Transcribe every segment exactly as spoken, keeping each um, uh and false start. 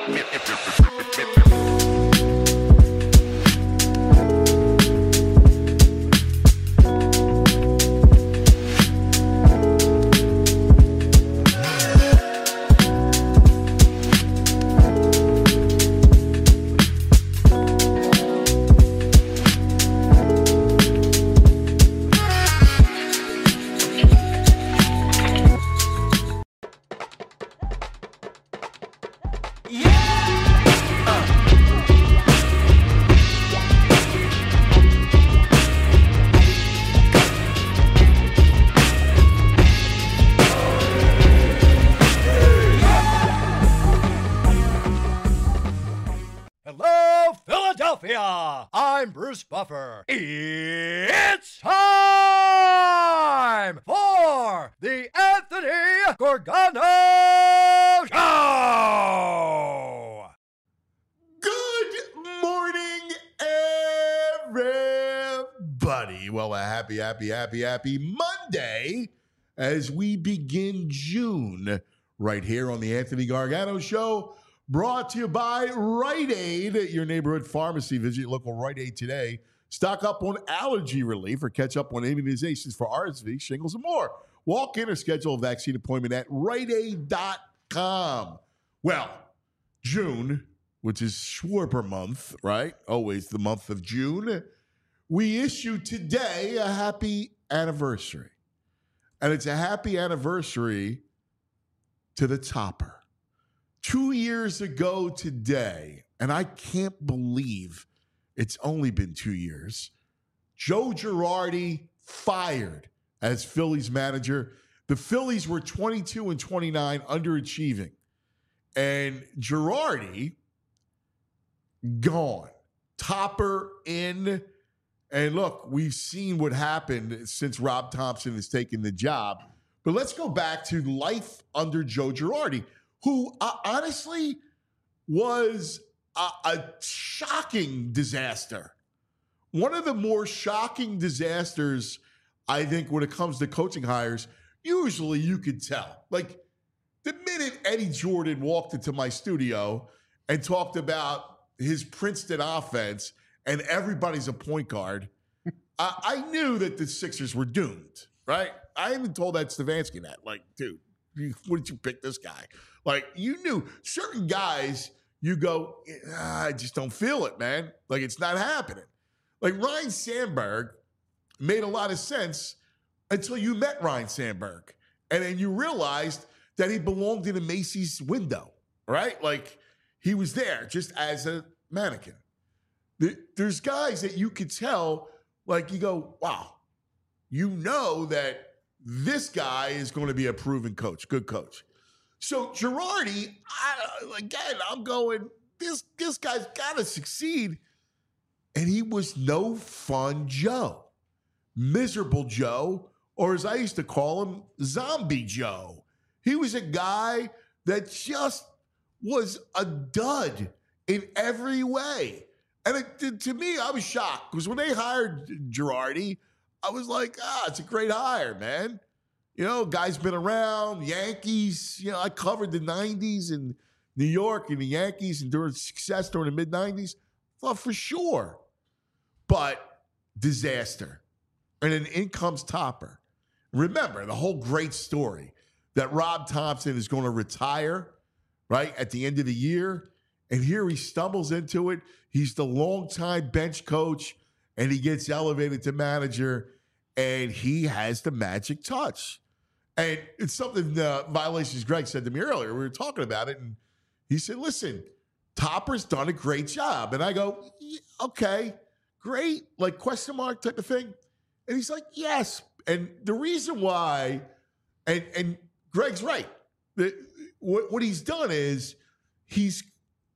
Hello, Philadelphia! I'm Bruce Buffer. It's time for the Anthony Gorgano Show! Good morning, everybody. Well, a happy, happy, happy, happy Monday as we begin June right here on the Anthony Gargano Show. Brought to you by Rite Aid, your neighborhood pharmacy. Visit your local Rite Aid today. Stock up on allergy relief or catch up on immunizations for R S V, shingles, and more. Walk in or schedule a vaccine appointment at rite aid dot com. Well, June, which is Schwarber month, right? Always the month of June. We issue today a happy anniversary. And it's a happy anniversary to the Topper. Two years ago today, and I can't believe it's only been two years, Joe Girardi fired as Phillies manager. The Phillies were twenty-two and twenty-nine, underachieving. And Girardi, gone. Topper in. And look, we've seen what happened since Rob Thompson has taken the job. But let's go back to life under Joe Girardi, who uh, honestly was a, a shocking disaster. One of the more shocking disasters, I think, when it comes to coaching hires, usually you could tell. Like, the minute Eddie Jordan walked into my studio and talked about his Princeton offense and everybody's a point guard, I, I knew that the Sixers were doomed, right? I even told that Stefanski that. Like, dude, what did you pick this guy? Like, you knew certain guys, you go, ah, I just don't feel it, man. Like, it's not happening. Like, Ryan Sandberg made a lot of sense until you met Ryan Sandberg. And then you realized that he belonged in a Macy's window, right? Like, he was there just as a mannequin. There's guys that you could tell, like, you go, wow, you know that this guy is going to be a proven coach, good coach. So Girardi, I, again, I'm going, this, this guy's got to succeed. And he was no fun Joe. Miserable Joe, or as I used to call him, Zombie Joe. He was a guy that just was a dud in every way. And it, to me, I was shocked because when they hired Girardi, I was like, ah, it's a great hire, man. You know, guy's been around, Yankees. You know, I covered the nineties in New York and the Yankees and during success during the mid-nineties. Thought for sure. But disaster. And then in comes Topper. Remember, the whole great story that Rob Thompson is going to retire, right, at the end of the year. And here he stumbles into it. He's the longtime bench coach, and he gets elevated to manager, and he has the magic touch. And it's something uh, Violations Greg said to me earlier. We were talking about it, and he said, listen, Topper's done a great job. And I go, yeah, okay, great, like question mark type of thing. And he's like, yes. And the reason why, and, and Greg's right, the, what, what he's done is he's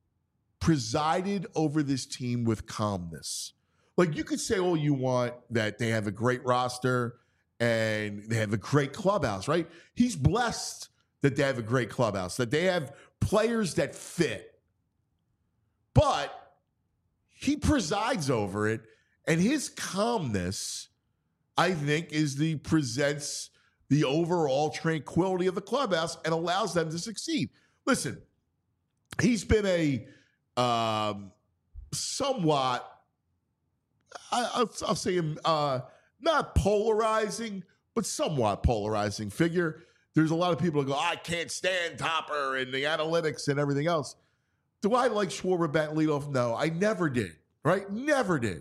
presided over this team with calmness. Like, you could say all you want that they have a great roster and they have a great clubhouse, right? He's blessed that they have a great clubhouse, that they have players that fit. But he presides over it, and his calmness, I think, is the presents the overall tranquility of the clubhouse and allows them to succeed. Listen, he's been a um, somewhat, I, I'll, I'll say him, uh, not polarizing, but somewhat polarizing figure. There's a lot of people that go, I can't stand Topper and the analytics and everything else. Do I like Schwarber batting leadoff? No, I never did, right? Never did.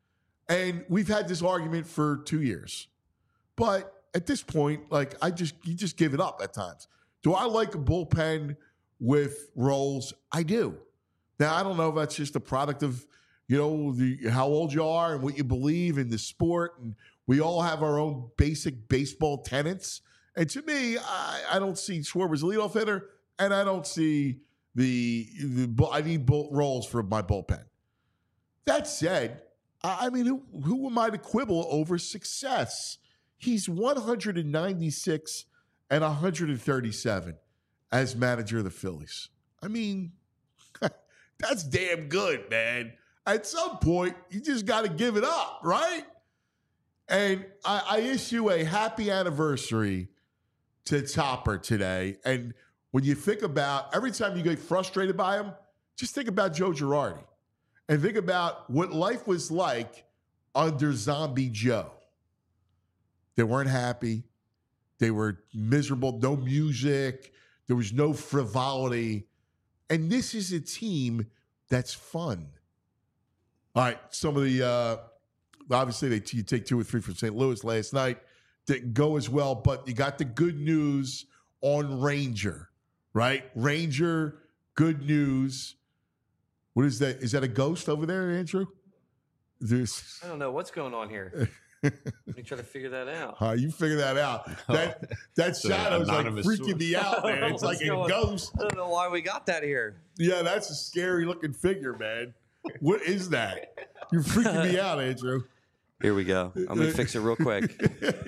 And we've had this argument for two years. But at this point, like, I just, you just give it up at times. Do I like a bullpen with roles? I do. Now, I don't know if that's just a product of, you know, the how old you are and what you believe in the sport. And we all have our own basic baseball tenets. And to me, I, I don't see Schwarber as a leadoff hitter, and I don't see the, the I need bull, roles for my bullpen. That said, I, I mean, who, who am I to quibble over success? He's one hundred ninety-six and one hundred thirty-seven as manager of the Phillies. I mean, that's damn good, man. At some point, you just got to give it up, right? And I, I issue a happy anniversary to Topper today. And when you think about every time you get frustrated by him, just think about Joe Girardi and think about what life was like under Zombie Joe. They weren't happy. They were miserable. No music. There was no frivolity. And this is a team that's fun. All right, some of the, uh, obviously, they you take two or three from Saint Louis last night. Didn't go as well, but you got the good news on Ranger, right? Ranger, good news. What is that? Is that a ghost over there, Andrew? There's, I don't know what's going on here. Let me try to figure that out. Uh, you figure that out. That that shadow's like freaking me out, man. It's like a ghost. I don't know why we got that here. Yeah, that's a scary looking figure, man. What is that? You're freaking me out, Andrew. Here we go. I'm going to fix it real quick.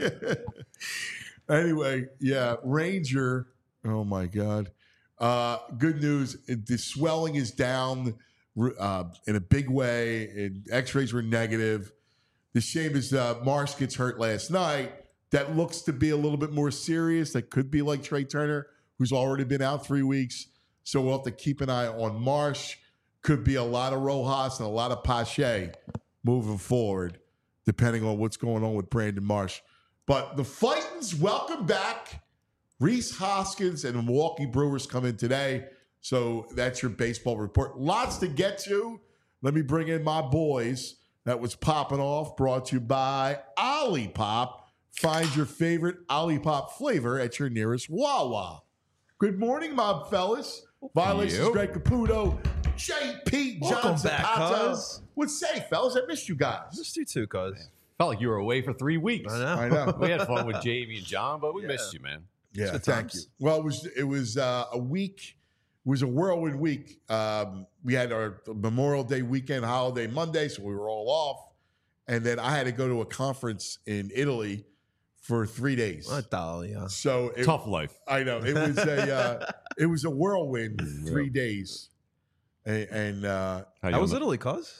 Anyway, yeah, Ranger. Oh, my God. Uh, good news. The swelling is down uh, in a big way. And x-rays were negative. The shame is uh, Marsh gets hurt last night. That looks to be a little bit more serious. That could be like Trey Turner, who's already been out three weeks. So we'll have to keep an eye on Marsh. Could be a lot of Rojas and a lot of Pache moving forward, depending on what's going on with Brandon Marsh. But the Fightins, welcome back. Rhys Hoskins and the Milwaukee Brewers come in today. So that's your baseball report. Lots to get to. Let me bring in my boys. That was popping off, brought to you by Olipop. Find your favorite Olipop flavor at your nearest Wawa. Good morning, mob fellas. Violations, Greg Caputo, J P Johnson. Welcome back, cuz. What's say, fellas? I missed you guys. Missed you too, cuz. Felt like you were away for three weeks. I know. I know. We had fun with Jamie and John, but we Yeah. missed you, man. Yeah, Good thank times. you. Well, it was it was uh, a week. It was a whirlwind week. Um, we had our Memorial Day weekend, holiday Monday, so we were all off. And then I had to go to a conference in Italy for three days. What the yeah. So it, Tough life. I know it was a uh, it was a whirlwind three days, and, and uh, How, How was on the- Italy, cuz?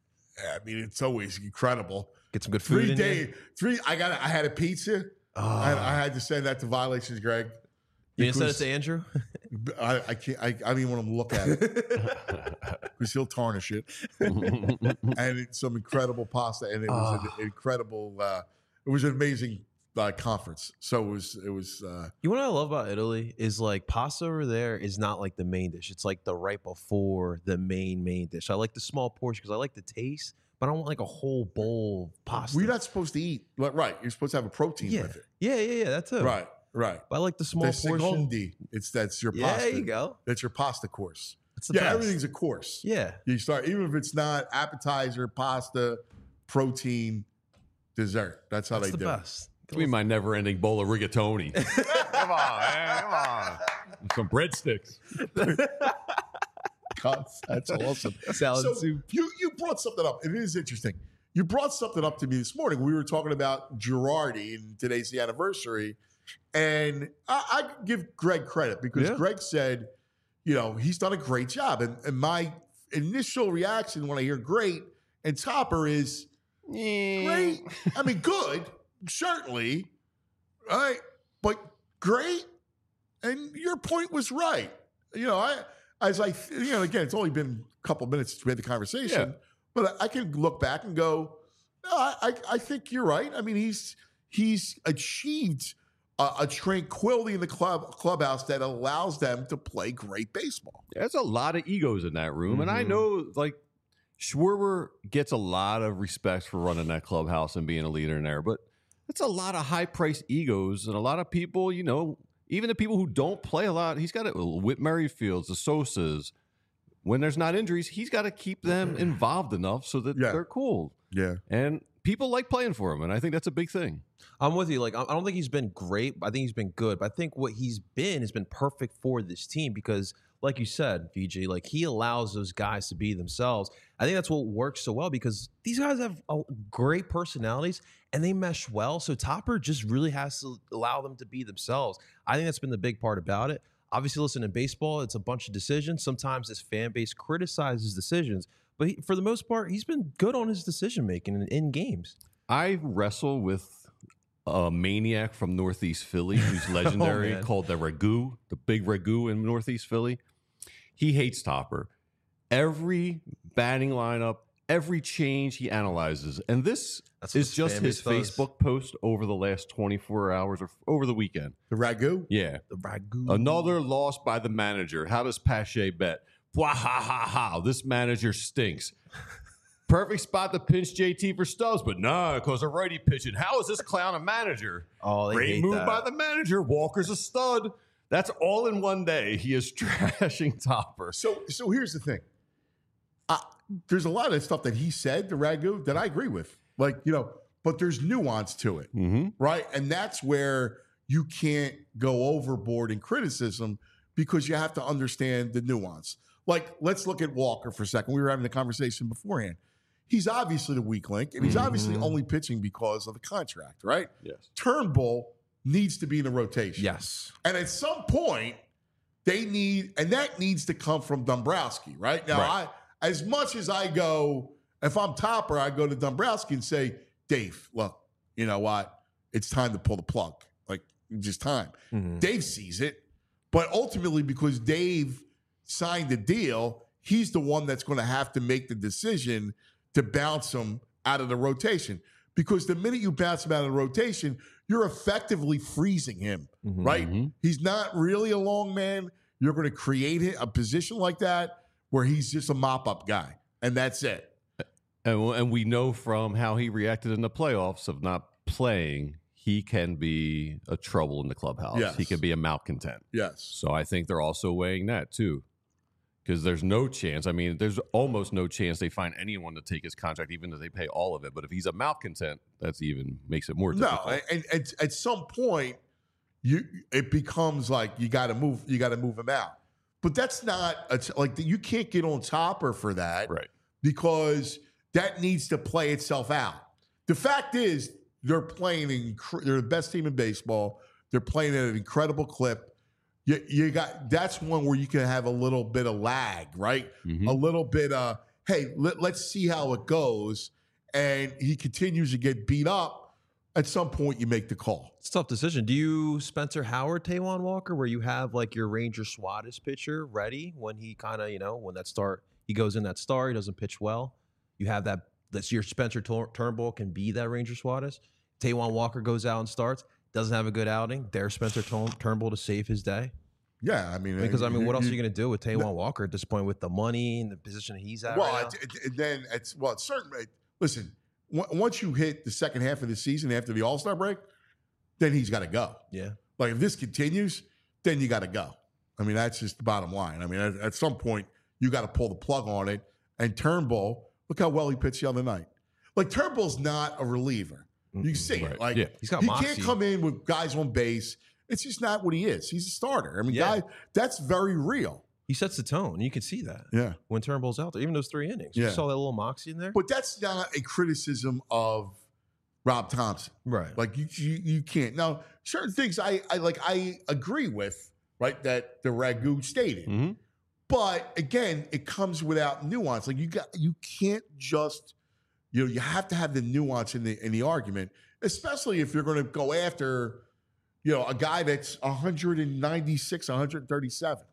I mean it's always incredible. Get some good food Three in days, there? three. I got. I had a pizza. Oh. I, I had to send that to Violations, Greg. You didn't send it because to Andrew? I, I can't. I, I don't even want to look at it because he'll tarnish it. And it's some incredible pasta, and it was Oh. an incredible. Uh, it was an amazing uh, conference. So it was. It was. Uh, You know what I love about Italy is like pasta over there is not like the main dish. It's like the right before the main main dish. I like the small portion because I like the taste, but I don't want like a whole bowl of pasta. we're not supposed to eat. Like, right. You're supposed to have a protein yeah. with it. yeah, yeah, yeah. That's it. Right. Right. But I like the small The portion. secondi. It's that's your Yeah, pasta. there you go. That's your pasta course. It's the Yeah, best. everything's a course. Yeah. You start even if it's not appetizer, pasta, protein, dessert. That's how That's they the do best. Give me my never-ending bowl of rigatoni. Come on, man. Come on. Some breadsticks. it. Cuts. That's awesome. Salad so soup. you you brought something up. It is interesting. You brought something up to me this morning. We were talking about Girardi, and today's the anniversary. And I, I give Greg credit because Yeah. Greg said, you know, he's done a great job. And, and my initial reaction when I hear great and Topper is great. I mean, good, certainly. All right. But great. And your point was right. You know, I as I, you know, again, it's only been a couple minutes since we had the conversation, yeah. but I, I can look back and go, no, I, I, I think you're right. I mean, he's he's achieved a, a tranquility in the club clubhouse that allows them to play great baseball. There's a lot of egos in that room, mm-hmm. and I know, like, Schwarber gets a lot of respect for running that clubhouse and being a leader in there, but it's a lot of high-priced egos, and a lot of people, you know, even the people who don't play a lot, he's got to, Whit Merrifields, the Sosas, when there's not injuries, he's got to keep them involved enough so that yeah. they're cool. Yeah. And people like playing for him, and I think that's a big thing. I'm with you. Like, I don't think he's been great. I think he's been good. But I think what he's been has been perfect for this team because, like you said, V G, like he allows those guys to be themselves. I think that's what works so well because these guys have a great personalities and they mesh well. So Topper just really has to allow them to be themselves. I think that's been the big part about it. Obviously, listen, in baseball, it's a bunch of decisions. Sometimes this fan base criticizes decisions. But he, for the most part, he's been good on his decision-making in, in games. I wrestle with a maniac from Northeast Philly who's legendary oh, called the Ragu, the big Ragu in Northeast Philly. He hates Topper. Every batting lineup, every change he analyzes. And this That's is just his does. Facebook post over the last twenty-four hours or over the weekend. The Ragu? Yeah. The Ragu. Another loss by the manager. How does Pache bet? Wah, ha, ha, ha. This manager stinks. Perfect spot to pinch J T for Stubbs, but nah, because a righty pitching. How is this clown a manager? Oh, they Great hate move that. by the manager. Walker's a stud. That's all in one day. He is trashing Topper. So, so here's the thing. Uh, there's a lot of stuff that he said, the Ragu, that I agree with. Like, you know, but there's nuance to it, mm-hmm. right? And that's where you can't go overboard in criticism because you have to understand the nuance. Like, let's look at Walker for a second. We were having the conversation beforehand. He's obviously the weak link, and he's mm-hmm. obviously only pitching because of the contract, right? Yes. Turnbull needs to be in the rotation. Yes. And at some point, they need, and that needs to come from Dombrowski, right? Now, right. I, as much as I go, if I'm Topper, I go to Dombrowski and say, Dave, look, you know what? It's time to pull the plug. Like, just time. Mm-hmm. Dave sees it, but ultimately, because Dave signed the deal, he's the one that's going to have to make the decision to bounce him out of the rotation. Because the minute you bounce him out of the rotation, you're effectively freezing him, mm-hmm. right? He's not really a long man. You're going to create a position like that where he's just a mop-up guy, and that's it. And, and we know from how he reacted in the playoffs of not playing, he can be a trouble in the clubhouse. Yes. He can be a malcontent. Yes. So I think they're also weighing that too. Because there's no chance. I mean, there's almost no chance they find anyone to take his contract, even if they pay all of it. But if he's a malcontent, that's even makes it more difficult. No, and, and at some point, you it becomes like you got to move. You got to move him out. But that's not a, like you can't get on Topper for that, right? Because that needs to play itself out. The fact is, they're playing. Inc- they're the best team in baseball. They're playing at an incredible clip. You, you got that's one where you can have a little bit of lag, right? Mm-hmm. A little bit of, hey, let, let's see how it goes. And he continues to get beat up. At some point, you make the call. It's a tough decision. Do you Spencer Howard, Taijuan Walker, where you have like your Ranger Suarez pitcher ready when he kind of, you know, when that start, he goes in that start, he doesn't pitch well. You have that, that's your Spencer Tur- Turnbull can be that Ranger Suarez. Taijuan Walker goes out and starts. Doesn't have a good outing. There's Spencer Turnbull to save his day. Yeah, I mean, because I mean, what else are you going to do with Taijuan Walker at this point with the money and the position he's at? Well, right now? it, it, then it's well, it's certain. Listen, w- once you hit the second half of the season after the All Star break, then he's got to go. Yeah, like if this continues, then you got to go. I mean, that's just the bottom line. I mean, at, at some point, you got to pull the plug on it. And Turnbull, look how well he pitched the other night. Like Turnbull's not a reliever. You can see right. it. Like yeah. he's got he moxie. Can't come in with guys on base. It's just not what he is. He's a starter. I mean, Yeah. guy, that's very real. He sets the tone. You can see that. Yeah. When Turnbull's out there, even those three innings. Yeah. You saw that little moxie in there. But that's not a criticism of Rob Thompson. Right. Like you, you, you can't. Now, certain things I, I like. I agree with. Right. That the Ragu stated. Mm-hmm. But again, it comes without nuance. Like you got, you can't just, you know, you have to have the nuance in the in the argument, especially if you're going to go after, you know, a guy that's one ninety-six, one thirty-seven.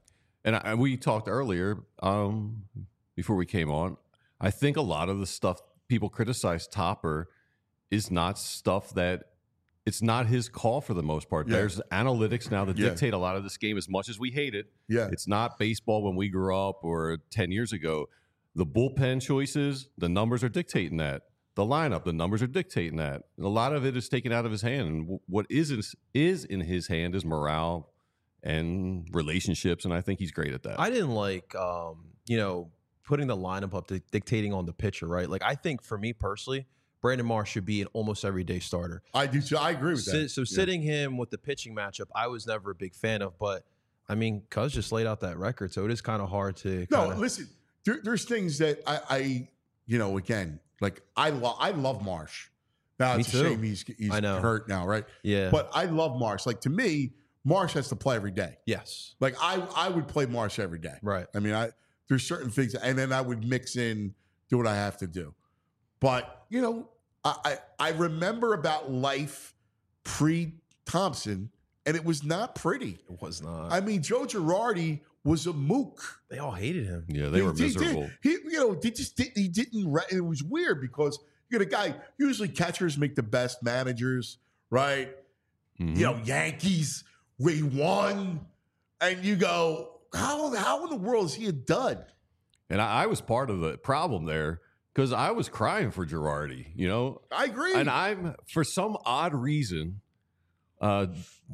And, I, and we talked earlier um, before we came on. I think a lot of the stuff people criticize Topper is not stuff that it's not his call for the most part. Yeah. There's analytics now that Yeah. dictate a lot of this game as much as we hate it. Yeah. It's not baseball when we grew up or ten years ago. The bullpen choices, the numbers are dictating that. The lineup, the numbers are dictating that. And a lot of it is taken out of his hand. And w- what is in, is in his hand is morale and relationships. And I think he's great at that. I didn't like, um, you know, putting the lineup up to dictating on the pitcher, right? Like, I think for me personally, Brandon Marsh should be an almost everyday starter. I do. So I agree with So, that. so Yeah. sitting him with the pitching matchup, I was never a big fan of. But I mean, Cuz just laid out that record, so it is kind of hard to. No, kinda, listen. There, there's things that I, I, you know, again, like I love. I love Marsh. Now Me it's a too. shame he's he's I know. hurt now, right? yeah, But I love Marsh. Like to me, Marsh has to play every day. yes, Like I, I would play Marsh every day. right. I mean, I there's certain things, and then I would mix in, do what I have to do. But you know, I I, I remember about life pre Thompson, and it was not pretty. It was not. I mean, Joe Girardi was a mook. they all hated him. yeah, they were He- he did- miserable. He, you know, they just did, he didn't. re- It was weird because you get a guy. Usually, catchers make the best managers, right? Mhm. You know, Yankees, we won, and you go, how how in the world is he a dud? And I, I was part of the problem there because I was crying for Girardi, you know? I agree. And I'm, for some odd reason, uh,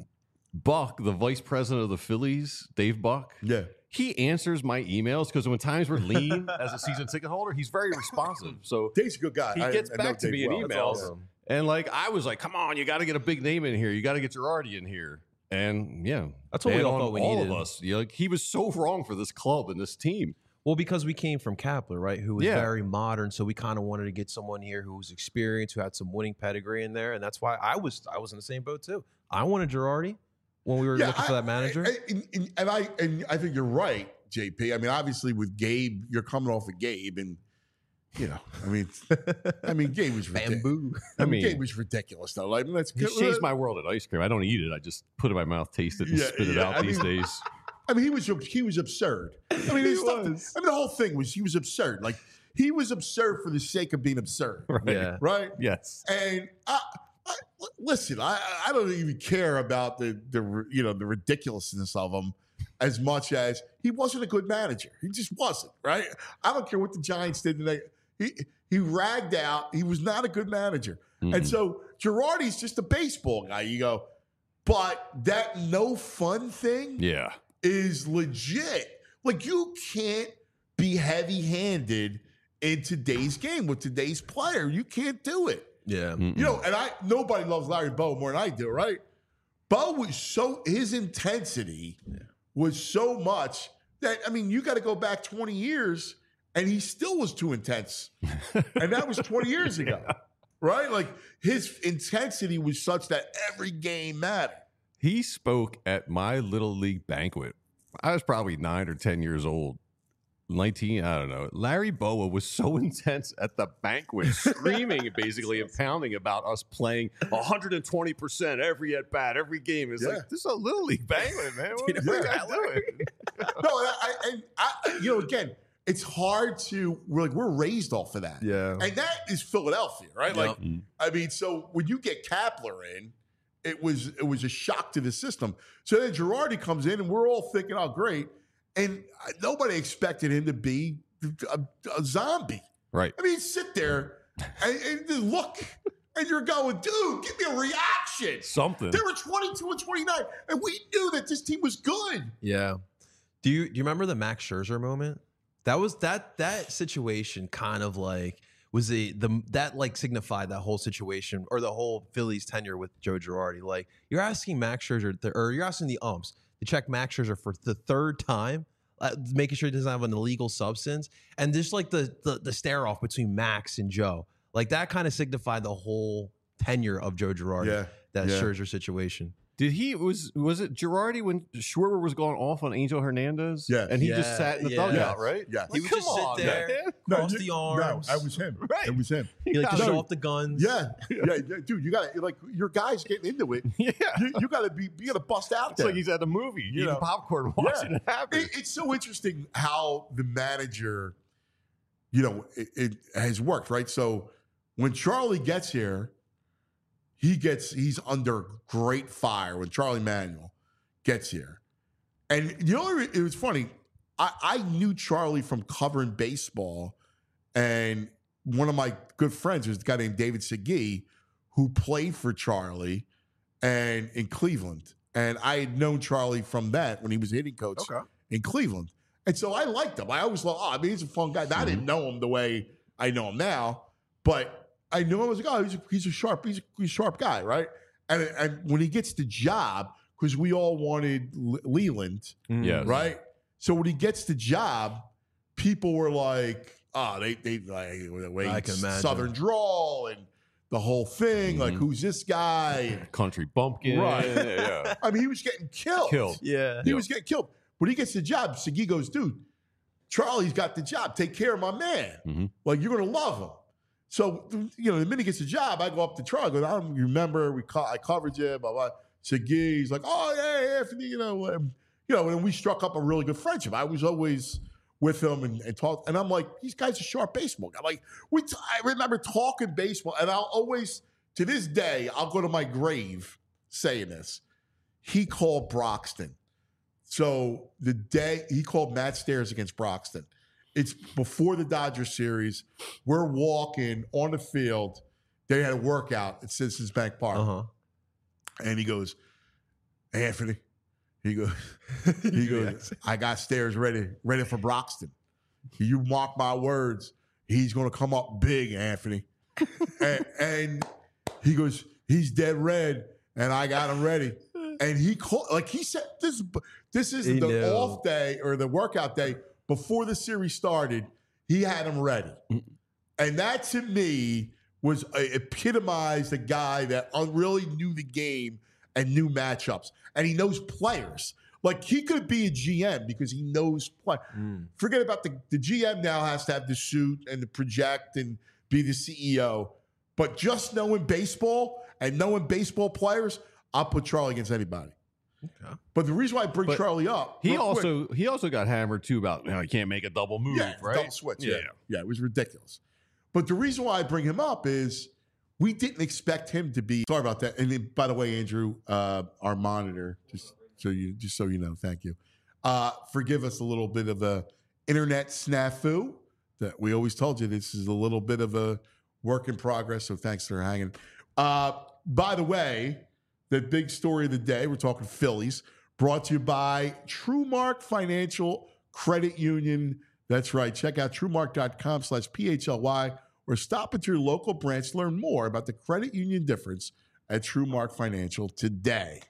Buck, the vice president of the Phillies, Dave Buck, yeah, he answers my emails because when times were lean as a season ticket holder, he's very responsive. So Dave's a good guy. he I- gets I know back to Dave me in well. That's emails. awesome. And like, I was like, come on, you got to get a big name in here. You got to get Girardi in here. And yeah, That's what we bad all on thought we all needed. of us. You know, like, he was so wrong for this club and this team. Well, because we came from Kapler, right, who was Yeah. very modern, so we kind of wanted to get someone here who was experienced, who had some winning pedigree in there, and that's why I was I was in the same boat too. I wanted Girardi when we were Yeah, looking for I- that manager. I- I- and, and- and I and I think you're right, J P. I mean, obviously with Gabe, you're coming off of Gabe, and you know, I mean, I mean, Gabe was ridiculous. Bamboo. I I mean, mean- Gabe was ridiculous though. Like, let's He changed my world at ice cream. I don't eat it. I just put it in my mouth, taste it, and Yeah, spit it yeah, out I these mean- days. I mean, he was he was absurd. I mean, He his stuff- was. I mean, the whole thing was he was absurd. Like he was absurd for the sake of being absurd, Right. Yeah. right? Yes. And I, I, listen, I, I don't even care about the the you know the ridiculousness of him as much as he wasn't a good manager. He just wasn't, right? I don't care what the Giants did today. He he ragged out. He was not a good manager. And Mhm. so Girardi's just a baseball guy. You go, but that no fun thing Yeah. is legit. Like you can't be heavy-handed in today's game with today's player. You can't do it. Yeah. Mm-mm. You know, and I nobody loves Larry Bow more than I do, right? Bow was so his intensity was so much that I mean, you got to go back twenty years and he still was too intense. And that was twenty years ago. Right? Like his intensity was such that every game mattered. He spoke at my little league banquet. I was probably nine or ten years old. nineteen, I don't know. Larry Boa was so intense at the banquet, screaming basically and pounding about us playing one hundred twenty percent every at bat, every game. It's Yeah. like, this is a little league banquet, man. What You are know you that, guys doing? No, I, I, and I, you know, again, it's hard to, we're like, we're raised off of that. Yeah. And that is Philadelphia, right? Like, Yep. I mean, so when you get Kapler in, it was it was a shock to the system. So then Girardi comes in, and we're all thinking, "Oh, great!" And nobody expected him to be a, a zombie. Right. I mean, sit there and, and just look, and you're going, "Dude, give me a reaction." Something. They were twenty-two and twenty-nine, and we knew that this team was good. Yeah. Do you do you remember the Max Scherzer moment? That was that that situation kind of like was the the that like signified that whole situation or the whole Phillies tenure with Joe Girardi. Like you're asking Max Scherzer to, or you're asking the umps to check Max Scherzer for the third time, uh, making sure he doesn't have an illegal substance, and just like the the, the stare off between Max and Joe, like that kind of signified the whole tenure of Joe Girardi. Yeah, that yeah. Scherzer situation. Did he was was it Girardi when Schwarber was going off on Angel Hernandez? Yes. and he Yeah, just sat in the yeah. dugout, Yes. right? Yes. He Like, would just come sit on, there, man. cross you- the arms. No, that was him. Right. It was him. He like to No. show off the guns. Yeah, yeah, yeah, dude. You got to like your guys getting into it. Yeah, You, you got to be, you got to bust out it's there. like he's at a movie, You eating know. popcorn, watching Yeah. it happen. It, it's so interesting how the manager, you know, it, it has worked, right? So when Charlie gets here, he gets he's under great fire when Charlie Manuel gets here. And the only it was funny, I, I knew Charlie from covering baseball, and one of my good friends was a guy named David Segui, who played for Charlie and in Cleveland. And I had known Charlie from that when he was a hitting coach Okay. in Cleveland. And so I liked him. I always thought, oh, I mean, he's a fun guy. I didn't know him the way I know him now, but I knew him. I was like, oh, he's a, he's a sharp, he's a, he's a sharp guy, right? And, and when he gets the job, because we all wanted Le- Leland, Yes. right? So when he gets the job, people were like, oh, they they like the way I can he's imagine. Southern drawl and the whole thing. Like, Mhm. who's this guy? Country bumpkin, Right. Yeah, I mean, he was getting killed. Killed. Yeah. He was getting killed. When he gets the job, Segui goes, dude, Charlie's got the job. Take care of my man. Mhm. Like, you're going to love him. So, you know, the minute he gets the job, I go up to Charlie. I go, I don't remember. We co- I covered you, blah, blah. Segui, he's like, oh, yeah, Anthony, you know. Um, you know, and we struck up a really good friendship. I was always with him and, and talk. And I'm like, these guys are sharp baseball guys. Like, we t- I remember talking baseball, and I'll always, to this day, I'll go to my grave saying this. He called Broxton. So the day he called Matt Stairs against Broxton, it's before the Dodgers series. We're walking on the field. They had a workout at Citizens Bank Park. Uh huh. And he goes, Anthony, he goes, he goes, I got Stairs ready, ready for Broxton. You mark my words, he's going to come up big, Anthony. and, and he goes, he's dead red, and I got him ready. And he called, like he said, this, this is He the knew. off day or the workout day before the series started. He had him ready. And that to me was uh, epitomized a guy that un- really knew the game and knew matchups. And he knows players. Like he could be a G M because he knows play. Mm. Forget about the, the G M now has to have the suit and the project and be the C E O. But just knowing baseball and knowing baseball players, I'll put Charlie against anybody. Okay. But the reason why I bring But Charlie up, He real quick- also he also got hammered too about you know, he can't make a double move, yeah, right? double switch. Yeah. Yeah. yeah, it was ridiculous. But the reason why I bring him up is we didn't expect him to be. Sorry about that. And then, by the way, Andrew, uh, our monitor, just so you just so you know, thank you. Uh, forgive us a little bit of a internet snafu. That we always told you this is a little bit of a work in progress. So thanks for hanging. Uh, by the way, the big story of the day, we're talking Phillies, brought to you by TrueMark Financial Credit Union. That's right. Check out truemark.com slash P H L Y or stop at your local branch to learn more about the credit union difference at TrueMark Financial today.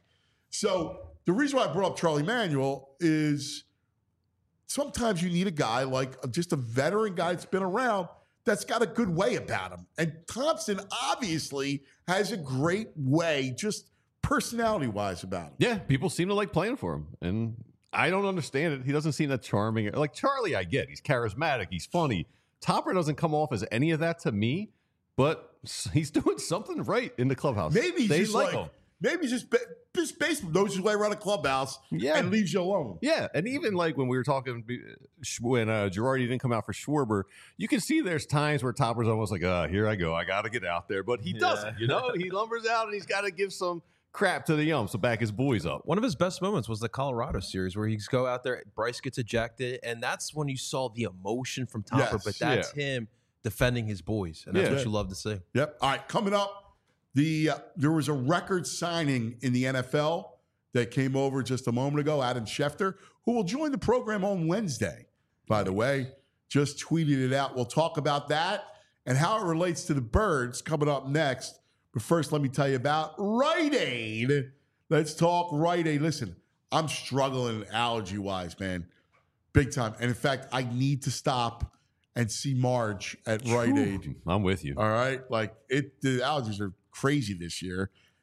So the reason why I brought up Charlie Manuel is sometimes you need a guy like just a veteran guy that's been around that's got a good way about him. And Thompson obviously has a great way, just personality-wise about him. Yeah, people seem to like playing for him, and I don't understand it. He doesn't seem that charming. Like Charlie, I get he's charismatic, he's funny. Topper doesn't come off as any of that to me, but he's doing something right in the clubhouse. Maybe he's they just like like, him. maybe he's just, ba- just baseball knows his way around a clubhouse Yeah. and leaves you alone. Yeah, and even like when we were talking when uh, Girardi didn't come out for Schwarber, you can see there's times where Topper's almost like, "Uh, here I go, I got to get out there," but he Yeah. doesn't. You know, he lumbers out and he's got to give some crap to the umps to back his boys up. One of his best moments was the Colorado series where he's go out there, Bryce gets ejected, and that's when you saw the emotion from Topper. Yes. But that's him defending his boys, and that's Yeah. what you love to see. Yep. All right, coming up, the uh, there was a record signing in the N F L that came over just a moment ago. Adam Schefter, who will join the program on Wednesday, by the way, just tweeted it out. We'll talk about that and how it relates to the Birds coming up next. But first, let me tell you about Rite Aid. Let's talk Rite Aid. Listen, I'm struggling allergy-wise, man, big time. And in fact, I need to stop and see Marge at Rite Aid. I'm with you. All right, like it, the allergies are crazy this year,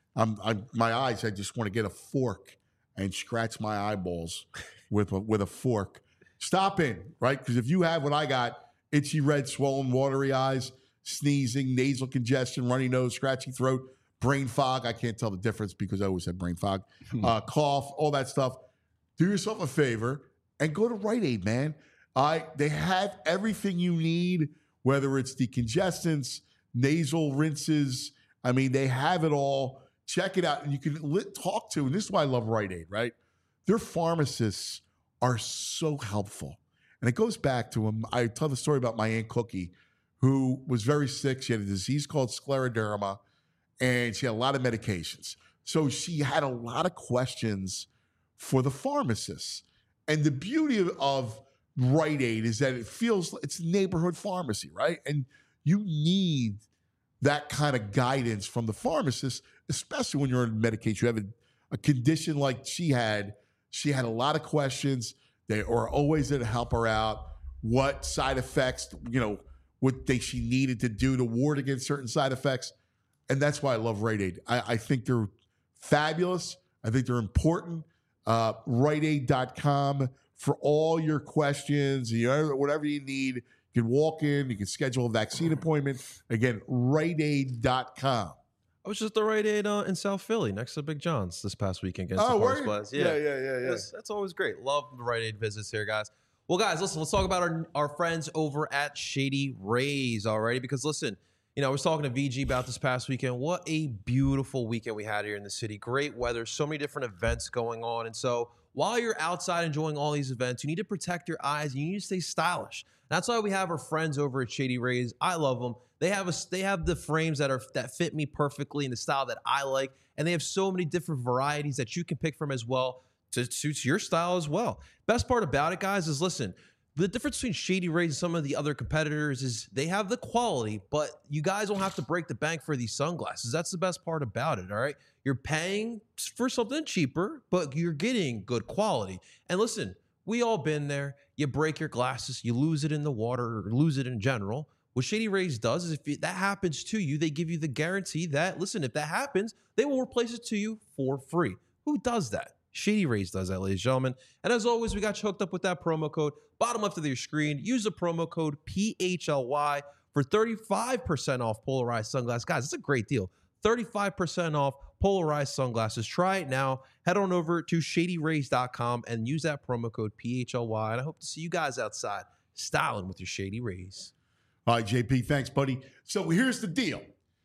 I'm, I'm my eyes. I just want to get a fork and scratch my eyeballs with a, with a fork. Stop in, right? Because if you have what I got, itchy, red, swollen, watery eyes, sneezing, nasal congestion, runny nose, scratchy throat, brain fog. I can't tell the difference because I always had brain fog. Uh, cough, all that stuff. Do yourself a favor and go to Rite Aid, man. Uh, they have everything you need, whether it's decongestants, nasal rinses. I mean, they have it all. Check it out. And you can li- talk to, and this is why I love Rite Aid, right? Their pharmacists are so helpful. And it goes back to them. I tell the story about my Aunt Cookie, who was very sick. She had a disease called scleroderma, and she had a lot of medications. So she had a lot of questions for the pharmacists. And the beauty of, of Rite Aid is that it feels it's neighborhood pharmacy, right? And you need that kind of guidance from the pharmacist, especially when you're on medication. You have a, a condition like she had. She had a lot of questions. They are always there to help her out. What side effects, you know, what they she needed to do to ward against certain side effects. And that's why I love Rite Aid. I, I think they're fabulous. I think they're important. Uh, Rite Aid dot com for all your questions, you know, whatever you need. You can walk in, you can schedule a vaccine appointment. Again, Rite Aid dot com. I was just at the Rite Aid uh, in South Philly next to Big John's this past weekend against Oh, the were Forest you? Blast. Yeah, yeah, yeah, yeah. That's, that's always great. Love the Rite Aid visits here, guys. Well, guys, listen, let's talk about our, our friends over at Shady Rays already, because listen, you know, I was talking to V G about this past weekend. What a beautiful weekend we had here in the city. Great weather, so many different events going on. And so while you're outside enjoying all these events, you need to protect your eyes. You need to stay stylish. That's why we have our friends over at Shady Rays. I love them. They have a, they have the frames that are that fit me perfectly in the style that I like, and they have so many different varieties that you can pick from as well to suit your style as well. Best part about it, guys, is listen, the difference between Shady Rays and some of the other competitors is they have the quality, but you guys don't have to break the bank for these sunglasses. That's the best part about it, all right? You're paying for something cheaper, but you're getting good quality. And listen, we all been there. You break your glasses, you lose it in the water or lose it in general. What Shady Rays does is if that happens to you, they give you the guarantee that, listen, if that happens, they will replace it to you for free. Who does that? Shady Rays does that, ladies and gentlemen. And as always, we got you hooked up with that promo code. Bottom left of your screen, use the promo code P H L Y for thirty-five percent off polarized sunglasses. Guys, it's a great deal. thirty-five percent off polarized sunglasses. Try it now. Head on over to shady rays dot com and use that promo code P H L Y. And I hope to see you guys outside styling with your Shady Rays. All right, J P, thanks, buddy. So here's the deal.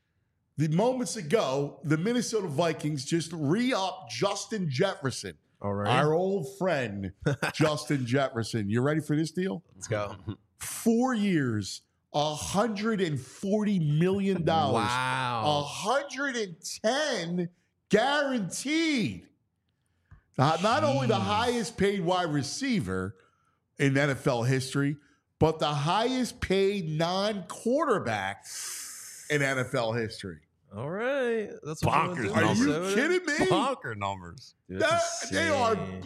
The moments ago, the Minnesota Vikings just re-upped Justin Jefferson. All right. Our old friend, Justin Jefferson. You ready for this deal? Let's go. Four years, one hundred forty million dollars. Wow. one hundred ten guaranteed. Uh, not only the highest paid wide receiver in N F L history, but the highest paid non-quarterback in N F L history. All right. That's what Bonkers. you Are wanna do, you Minnesota. kidding me? Bonker numbers. Dude, That- that's they are insane.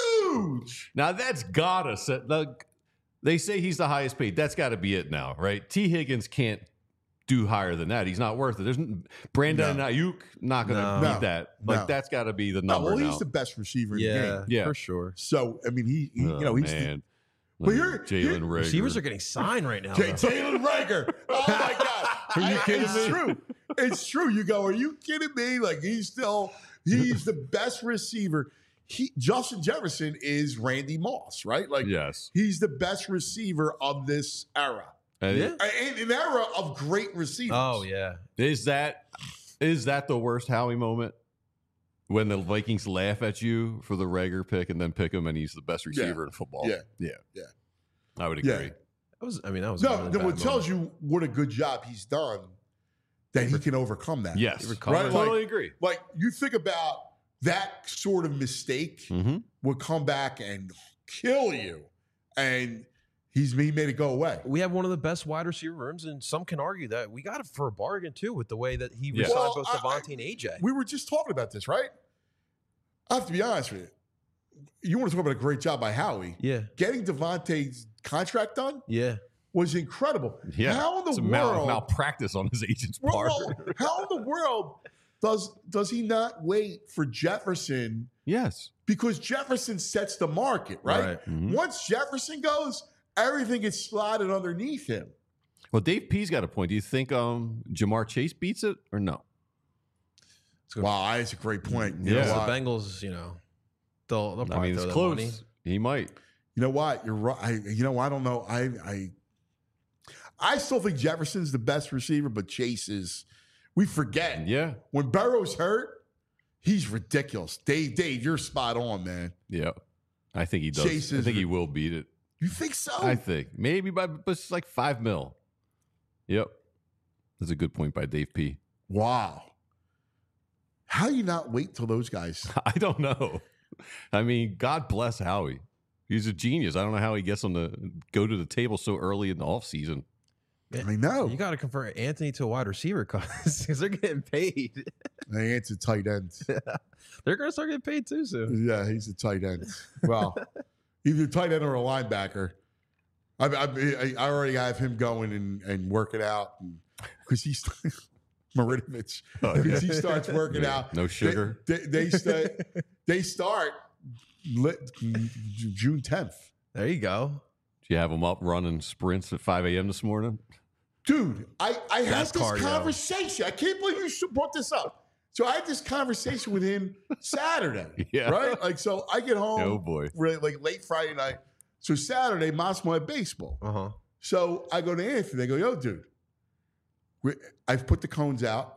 huge. Now that's gotta set. Like, they say he's the highest paid. That's got to be it now, right? T. Higgins can't do higher than that. He's not worth it. There's Brandon No. Ayuk not going to No. beat No. that. Like No. that's got to be the No, number well, now. he's the best receiver in the Yeah, game. Yeah. for sure. So, I mean, he, he Oh, you know, he's the, man. But you're- Jalen you're- Rager. Receivers are getting signed right now. J- though. Jalen Rager. Oh my God. Are you I- kidding it's me? true. It's true. You go, are you kidding me? Like he's still, he's the best receiver. He, Justin Jefferson is Randy Moss, right? Like Yes. he's the best receiver of this era. And Yeah. In an era of great receivers. Oh, yeah. Is that is that the worst Howie moment? When the Vikings laugh at you for the Rager pick and then pick him and he's the best receiver in football. Yeah. Yeah. Yeah. I would Yeah. agree. That was, I mean, that was a No, really no, bad it tells moment. you what a good job he's done that he can overcome that. Yes. recovered. I Right, totally like- agree. Like you think about that sort of mistake Mm-hmm. would come back and kill you. And he's he made it go away. We have one of the best wide receiver rooms, and some can argue that we got it for a bargain, too, with the way that he Yeah. resigned Well, both I- Devontae and A J. We were just talking about this, right? I have to be honest with you. You want to talk about a great job by Howie. Yeah. Getting Devontae's contract done Yeah. was incredible. Yeah. How in the It's a mal- world? malpractice on his agent's part. Well, how in the world does does he not wait for Jefferson? Yes. Because Jefferson sets the market, right? Right. Mhm. Once Jefferson goes, everything gets slotted underneath him. Well, Dave P's got a point. Do you think um, Jamar Chase beats it or no? Wow, that's a great point. You Yeah. know The what? Bengals, you know, they'll, they'll I probably mean, throw it's that close. money. He might. You know what? You're right. I, you know, I don't know. I, I, I still think Jefferson's the best receiver, but Chase is. We forget Yeah. when Burrow's hurt, he's ridiculous. Dave, Dave, you're spot on, man. Yeah. I think he does. Chase I is think he re- will beat it. You think so? I think maybe by but it's like five mil. Yep. That's a good point by Dave P. Wow. How do you not wait till those guys? I don't know. I mean, God bless Howie. He's a genius. I don't know how he gets them to go to the table so early in the offseason. I know. You got to convert Anthony to a wide receiver because they're getting paid. Hey, it's a tight end. They're going to start getting paid too soon. Yeah, he's a tight end. Well, either a tight end or a linebacker. I, I, I already have him going and, and working out because he's Marinovich. Because he starts working Yeah, out. no sugar. They, they, they, start, they start lit, June tenth. There you go. Did you have him up running sprints at five a.m. this morning? Dude, I, I had That's this cardio. conversation. I can't believe you should- brought this up. So I had this conversation with him Saturday, Yeah. right? Like, so I get home, Oh, boy. really, like late Friday night. So Saturday, Massimo had baseball. Uh huh. So I go to Anthony. I go, yo, dude, we- I've put the cones out.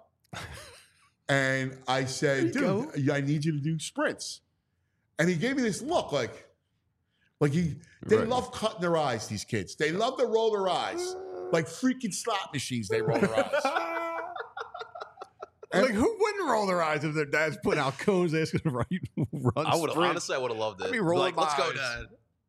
And I said, There you dude, I need you to do sprints. And he gave me this look like, like he, they Right. love cutting their eyes, these kids. They love to roll their eyes. Like freaking slot machines, they roll their eyes. Like, who wouldn't roll their eyes if their dad's putting out cones asking them to run I would sprints? honestly, I would have loved it. I'd be rolling like, let's my go, eyes. Dad.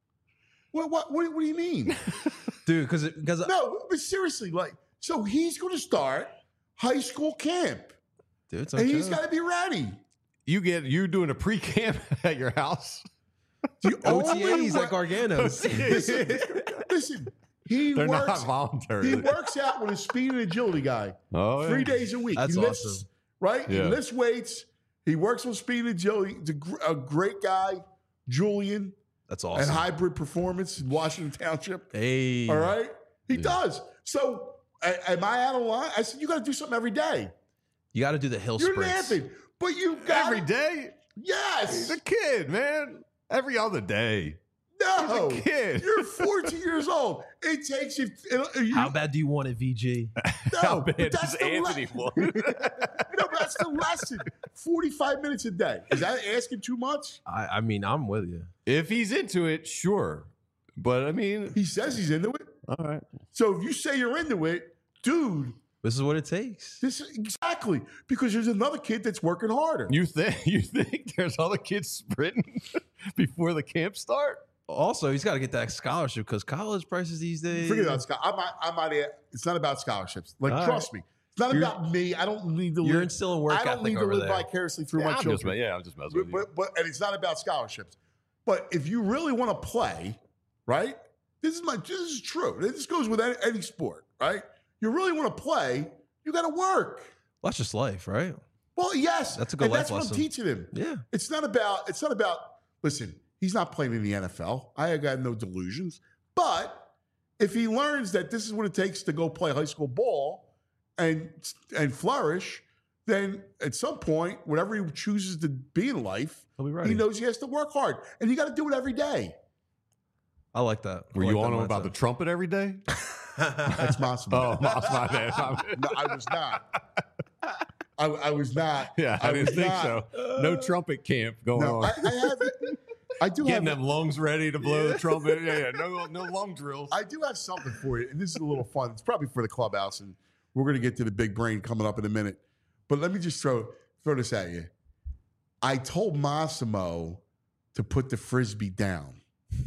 What, what, what, what do you mean? Dude, because because No, but seriously, like, so he's going to start high school camp. dude, it's And no he's joke. got to be ready. You get you doing a pre-camp at your house? The O only T As way- like Gargano's. listen, listen, he They're works. not voluntary. He works out with a speed and agility guy Oh, yeah. three days a week. That's he lifts, awesome. right? Yeah. He lifts weights. He works with speed and agility. He's a, gr- a great guy, Julian, That's and awesome. Hybrid Performance in Washington Township. Hey, All right, he Yeah. does. So, a- am I out of line? I said you got to do something every day. you got to do the hill You're sprints. napping, but you got Every day? Yes. He's a kid, man. Every other day. No, He's a kid. You're fourteen years old. It takes you. It, you How bad do you want it, V G? no, How but bad that's does the Anthony le- want? No, but that's the lesson. Forty-five minutes a day. Is that asking too much? I, I mean, I'm with you. If he's into it, sure. But I mean, He says he's into it. all right. So if you say you're into it, dude, This is what it takes. this is exactly because there's another kid that's working harder. You think you think there's other kids sprinting before the camp start? Also, he's got to get that scholarship because college prices these days. Forget about scholarship. I'm not, I'm not. It's not about scholarships. Like, All trust me, it's not You're- about me. I don't need to. You're live, instilling work I don't ethic need to over live there. vicariously through Yeah, my I'm just, children. yeah, I'm just messing But, with you. but, but and it's not about scholarships. But if you really want to play, right? This is my. This is true. This goes with any, any sport, right? You really want to play, you got to work. Well, that's just life, right? Well, yes, That's a good and life that's what lesson. I'm teaching him. Yeah. It's not about. It's not about. Listen, he's not playing in the N F L. I got no delusions. But if he learns that this is what it takes to go play high school ball and and flourish, then at some point, whatever he chooses to be in life, He'll be ready. he knows he has to work hard, and you got to do it every day. I like that. I Were like you that on him about the mindset. trumpet every day? That's Massimo. Oh, my my bad. my bad. No, I was not. I, I was not. Yeah, I, didn't was think not. so. No trumpet camp going No, on. I, I have. I do Getting have. them lungs ready to blow the trumpet. Yeah, yeah. No, no lung drills. I do have something for you, and this is a little fun. It's probably for the clubhouse, and we're going to get to the big brain coming up in a minute. But let me just throw throw this at you. I told Massimo to put the frisbee down,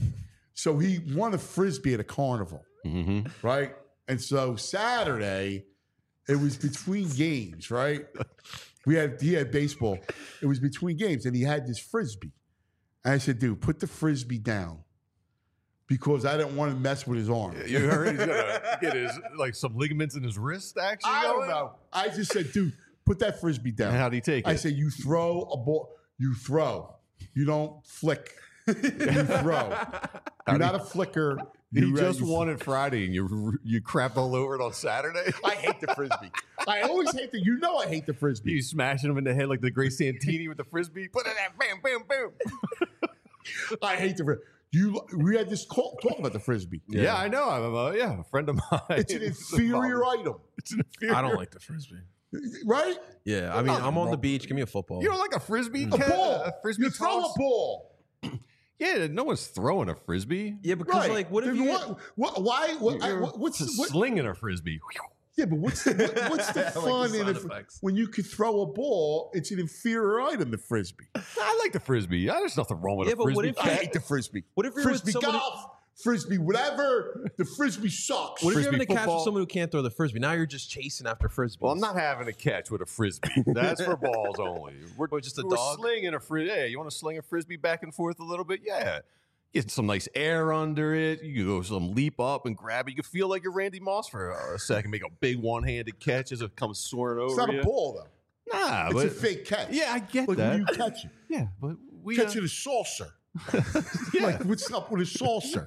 so he won a frisbee at a carnival, Mm-hmm. right? And so Saturday, it was between games, right? We had he had baseball. It was between games, and he had this frisbee. And I said, dude, put the frisbee down because I didn't want to mess with his arm. You heard he's gonna get his like some ligaments in his wrist. Actually, I don't going? know. I just said, dude, put that frisbee down. And how do you take it? I say you throw a ball. You throw. You don't flick. You throw. You're not a flicker. You, You, uh, just you- won it Friday and you you crapped all over it on Saturday. I hate the frisbee. I always hate the. You know I hate the frisbee. You smashing him in the head like the great Santini with the frisbee. Put it at bam, bam, bam. I hate the frisbee. You. We had this call, talk about the frisbee. Yeah, I know. I'm a, yeah, a friend of mine. It's an inferior item, It's an inferior. I don't like the frisbee. right? Yeah, I mean, I'm on the beach. Give me a football. You don't like a frisbee? A Ken? ball. A frisbee You throw toss? a ball. Yeah, no one's throwing a frisbee. Yeah, because Right. like, what if Then you? what, what, why? What, I, You're what, what's just what, slinging a frisbee? yeah, but what's the what, what's the I like the fun in sound it? effects. When you could throw a ball, it's an inferior item. The frisbee. I like the frisbee. There's nothing wrong with Yeah, a but what frisbee. if- I hate the frisbee. What if you're frisbee with somebody? golf, frisbee whatever? The frisbee sucks. What if you're Frisbee having a catch football? with someone who can't throw the frisbee? Now you're just chasing after frisbees. Well, I'm not having a catch with a frisbee. That's for balls only. We're Or just a we're dog? slinging a frisbee. Yeah, you want to sling a frisbee back and forth a little bit? Yeah. Get some nice air under it. You can go some leap up and grab it. You can feel like you're Randy Moss for a second. Make a big one-handed catch as it comes soaring over It's not you. a ball though. Nah, It's but a fake catch. yeah, I get like that. when you catch it. yeah, but we catch uh, it a saucer. yeah. Like what's up with a saucer?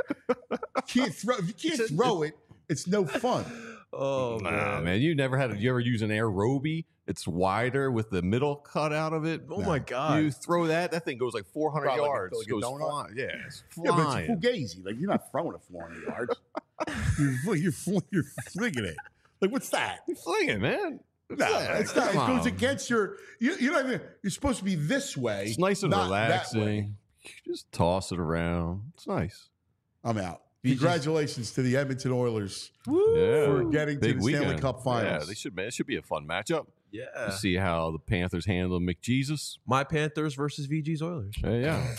You can't throw. If you can't throw it, it's no fun. Oh Nah, man. man, you never had. A, you ever use an Aerobie? It's wider with the middle cut out of it. Oh my god. You throw that, that thing goes like four hundred Probably like a- yards. like a goes donut? flying. Yeah, it's Yeah, but flying. it's fugazi. Like you're not throwing it four hundred yards. you're, fl- you're, fl- you're flinging it. Like what's that? You fling it, man. No, Yeah, it's not. It come goes on. against your. You, you know what I mean? You're supposed to be this way. It's nice and not that way. relaxing. Just toss it around. It's nice. I'm out. You just- Congratulations to the Edmonton Oilers Yeah. for getting to Big the Stanley weekend. Cup Finals. Yeah, they should. Man, it should be a fun matchup. Yeah. To see how the Panthers handle McJesus. My Panthers versus V G's Oilers. Yeah, yeah.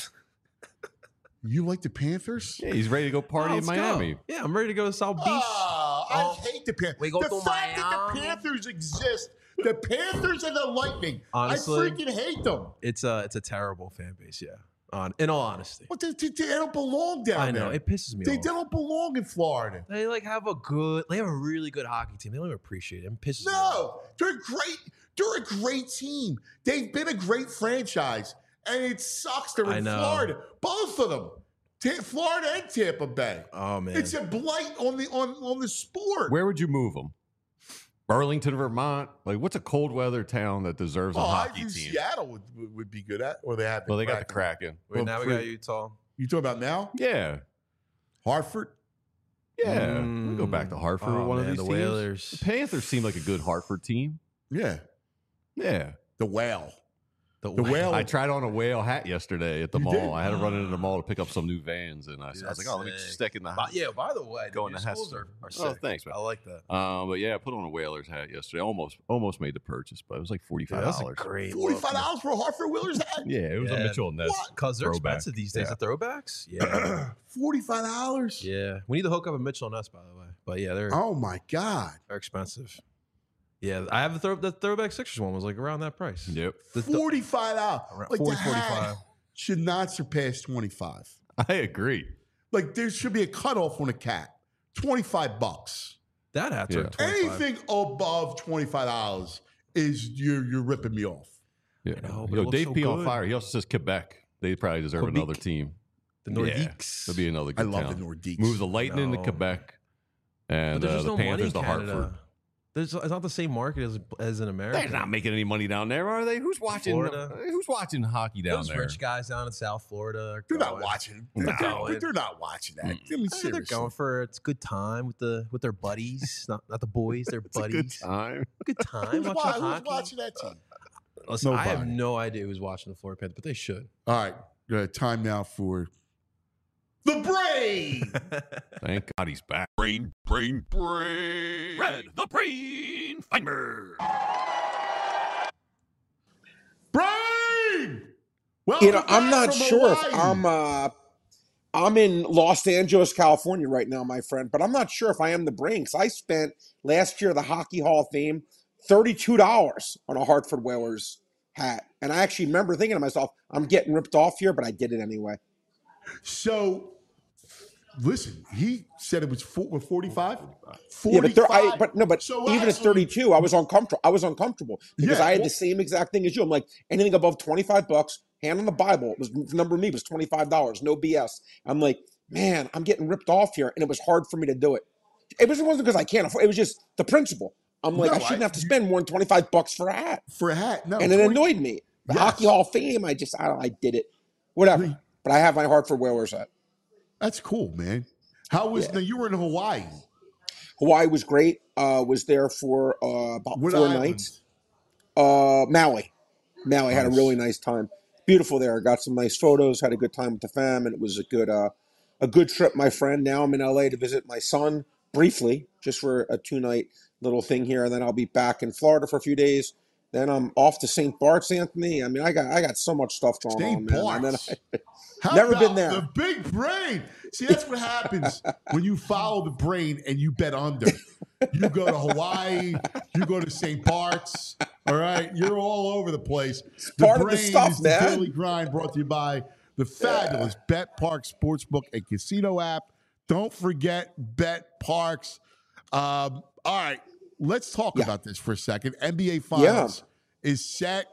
You like the Panthers? Yeah, he's ready to go party Oh, in let's go. Miami. Yeah, I'm ready to go to South Beach. Oh, I Oh, hate the Panthers. we go the to fact that the Miami. Panthers exist, the Panthers and the Lightning, Honestly, I freaking hate them. It's a it's a terrible fan base. Yeah. On in all honesty, What? They, they, they don't belong down I know there. it pisses me They off. don't belong in Florida. They like have a good. They have a really good hockey team. They don't even appreciate it. It pisses me off. No, they're great. They're a great team. They've been a great franchise, and it sucks they're I in know. Florida. Both of them, Ta- Florida and Tampa Bay. Oh man. It's a blight on the on on the sport. Where would you move them? Burlington, Vermont. Like, what's a cold weather town that deserves a oh, I hockey think team? Seattle would, would would be good at, or they have. Well, they got the Kraken. Kraken. Wait, well, now we for- got Utah. You talking about now? Yeah, Hartford. yeah. we go back to Hartford. Oh, with one man, of these the teams. Whalers. The Panthers seem like a good Hartford team. Yeah, Yeah. the whale. The, The whale. I tried on a whale hat yesterday at the You mall. did? I had to run into the mall to pick up some new vans, and I, I was like, That's "Oh, let me sick. stick in the By- house." yeah. By the way, the Go in new the schools Hester. are, are Oh, sick. thanks, man. I like that. Um, but yeah, I put on a Whalers hat yesterday. Almost, almost made the purchase, but it was like forty Dude, five that's a dollars. great. Forty-five dollars for a Hartford Whalers hat. Yeah, it was a Yeah. Mitchell and Ness. Because they're Throwback. expensive these days. Yeah. The throwbacks. Yeah. Forty-five dollars. yeah. We need to hook up a Mitchell and us, by the way. But yeah, they're Oh my god. they're expensive. Yeah, I have the throw the throwback Sixers one was like around that price. Yep, The- the- Forty-five dollars. Around Like forty, the hat forty-five. should not surpass twenty-five. I agree. Like there should be a cutoff on a cat. Twenty-five bucks. That hat's Yeah. like twenty-five. Anything above twenty-five dollars is you're you're ripping me off. Yeah, know, but Yo, it looks Dave so P on good. fire. He also says Quebec. They probably deserve Quebec. another team. The Yeah, Nordiques. There'll be another I good love town. the Nordiques. Move the Lightning to No. Quebec, But and there's uh, just the no money Panthers in to Canada. Hartford. There's, it's not the same market as as in America. They're not making any money down there, are they? Who's watching? Florida. Who's watching hockey down Those there? rich guys down in South Florida. Are They're not going- watching. No. They're, they're, they're not watching that. I mean, Eh, They're seriously. going for it's a good time with the with their buddies, not not the boys, their It's a good buddies. time. Good time Who's, watching wa- who's hockey. watching that team? Listen, I have Nobody. no idea who's watching the Florida Panthers, but they should. All right. Uh, time now for the brain. Thank God he's back. Brain, brain, brain. Red, the brain finder. brain. Well, You know, I'm not sure if I'm uh I'm in Los Angeles, California right now, my friend, but I'm not sure if I am the brain because I spent last year the Hockey Hall of Fame thirty-two dollars on a Hartford Whalers hat. And I actually remember thinking to myself, I'm getting ripped off here, but I did it anyway. So listen, he said it was four, forty-five? Yeah, but there, I, forty-five. but no, but So even at actually- thirty-two, I was uncomfortable. I was uncomfortable because Yeah, I had well- the same exact thing as you. I'm like, anything above twenty-five bucks, hand on the Bible. It was the number me was twenty-five dollars, no B S. I'm like, man, I'm getting ripped off here, and it was hard for me to do it. It was- it wasn't because I can't afford. It was just the principle. I'm like, No, I shouldn't I- have to spend more than twenty-five bucks for a hat, For a hat, no. and it twenty annoyed me. The Yes. Hockey Hall of Fame, I just, I, don't, I did it, whatever. Really? But I have my heart for Whalers hat. That's cool, man. How was Yeah. now? You were in Hawaii. Hawaii was great. Uh, was there for uh, about What four island? nights. Uh, Maui. Maui had a Nice. really nice time. Beautiful there. Got some nice photos. Had a good time with the fam, and it was a good, uh, a good trip, my friend. Now I'm in L A to visit my son briefly, just for a two night little thing here, and then I'll be back in Florida for a few days. Then I'm off to Saint Bart's, Anthony. I mean, I got I got so much stuff going Saint on, man. And then Bart's. I, How Never about been there. The big brain. See, that's what happens when you follow the brain and you bet under. You go to Hawaii, you go to Saint Bart's. All right, you're all over the place. The part of the brain stuff, is the man. Daily Grind, brought to you by the fabulous Bet Park Sportsbook and Casino app. Don't forget Bet Parks. Um, all right, let's talk Yeah. about this for a second. N B A Finals is set,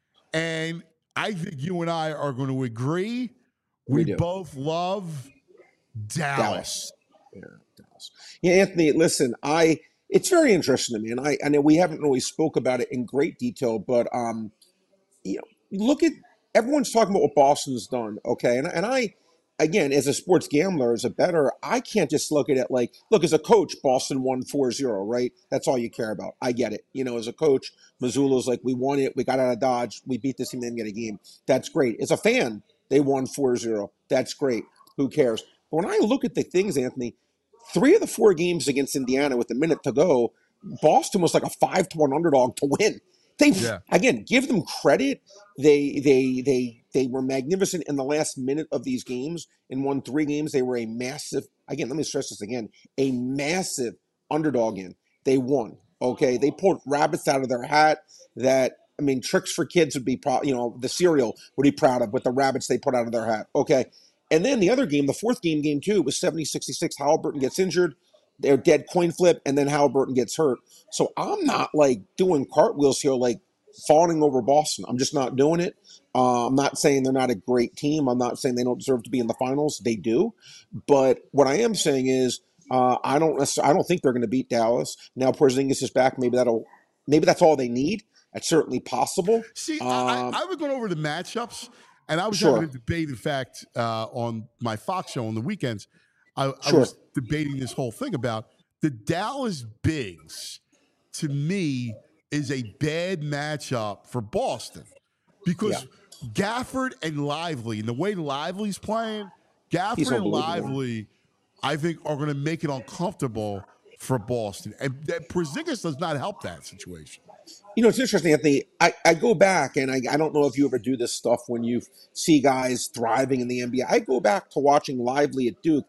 and I think you and I are going to agree. We, We do. both love Dallas. Dallas. Yeah, Dallas. Yeah, Anthony, listen, I it's very interesting to me, and I I know we haven't really spoke about it in great detail, but um, you know, look at everyone's talking about what Boston's done, okay, and and I. Again, as a sports gambler, as a bettor, I can't just look at it like, look, as a coach, Boston won four zero, right? That's all you care about. I get it. You know, as a coach, Missoula's like, we won it. We got out of Dodge. We beat this team, didn't get a game. That's great. As a fan, they won four zero. That's great. Who cares? But when I look at the things, Anthony, three of the four games against Indiana with a minute to go, Boston was like a five to one underdog to win. They Yeah. again give them credit. They they they they were magnificent in the last minute of these games and won three games. They were a massive again. Let me stress this again: a massive underdog in. They won. Okay, they pulled rabbits out of their hat. That I mean, tricks for kids would be proud. You know, the cereal would be proud of with the rabbits they put out of their hat. Okay, and then the other game, the fourth game, game two, was seventy sixty-six. Halliburton gets injured. They're dead coin flip, and then Halliburton gets hurt. So I'm not like doing cartwheels here, like fawning over Boston. I'm just not doing it. Uh, I'm not saying they're not a great team. I'm not saying they don't deserve to be in the finals. They do. But what I am saying is, uh, I don't. necessarily- I don't think they're going to beat Dallas. Now Porzingis is back. Maybe that'll. Maybe that's all they need. That's certainly possible. See, Um, I, I was going over the matchups, and I was Sure. having a debate. In fact, uh, on my Fox show on the weekends, I, I Sure. was debating this whole thing about the Dallas Bigs. To me, is a bad matchup for Boston because Gafford and Lively, and the way Lively's playing, Gafford and unbelievable. Lively, I think, are going to make it uncomfortable for Boston, and that Porzingis does not help that situation. You know, it's interesting, Anthony. I, I go back, and I, I don't know if you ever do this stuff when you see guys thriving in the N B A. I go back to watching Lively at Duke.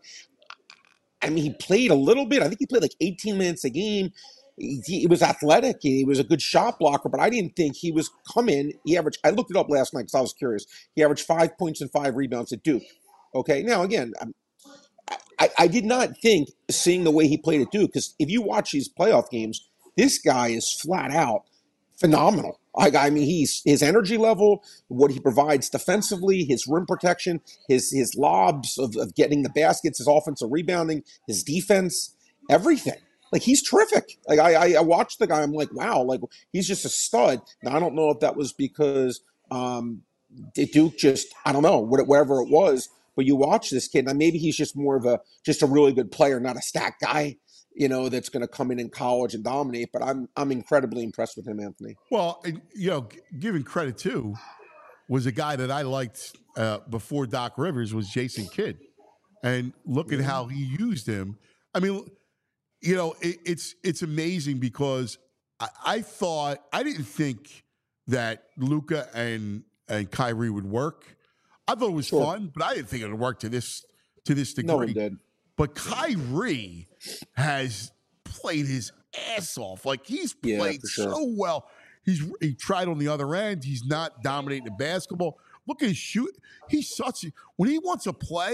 I mean, he played a little bit. I think he played like eighteen minutes a game. He, he was athletic. He was a good shot blocker, but I didn't think he was coming. He averaged, I looked it up last night because I was curious. He averaged five points and five rebounds at Duke. Okay. Now, again, I'm- I, I did not think seeing the way he played at Duke, because if you watch these playoff games, this guy is flat out phenomenal. Like, I mean, he's his energy level, what he provides defensively, his rim protection, his his lobs of, of getting the baskets, his offensive rebounding, his defense, everything. Like, he's terrific. Like, I, I I watched the guy, I'm like, wow, like he's just a stud. Now I don't know if that was because um, Duke just, I don't know, what- whatever it was. But you watch this kid, and maybe he's just more of a just a really good player, not a stat guy, you know, that's going to come in in college and dominate. But I'm I'm incredibly impressed with him, Anthony. Well, and, you know, g- giving credit to was a guy that I liked uh, before Doc Rivers was Jason Kidd, and look at how he used him. I mean, you know, it, it's it's amazing because I, I thought I didn't think that Luka and and Kyrie would work. I thought it was Sure. fun, but I didn't think it would work to this to this degree. No one did. But Kyrie has played his ass off. Like, he's Yeah, played for sure. so well. He's he tried on the other end. He's not dominating the basketball. Look at his shoot. He's such a, when he wants to play,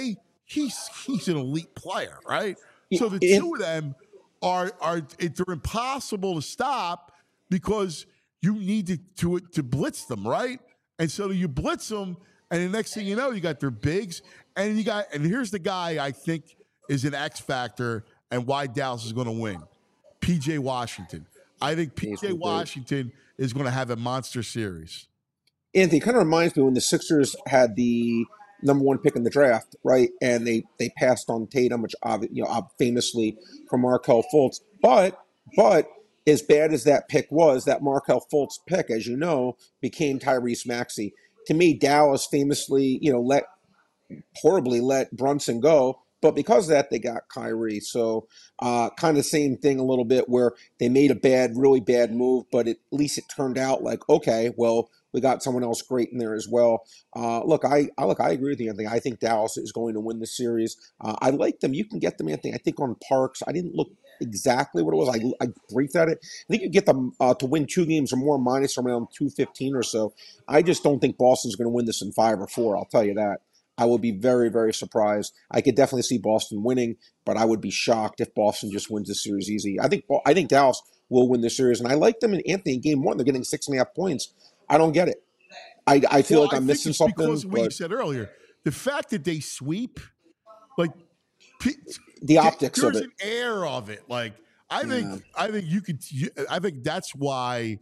he's he's an elite player, right? Yeah, So the and- two of them are are it, they're impossible to stop because you need to, to to blitz them, right? And so you blitz them, and the next thing you know, you got their bigs, and you got and here's the guy I think is an X factor and why Dallas is going to win. P J Washington. I think P J Washington is going to have a monster series. Anthony, it kind of reminds me when the Sixers had the number one pick in the draft, right? And they they passed on Tatum, which obvi- you know famously for Markelle Fultz. But but as bad as that pick was, that Markelle Fultz pick, as you know, became Tyrese Maxey. To me, Dallas famously, you know, let horribly let Brunson go. But because of that, they got Kyrie. So uh, kind of same thing a little bit where they made a bad, really bad move, but at least it turned out like, okay, well, we got someone else great in there as well. Uh, look, I, I look, I agree with you, Anthony. I think Dallas is going to win the series. Uh, I like them. You can get them, Anthony. I think on Parks. I didn't look exactly what it was. I, I briefed at it. I think you get them uh, to win two games or more, minus around two fifteen or so. I just don't think Boston's going to win this in five or four. I'll tell you that. I will be very, very surprised. I could definitely see Boston winning, but I would be shocked if Boston just wins the series easy. I think I think Dallas will win the series, and I like them in Anthony in game one. They're getting six and a half points. I don't get it. I, I feel well, like I'm I missing think it's something. Because of what you but said earlier, the fact that they sweep, like p- the optics there's of it. an air of it. Like I Yeah. think, I think you could. You, I think that's why.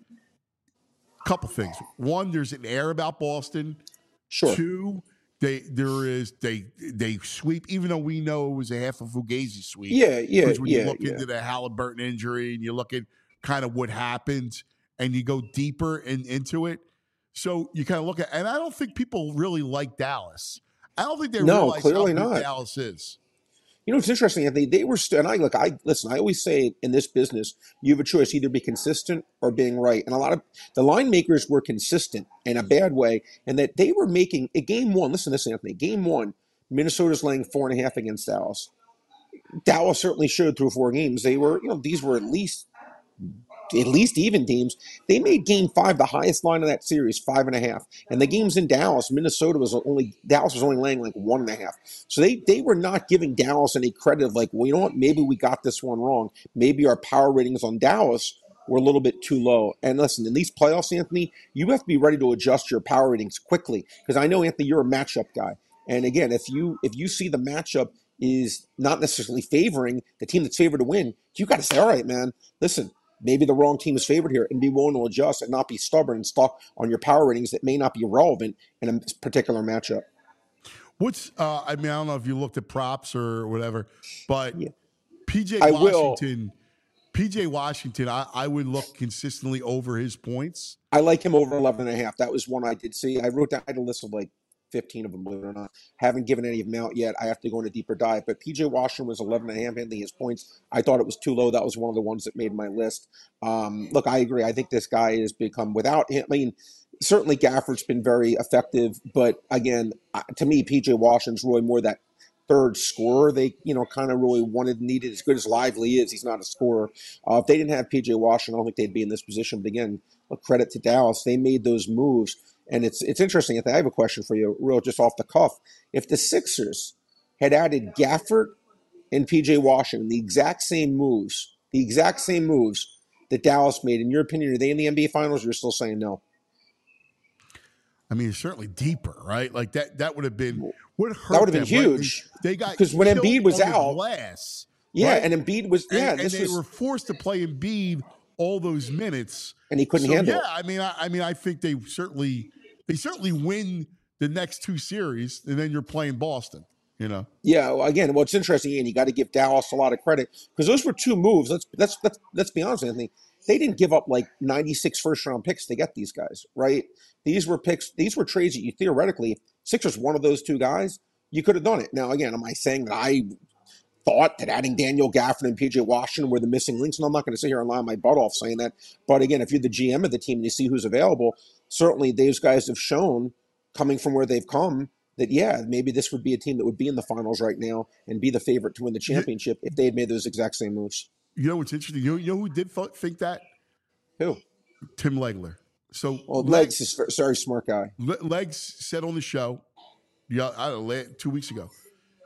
A couple things. One, there's an air about Boston. Sure. Two, they there is they they sweep, even though we know it was a half of Fugazi sweep. Yeah, yeah, Because when yeah, you look yeah. into the Halliburton injury and you look at kind of what happened and you go deeper in, into it, so you kind of look at, and I don't think people really like Dallas. I don't think they No, realize clearly how good not. Dallas is. You know, it's interesting. They they were st- and I look. I listen. I always say in this business, you have a choice: either be consistent or being right. And a lot of the line makers were consistent in a bad way, and that they were making a game one. Listen to this, Anthony. Game one, Minnesota's laying four and a half against Dallas. Dallas certainly showed through four games. They were, you know, these were at least at least even teams. They made game five the highest line of that series, five and a half. And the games in Dallas, Minnesota was only Dallas was only laying like one and a half. So they they were not giving Dallas any credit of like, well, you know what, maybe we got this one wrong. Maybe our power ratings on Dallas were a little bit too low. And listen, in these playoffs, Anthony, you have to be ready to adjust your power ratings quickly. Because I know, Anthony, you're a matchup guy. And again, if you if you see the matchup is not necessarily favoring the team that's favored to win, you got to say, all right, man, listen, maybe the wrong team is favored here, and be willing to adjust and not be stubborn and stuck on your power ratings that may not be relevant in a particular matchup. What's uh, I mean, I don't know if you looked at props or whatever, but Yeah. P J I will. Washington, P J Washington, I, I would look consistently over his points. I like him over eleven and a half. That was one I did see. I wrote down, I had a list of like fifteen of them, believe it or not. Haven't given any of them out yet. I have to go in a deeper dive. But P J Washington was eleven and a half, Anthony. His points, I thought it was too low. That was one of the ones that made my list. Um, look, I agree. I think this guy has become, without him, I mean, certainly Gafford's been very effective. But again, uh, to me, P J Washington's really more that third scorer they, you know, kind of really wanted, needed. As good as Lively is, he's not a scorer. Uh, if they didn't have P J Washington, I don't think they'd be in this position. But again, a credit to Dallas. They made those moves. And it's it's interesting. I have a question for you, real just off the cuff. If the Sixers had added Gafford and P J Washington, the exact same moves, the exact same moves that Dallas made, in your opinion, are they in the N B A Finals, or you're still saying no? I mean, it's certainly deeper, right? Like that that would have been what hurt That would have been them, right? huge. They, they got Because when killed Embiid was on the out- glass, Yeah, right? and Embiid was, yeah, and, this and they was, were forced to play Embiid all those minutes, and he couldn't so, handle yeah, it. I mean, I, I mean, I think they certainly they certainly win the next two series, and then you're playing Boston. You know, Yeah, well, again, what's interesting, and you got to give Dallas a lot of credit because those were two moves. Let's let's let's let's be honest, Anthony. They didn't give up like ninety-six first round picks to get these guys, right? These were picks. These were trades that you theoretically, Sixers, one of those two guys, you could have done it. Now, again, am I saying that I thought that adding Daniel Gafford and P J Washington were the missing links? And I'm not going to sit here and lie my butt off saying that. But again, if you're the G M of the team and you see who's available, certainly those guys have shown, coming from where they've come, that, yeah, maybe this would be a team that would be in the finals right now and be the favorite to win the championship if they had made those exact same moves. you know what's interesting? You know, you know who did th- think that? Who? Tim Legler. So Well, Legs is a very smart guy. Le- Legs said on the show, yeah, I don't know, la- two weeks ago,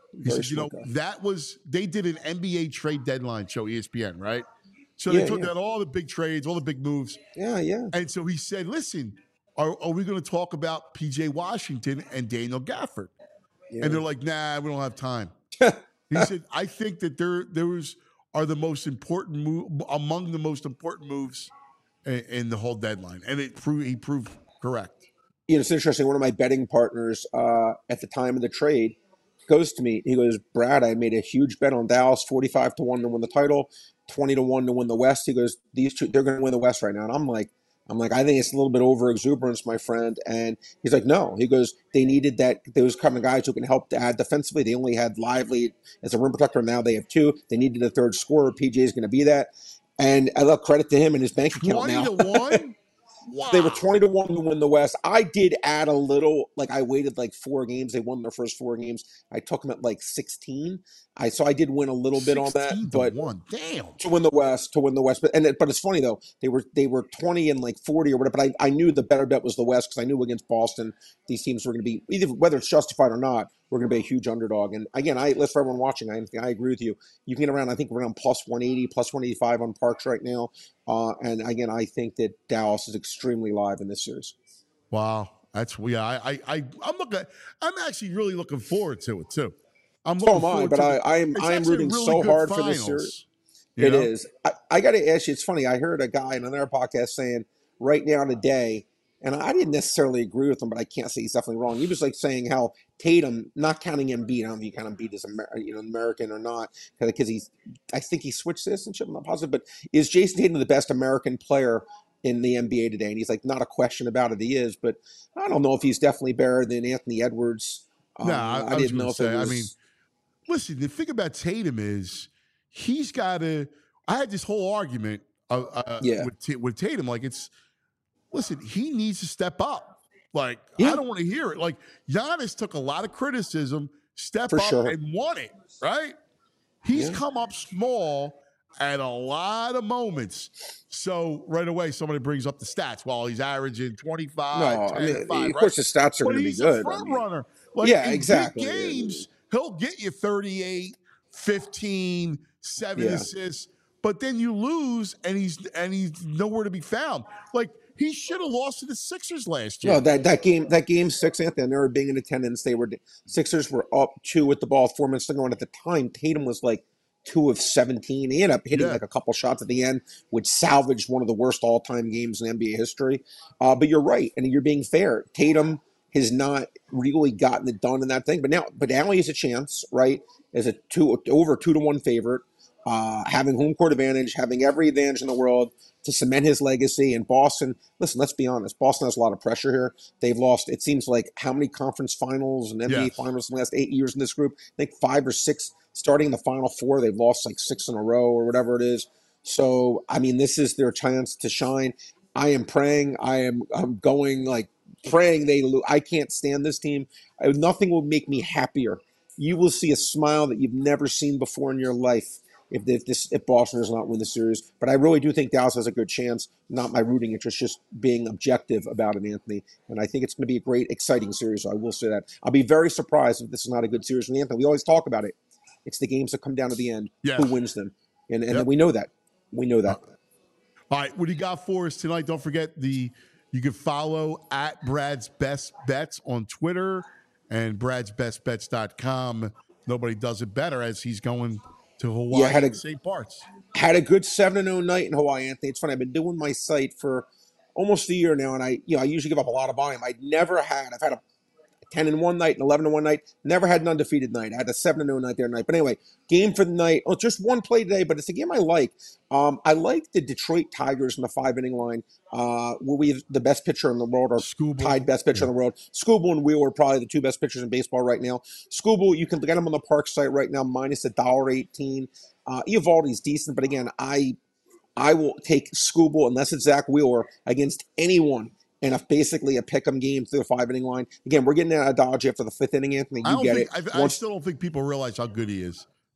He Very said, you know, smart guy. that was, they did an N B A trade deadline show, E S P N, right? So Yeah, they took yeah. out all the big trades, all the big moves. Yeah, yeah. And so he said, listen, are, are we going to talk about P J Washington and Daniel Gafford? yeah. And they're like, nah, we don't have time. He said, I think that there, there was, are the most important move, among the most important moves in, in the whole deadline. And it proved, he proved correct. You know, it's interesting. One of my betting partners uh, at the time of the trade goes to me. He goes, Brad, I made a huge bet on Dallas, forty-five to one to win the title, twenty to one to win the West. He goes, these two, they're going to win the West right now. And I'm like, I'm like, I think it's a little bit over exuberance, my friend. And he's like, no. He goes, they needed that. Those kind of guys who can help to add defensively. They only had Lively as a rim protector. Now they have two. They needed a third scorer. P J is going to be that. And I love credit to him and his bank account twenty now. to one? Wow. They were twenty to one to win the West. I did add a little, like I waited like four games. They won their first four games. I took them at like sixteen. I so I did win a little bit on that, sixteen to but one. Damn. to win the West, to win the West. But and it, but it's funny though. They were they were twenty and like forty or whatever. But I, I knew the better bet was the West because I knew against Boston these teams were going to be either whether it's justified or not. We're going to be a huge underdog. And again, I let's for everyone watching. I I agree with you. You can get around. I think we're around plus one eighty, plus one eighty-five on Parks right now. Uh, and again, I think that Dallas is extremely live in this series. Wow. That's, yeah, I, I, I, I'm looking, I'm actually really looking forward to it too. I'm So looking am I, forward but to I, it. I am It's I am actually a rooting really so good hard for this finals, series. you It know? is. I, I got to ask you. It's funny. I heard a guy in another podcast saying right now today, and I didn't necessarily agree with him, but I can't say he's definitely wrong. He was like saying how Tatum, not counting Embiid, I don't know if you count Embiid as Amer- you know American or not, because he's. I think he switched citizenship. I'm not positive, but is Jason Tatum the best American player in the N B A today? And he's like, not a question about it. He is, but I don't know if he's definitely better than Anthony Edwards. No, Uh, I, I, I was didn't know going if to say, it was. I mean, listen, the thing about Tatum is he's got to, I had this whole argument uh, uh, Yeah. with, T- with Tatum. Like, it's, listen, he needs to step up. Like, Yeah. I don't want to hear it. Like, Giannis took a lot of criticism, step For up sure. and won it, right? He's Yeah. come up small at a lot of moments. So right away, somebody brings up the stats. While he's averaging twenty-five, No, ten, I mean, and five, of right? course the stats are But going to be he's good. a front I mean, runner. Like, Yeah, in exactly. big games, he'll get you thirty-eight, fifteen, seven Yeah. assists, but then you lose and he's and he's nowhere to be found. Like, he should have lost to the Sixers last year. No, that, that game, that game six, Anthony, I remember being in attendance. They were Sixers were up two with the ball, four minutes to go, and at the time, Tatum was like two of seventeen. He ended up hitting Yeah. like a couple shots at the end, which salvaged one of the worst all-time games in N B A history. Uh, but you're right, and you're being fair. Tatum has not really gotten it done in that thing, but now, but now he has a chance, right? As a two over two to one favorite, uh, having home court advantage, having every advantage in the world to cement his legacy. And Boston, listen, let's be honest, Boston has a lot of pressure here. They've lost, it seems like, how many conference finals and N B A Yes. finals in the last eight years in this group? I think five or six, starting in the Final Four. They've lost like six in a row or whatever it is. So, I mean, this is their chance to shine. I am praying. I am I'm going like praying they lose. I can't stand this team. I, nothing will make me happier. You will see a smile that you've never seen before in your life if, if this if Boston does not win the series. But I really do think Dallas has a good chance. Not my rooting interest, just being objective about it, Anthony. And I think it's going to be a great, exciting series. So I will say that. I'll be very surprised if this is not a good series from Anthony. We always talk about it. It's the games that come down to the end. Yeah. Who wins them? And and Yep. we know that. We know that. All right, what do you got for us tonight? Don't forget the you can follow at Brad's Best Bets on Twitter and brads best bets dot com. Nobody does it better as he's going to Hawaii Yeah, had a- and Saint Bart's. Had a good seven and oh night in Hawaii, Anthony. It's funny. I've been doing my site for almost a year now, and I, you know, I usually give up a lot of volume. I'd never had. I've had a ten and one night, and eleven and one night. Never had an undefeated night. I had a seven and oh night there tonight. But anyway, game for the night. Oh, just one play today, but it's a game I like. Um, I like the Detroit Tigers in the five inning line. Uh, where we have the best pitcher in the world, or Scooble. tied best pitcher in the world. Scooble and Wheeler are probably the two best pitchers in baseball right now. Scooble, you can get him on the Park site right now, minus a dollar eighteen. Uh, Eovaldi's decent, but again, I I will take Scooble unless it's Zach Wheeler against anyone in a basically a pick'em game through the five inning line. Again, we're getting out of Dodge after the fifth inning, Anthony. I You don't get think, it. I, I Once- still don't think people realize how good he is.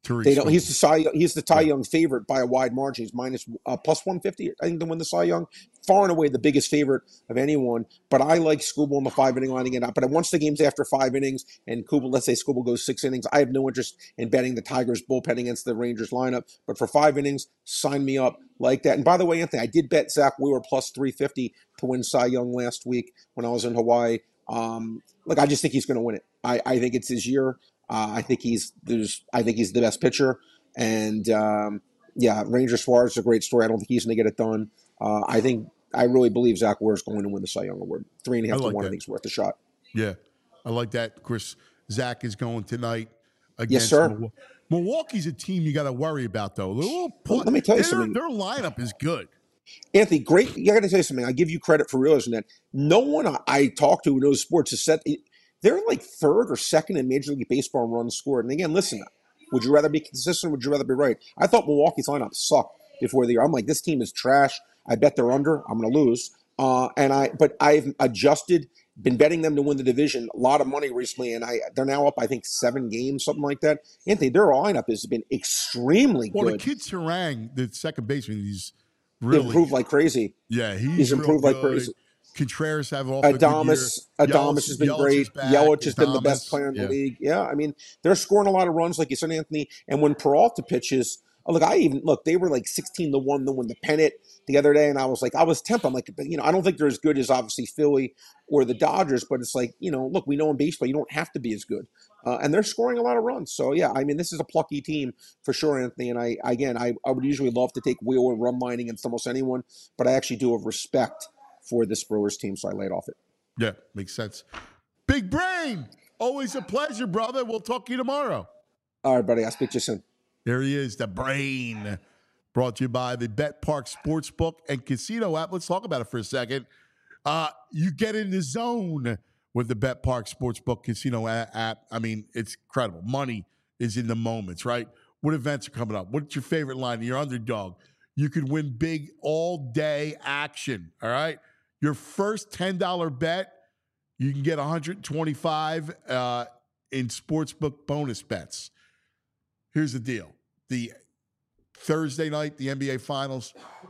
Tariq They don't. He's Skubal. the Cy. He's the Cy Young favorite by a wide margin. He's minus uh, plus one fifty. I think to win the Cy Young, far and away the biggest favorite of anyone. But I like Skubal in the five inning line again. But once the game's after five innings and Skubal, let's say Skubal goes six innings, I have no interest in betting the Tigers bullpen against the Rangers lineup. But for five innings, sign me up like that. And by the way, Anthony, I did bet Zach Wheeler plus three fifty to win Cy Young last week when I was in Hawaii. Um, look, I just think he's going to win it. I, I think it's his year. Uh, I think he's there's. I think he's the best pitcher, and um, yeah, Ranger Suarez is a great story. I don't think he's going to get it done. Uh, I think I really believe Zach Wheeler is going to win the Cy Young Award. Three and a half I like to one. that. I think is worth a shot. Yeah, I like that. Of course, Zach is going tonight against Yes, sir. Milwaukee. Milwaukee's a team you got to worry about, though. They're a little Well, let me tell you their, something. Their lineup is good. Anthony, great. I got to tell you something. I give you credit for realizing that. No one I, I talk to who knows sports has said they're like third or second in Major League Baseball in runs scored. And again, listen, would you rather be consistent? Would you rather be right? I thought Milwaukee's lineup sucked before the year. I'm like, this team is trash. I bet they're under. I'm going to lose. Uh, and I, but I've adjusted. Been betting them to win the division, a lot of money recently, and I they're now up, I think, seven games, something like that. Anthony, their lineup has been extremely Well, good. the kid Terang, the second baseman, he's really improved like crazy. Yeah, he's, He's improved real like good. crazy. Contreras have off a good Adamas, year. Adamas has been Yelich great. is back. Yelich has been the Adames, best player in the yeah. league. Yeah, I mean, they're scoring a lot of runs, like you said, Anthony. And when Peralta pitches, oh, look, I even look, they were like sixteen to one to win the pennant the other day, and I was like, I was tempted. I'm like, but you know, I don't think they're as good as obviously Philly or the Dodgers, but it's like, you know, look, we know in baseball you don't have to be as good, uh, and they're scoring a lot of runs. So yeah, I mean, this is a plucky team for sure, Anthony. And I again, I, I would usually love to take Wheeler run line against almost anyone, but I actually do have respect for this Brewers team, so I laid off it. Yeah, makes sense. Big Brain, always a pleasure, brother. We'll talk to you tomorrow. All right, buddy. I'll speak to you soon. There he is, the Brain. Brought to you by the Bet Park Sportsbook and Casino app. Let's talk about it for a second. Uh, you get in the zone with the Bet Park Sportsbook Casino a- app. I mean, it's incredible. Money is in the moments, right? What events are coming up? What's your favorite line? Your underdog. You could win big all-day action, all right? Your first ten dollars bet, you can get one hundred twenty-five dollars uh, in sportsbook bonus bets. Here's the deal. The Thursday night, the N B A Finals,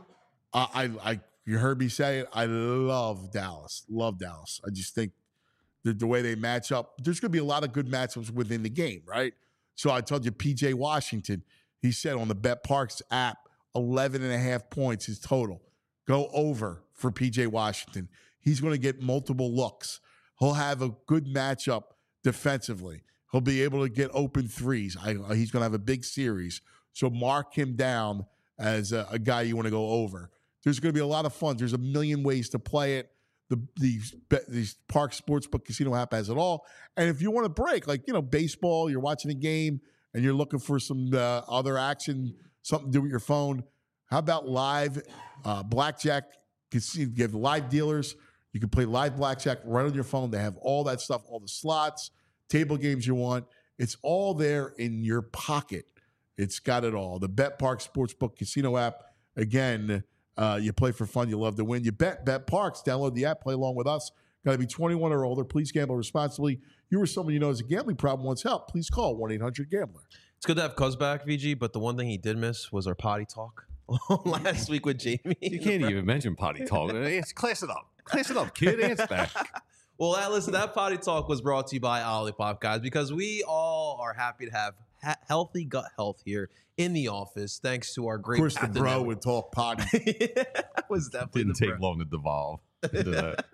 uh, I, I, you heard me say it, I love Dallas. Love Dallas. I just think the, the way they match up, there's going to be a lot of good matchups within the game, right? So I told you P J Washington, he said on the Bet Parks app, eleven and a half points is total. Go over for P J Washington. He's going to get multiple looks. He'll have a good matchup defensively. He'll be able to get open threes. I, he's going to have a big series. So mark him down as a, a guy you want to go over. There's going to be a lot of fun. There's a million ways to play it. The these these Park Sportsbook Casino app has it all. And if you want to break, like, you know, baseball, you're watching a game and you're looking for some uh, other action, something to do with your phone, how about live uh, blackjack? You can you have live dealers. You can play live blackjack right on your phone. They have all that stuff, all the slots, table games you want. It's all there in your pocket. It's got it all. The Bet Park Sportsbook Casino app. Again, uh, you play for fun. You love to win. You bet Bet Parks. Download the app. Play along with us. Got to be twenty-one or older. Please gamble responsibly. You or someone you know has a gambling problem wants help. Please call one eight hundred gambler. It's good to have Cuz back, V G, but the one thing he did miss was our potty talk last week with Jamie. You can't even mention potty talk. It's class it up. Class it up, kid. It's back. Well, that, listen, that potty talk was brought to you by Olipop, guys, because we all are happy to have ha- healthy gut health here in the office, thanks to our great. Of course, the captain bro network. would talk potty. That was definitely Didn't the take bro. long to devolve into that.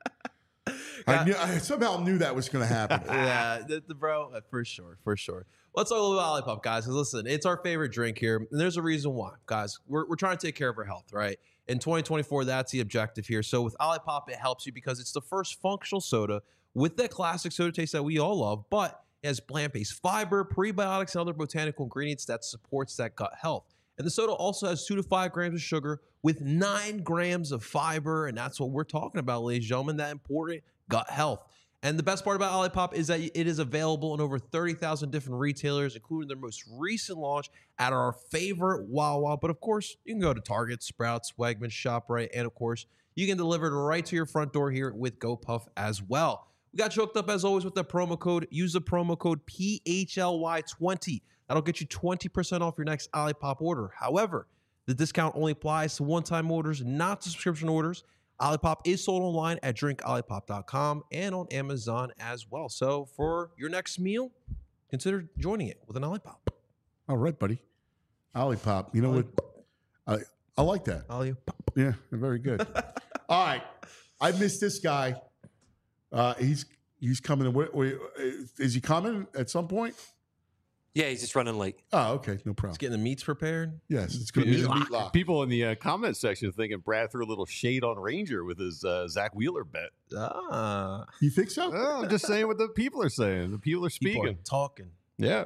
I, knew, I somehow knew that was going to happen. Yeah, the, the bro, uh, for sure, for sure. Let's talk a little bit about Olipop, guys. Because listen, it's our favorite drink here, and there's a reason why, guys. We're we're trying to take care of our health, right? In twenty twenty-four, that's the objective here. So with Olipop, it helps you because it's the first functional soda with that classic soda taste that we all love, but it has plant-based fiber, prebiotics, and other botanical ingredients that supports that gut health. And the soda also has two to five grams of sugar with nine grams of fiber, and that's what we're talking about, ladies and gentlemen, that important gut health. And the best part about Olipop is that it is available in over thirty thousand different retailers, including their most recent launch at our favorite Wawa. But of course, you can go to Target, Sprouts, Wegmans, ShopRite, and of course, you can deliver it right to your front door here with GoPuff as well. We got you hooked up as always with the promo code. Use the promo code P H L Y twenty. That'll get you twenty percent off your next Olipop order. However, the discount only applies to one-time orders, not to subscription orders. Olipop is sold online at drink olipop dot com and on Amazon as well. So for your next meal, consider joining it with an Olipop. All right, buddy. Olipop. You know what? I I like that. Olipop. Yeah, very good. All right. I missed this guy. Uh, he's he's coming. In, wait, wait, is he coming at some point? Yeah, he's just running late. Oh, okay. No He's problem. getting the meats prepared. Yes, it's going to be the meat lock. People in the uh, comment section thinking Brad threw a little shade on Ranger with his uh, Zach Wheeler bet. Ah. You think so? Oh, I'm just saying what the people are saying. The people are People speaking. are talking. Yeah.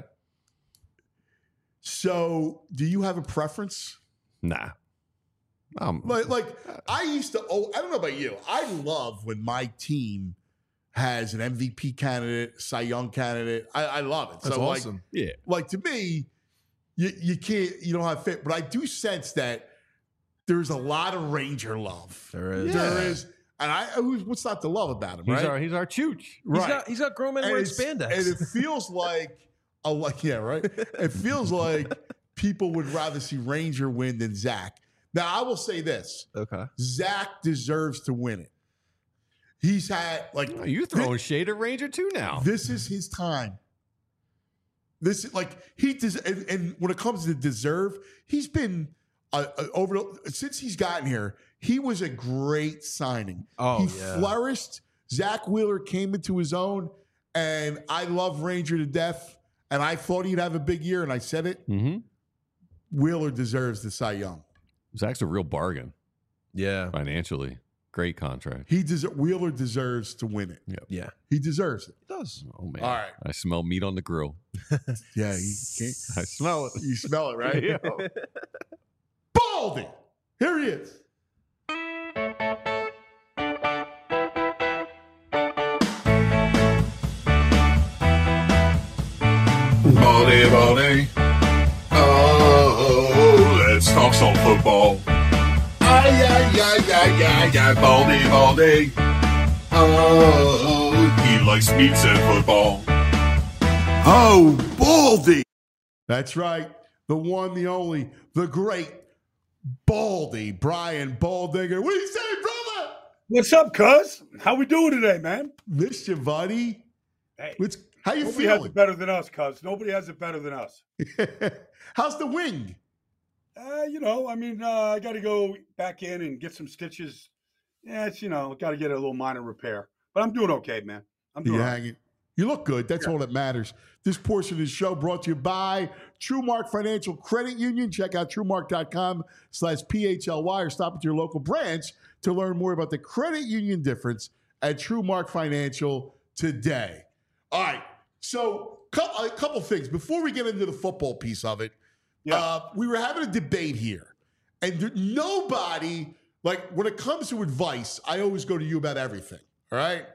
So, do you have a preference? Nah. Um, Like, like I used to. Oh, I don't know about you. I love when my team has an M V P candidate, Cy Young candidate. I, I love it. That's so, awesome. yeah. like, like to me, you you can't you don't have fit, but I do sense that there's a lot of Ranger love. There is. There is, and I I- what's not to love about him, He's right? our he's our chooch. He's right. got he's got grown men and, wearing it's- spandex. and it feels like a like yeah, right. It feels like people would rather see Ranger win than Zach. Now, I will say this: okay. Zach deserves to win it. He's had like Oh, you throwing shade at Ranger too now. this is his time. This is like he does, and, and when it comes to deserve, he's been uh, uh, over since he's gotten here. He was a great signing. Oh, he yeah. flourished. Zach Wheeler came into his own, and I love Ranger to death. And I thought he'd have a big year, and I said it. Mm-hmm. Wheeler deserves the Cy Young. Zach's a real bargain Yeah. financially. Great contract. He des- Wheeler deserves to win it. Yeah. He deserves it. It does. Oh man! All right. I smell meat on the grill. Yeah, he can't. I smell it. You smell it, right? Yeah. Baldy. Here he is. Baldy, Baldy. Oh, let's talk some football. Ay, ay, ay, ay, ay, ay, Baldy, Baldy. Oh, he likes meats and football. Oh, Baldy. That's right. The one, the only, the great Baldy, Brian Baldinger. What do you say, brother? What's up, cuz? How we doing today, man? Missed you, buddy. Hey, What's, how you nobody has feeling? it better than us, cuz. Nobody has it better than us. How's the wing? Uh, you know, I mean, uh, I got to go back in and get some stitches. Yeah, it's, you know, got to get a little minor repair. But I'm doing okay, man. I'm doing You all right. hanging? You look good. That's Yeah. all that matters. This portion of the show brought to you by TrueMark Financial Credit Union. Check out TrueMark.com slash PHLY or stop at your local branch to learn more about the credit union difference at TrueMark Financial today. All right. So a couple things. Before we get into the football piece of it, Yeah. uh, we were having a debate here. And there, nobody, like when it comes to advice, I always go to you about everything. All right.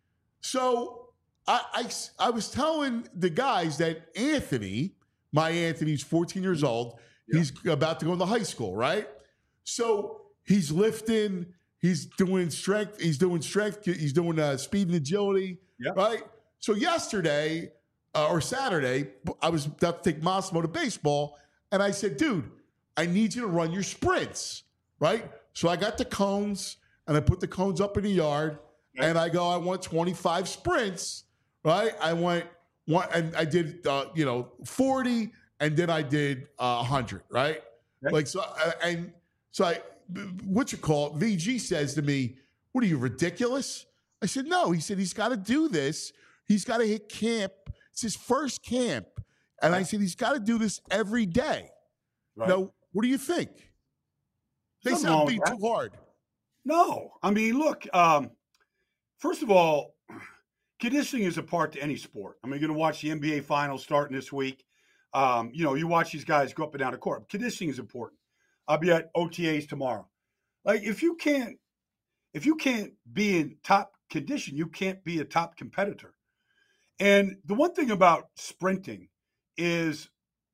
So I, I, I was telling the guys that Anthony, my Anthony's fourteen years old. Yeah. He's about to go into high school, right? So he's lifting, he's doing strength, he's doing strength, he's doing uh, speed and agility, Yeah. right? So yesterday uh, or Saturday, I was about to take Massimo to baseball, and I said, dude, I need you to run your sprints, right? So I got the cones, and I put the cones up in the yard, Okay. and I go, I want twenty-five sprints, right? I went one, and I did, uh, you know, forty, and then I did uh, one hundred, right? Okay. Like so, uh, and so I, what you call it? V G says to me, "What are you, ridiculous?" I said, "No." He said he's got to do this. He's got to hit camp. It's his first camp, and I said he's got to do this every day. Right. Now, what do you think? They Nothing wrong sound with being that. too hard. No, I mean, look. Um, first of all, conditioning is a part to any sport. I mean, you're going to watch the N B A finals starting this week. Um, you know, you watch these guys go up and down the court. Conditioning is important. I'll be at O T As tomorrow. Like, if you can't, if you can't be in top condition, you can't be a top competitor. And the one thing about sprinting is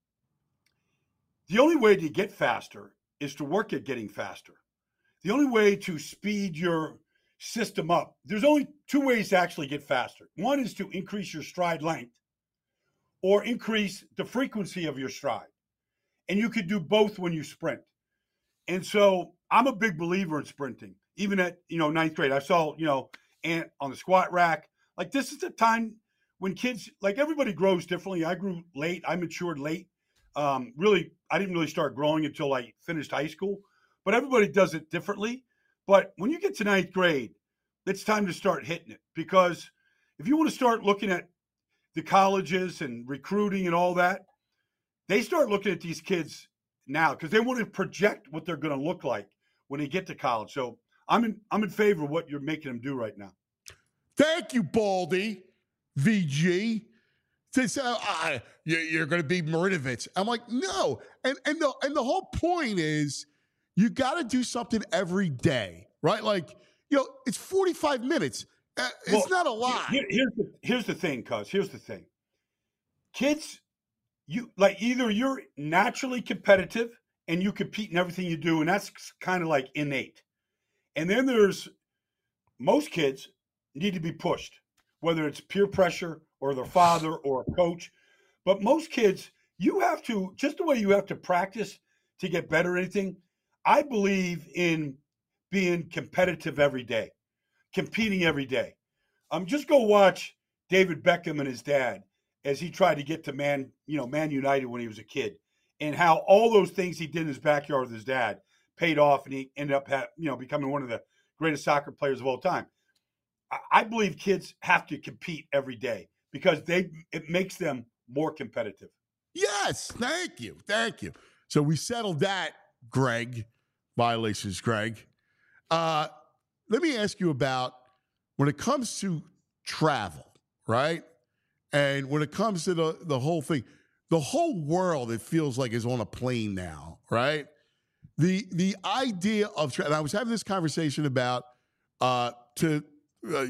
the only way to get faster is to work at getting faster. The only way to speed your system up, there's only two ways to actually get faster. One is to increase your stride length, or increase the frequency of your stride. And you could do both when you sprint. And so I'm a big believer in sprinting. Even at, you know, ninth grade, I saw, you know, Ant on the squat rack. Like, this is the time when kids, like, everybody grows differently. I grew late. I matured late. Um, really, I didn't really start growing until I finished high school. But everybody does it differently. But when you get to ninth grade, it's time to start hitting it. Because if you want to start looking at the colleges and recruiting and all that, they start looking at these kids now because they want to project what they're going to look like when they get to college. So I'm in I'm in favor of what you're making them do right now. Thank you, Baldy, V G. They say, uh, you're going to be Marinovich. I'm like, no. And and the, and the whole point is you got to do something every day, right? Like, you know, it's forty-five minutes. Uh, it's well, not a lot. Here, here's, the, here's the thing, cuz. Here's the thing. Kids, you like either you're naturally competitive and you compete in everything you do, and that's kind of like innate. And then there's most kids need to be pushed, whether it's peer pressure or their father or a coach. But most kids, you have to, just the way you have to practice to get better at anything, I believe in being competitive every day, competing every day. Um, just go watch David Beckham and his dad as he tried to get to Man, you know, Man United when he was a kid, and how all those things he did in his backyard with his dad paid off, and he ended up, ha- you know, becoming one of the greatest soccer players of all time. I, I believe kids have to compete every day because they it makes them more competitive. Yes, thank you, thank you. So we settled that, Greg. Violations, Greg. Uh, let me ask you about when it comes to travel, right? And when it comes to the, the whole thing, the whole world, it feels like, is on a plane now, right? The the idea of, and I was having this conversation about uh, to uh,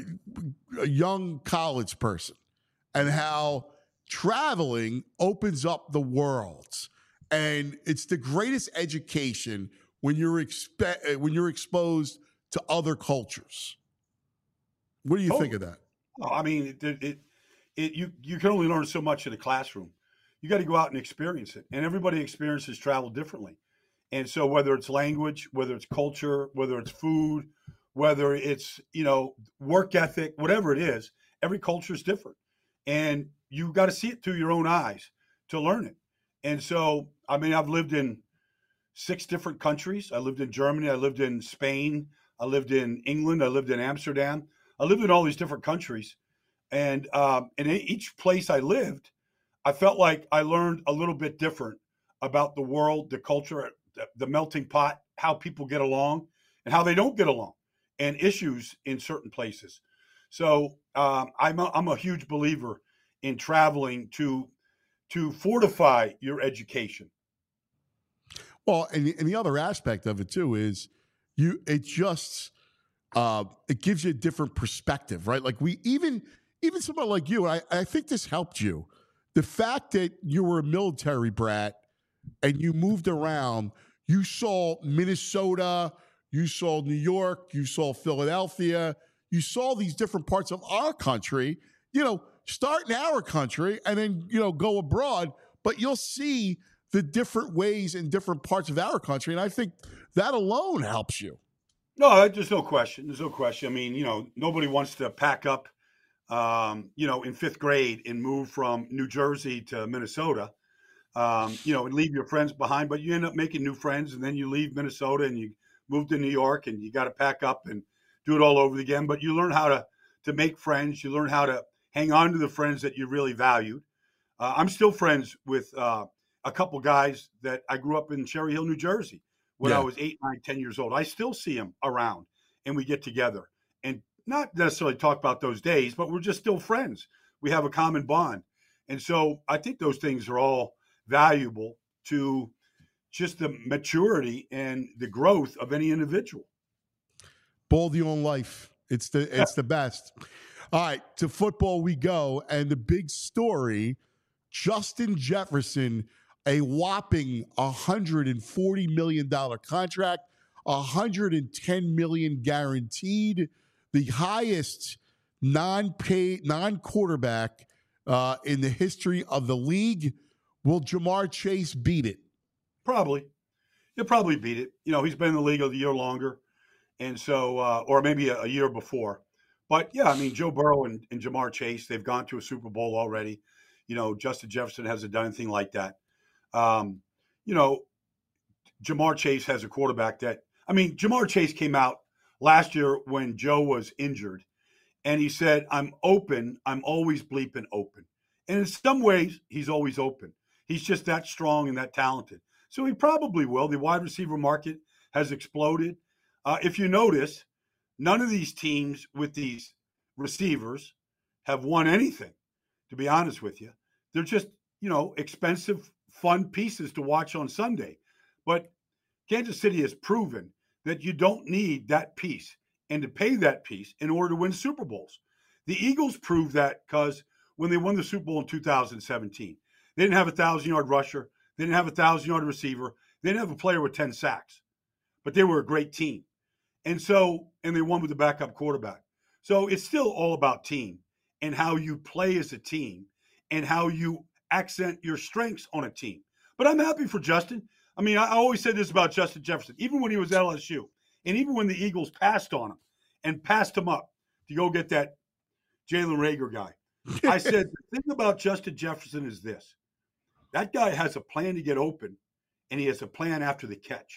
a young college person and how traveling opens up the world. And it's the greatest education when you're expe- when you're exposed to other cultures. What do you oh, think of that? I mean, it, it, it you you can only learn so much in a classroom. You got to go out and experience it, and everybody experiences travel differently. And so, whether it's language, whether it's culture, whether it's food, whether it's you know work ethic, whatever it is, every culture is different, and you got to see it through your own eyes to learn it. And so, I mean, I've lived in six different countries. I lived in Germany. I lived in Spain. I lived in England. I lived in Amsterdam. I lived in all these different countries. And um, in each place I lived, I felt like I learned a little bit different about the world, the culture, the melting pot, how people get along and how they don't get along, and issues in certain places. So um, I'm, a, I'm a huge believer in traveling to to fortify your education. Well, and the, and the other aspect of it too is you. It just uh, it gives you a different perspective, right? Like we even even somebody like you, and I, I think this helped you. The fact that you were a military brat and you moved around, you saw Minnesota, you saw New York, you saw Philadelphia, you saw these different parts of our country. You know, start in our country and then you know go abroad, but you'll see the different ways in different parts of our country. And I think that alone helps you. No, there's no question. There's no question. I mean, you know, nobody wants to pack up, um, you know, in fifth grade and move from New Jersey to Minnesota, um, you know, and leave your friends behind. But you end up making new friends, and then you leave Minnesota and you move to New York, and you got to pack up and do it all over again. But you learn how to to make friends. You learn how to hang on to the friends that you really valued. Uh, I'm still friends with uh, a couple guys that I grew up in Cherry Hill, New Jersey, when yeah. I was eight, nine, ten years old. I still see them around, and we get together and not necessarily talk about those days, but we're just still friends. We have a common bond. And so I think those things are all valuable to just the maturity and the growth of any individual. Baldy on life. It's the, it's yeah. the best. All right, to football we go. And the big story, Justin Jefferson, a whopping one hundred forty million dollars contract, one hundred ten million dollars guaranteed, the highest non-paid, non-quarterback uh, in the history of the league. Will Ja'Marr Chase beat it? Probably. He'll probably beat it. You know, he's been in the league a year longer. And so, uh, or maybe a, a year before. But yeah, I mean, Joe Burrow and, and Ja'Marr Chase, they've gone to a Super Bowl already. You know, Justin Jefferson hasn't done anything like that. Um, you know, Ja'Marr Chase has a quarterback that, I mean, Ja'Marr Chase came out last year when Joe was injured, and he said, I'm open. I'm always bleeping open. And in some ways, he's always open. He's just that strong and that talented. So he probably will. The wide receiver market has exploded. Uh, if you notice, none of these teams with these receivers have won anything, to be honest with you. They're just, you know, expensive, fun pieces to watch on Sunday. But Kansas City has proven that you don't need that piece and to pay that piece in order to win Super Bowls. The Eagles proved that because when they won the Super Bowl in two thousand seventeen, they didn't have a thousand-yard rusher. They didn't have a thousand-yard receiver. They didn't have a player with ten sacks. But they were a great team. And so, and they won with the backup quarterback. So it's still all about team and how you play as a team and how you accent your strengths on a team. But I'm happy for Justin. I mean, I always said this about Justin Jefferson, even when he was at L S U, and even when the Eagles passed on him and passed him up to go get that Jalen Reagor guy. I said, the thing about Justin Jefferson is this. That guy has a plan to get open, and he has a plan after the catch.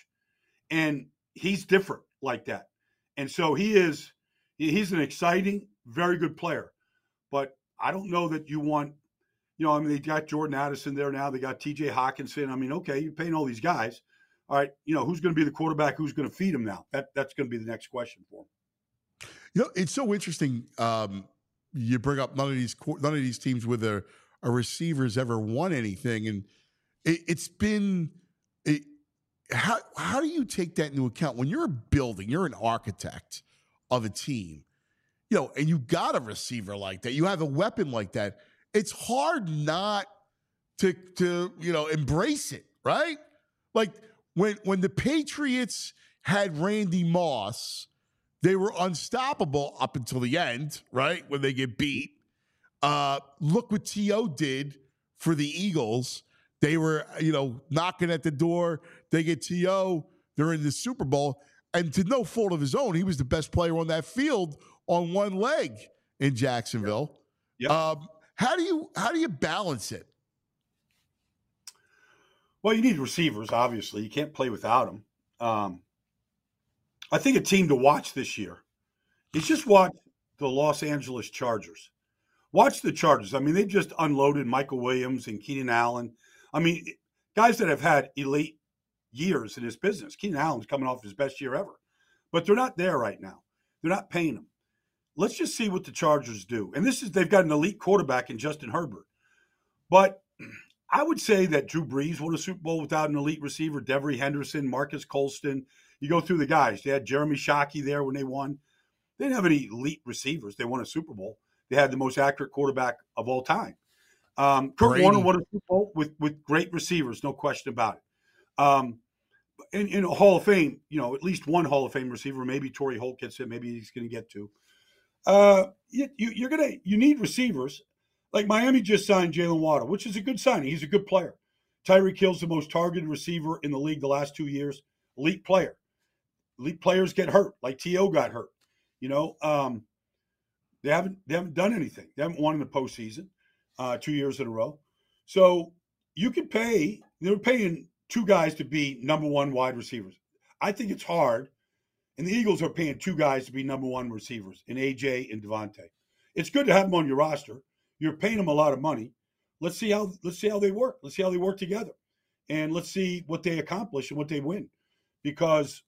And he's different like that. And so he is, he's an exciting, very good player. But I don't know that you want, you know, I mean, they got Jordan Addison there now. They got T J Hawkinson. I mean, okay, you're paying all these guys. All right, you know, who's going to be the quarterback? Who's going to feed him now? That That's going to be the next question for him. You know, it's so interesting. Um, you bring up none of these none of these teams with a, a receiver's ever won anything, and it, it's been it, how how do you take that into account when you're building? You're an architect of a team, you know, and you got a receiver like that. You have a weapon like that. It's hard not to to you know embrace it, right? Like when when the Patriots had Randy Moss, they were unstoppable up until the end, right? When they get beat. Uh, look what T O did for the Eagles. They were, you know, knocking at the door. They get T O. They're in the Super Bowl. And to no fault of his own, he was the best player on that field on one leg in Jacksonville. Yep. Um, how do you how do you balance it? Well, you need receivers, obviously. You can't play without them. Um, I think a team to watch this year is just watch the Los Angeles Chargers. Watch the Chargers. I mean, they just unloaded Michael Williams and Keenan Allen. I mean, guys that have had elite years in this business. Keenan Allen's coming off his best year ever. But they're not there right now. They're not paying him. Let's just see what the Chargers do. And this is, they've got an elite quarterback in Justin Herbert. But I would say that Drew Brees won a Super Bowl without an elite receiver. Devery Henderson, Marcus Colston. You go through the guys. They had Jeremy Shockey there when they won. They didn't have any elite receivers. They won a Super Bowl. They had the most accurate quarterback of all time. Um, Kurt Brady. Warner won a Super Bowl with, with great receivers, no question about it. Um, in, in a Hall of Fame, you know, at least one Hall of Fame receiver, maybe Torrey Holt gets it, maybe he's going to get to. Uh, you, you, you're gonna you need receivers. Like Miami just signed Jalen Waddle, which is a good signing. He's a good player. Tyreek Hill's the most targeted receiver in the league the last two years. Elite player. Elite players get hurt, like T O got hurt. You know, um, they haven't they haven't done anything. They haven't won in the postseason uh, two years in a row. So you could pay. They're paying two guys to be number one wide receivers. I think it's hard, and the Eagles are paying two guys to be number one receivers in A J and Devontae. It's good to have them on your roster. You're paying them a lot of money. Let's see how let's see how they work. Let's see how they work together, and let's see what they accomplish and what they win, because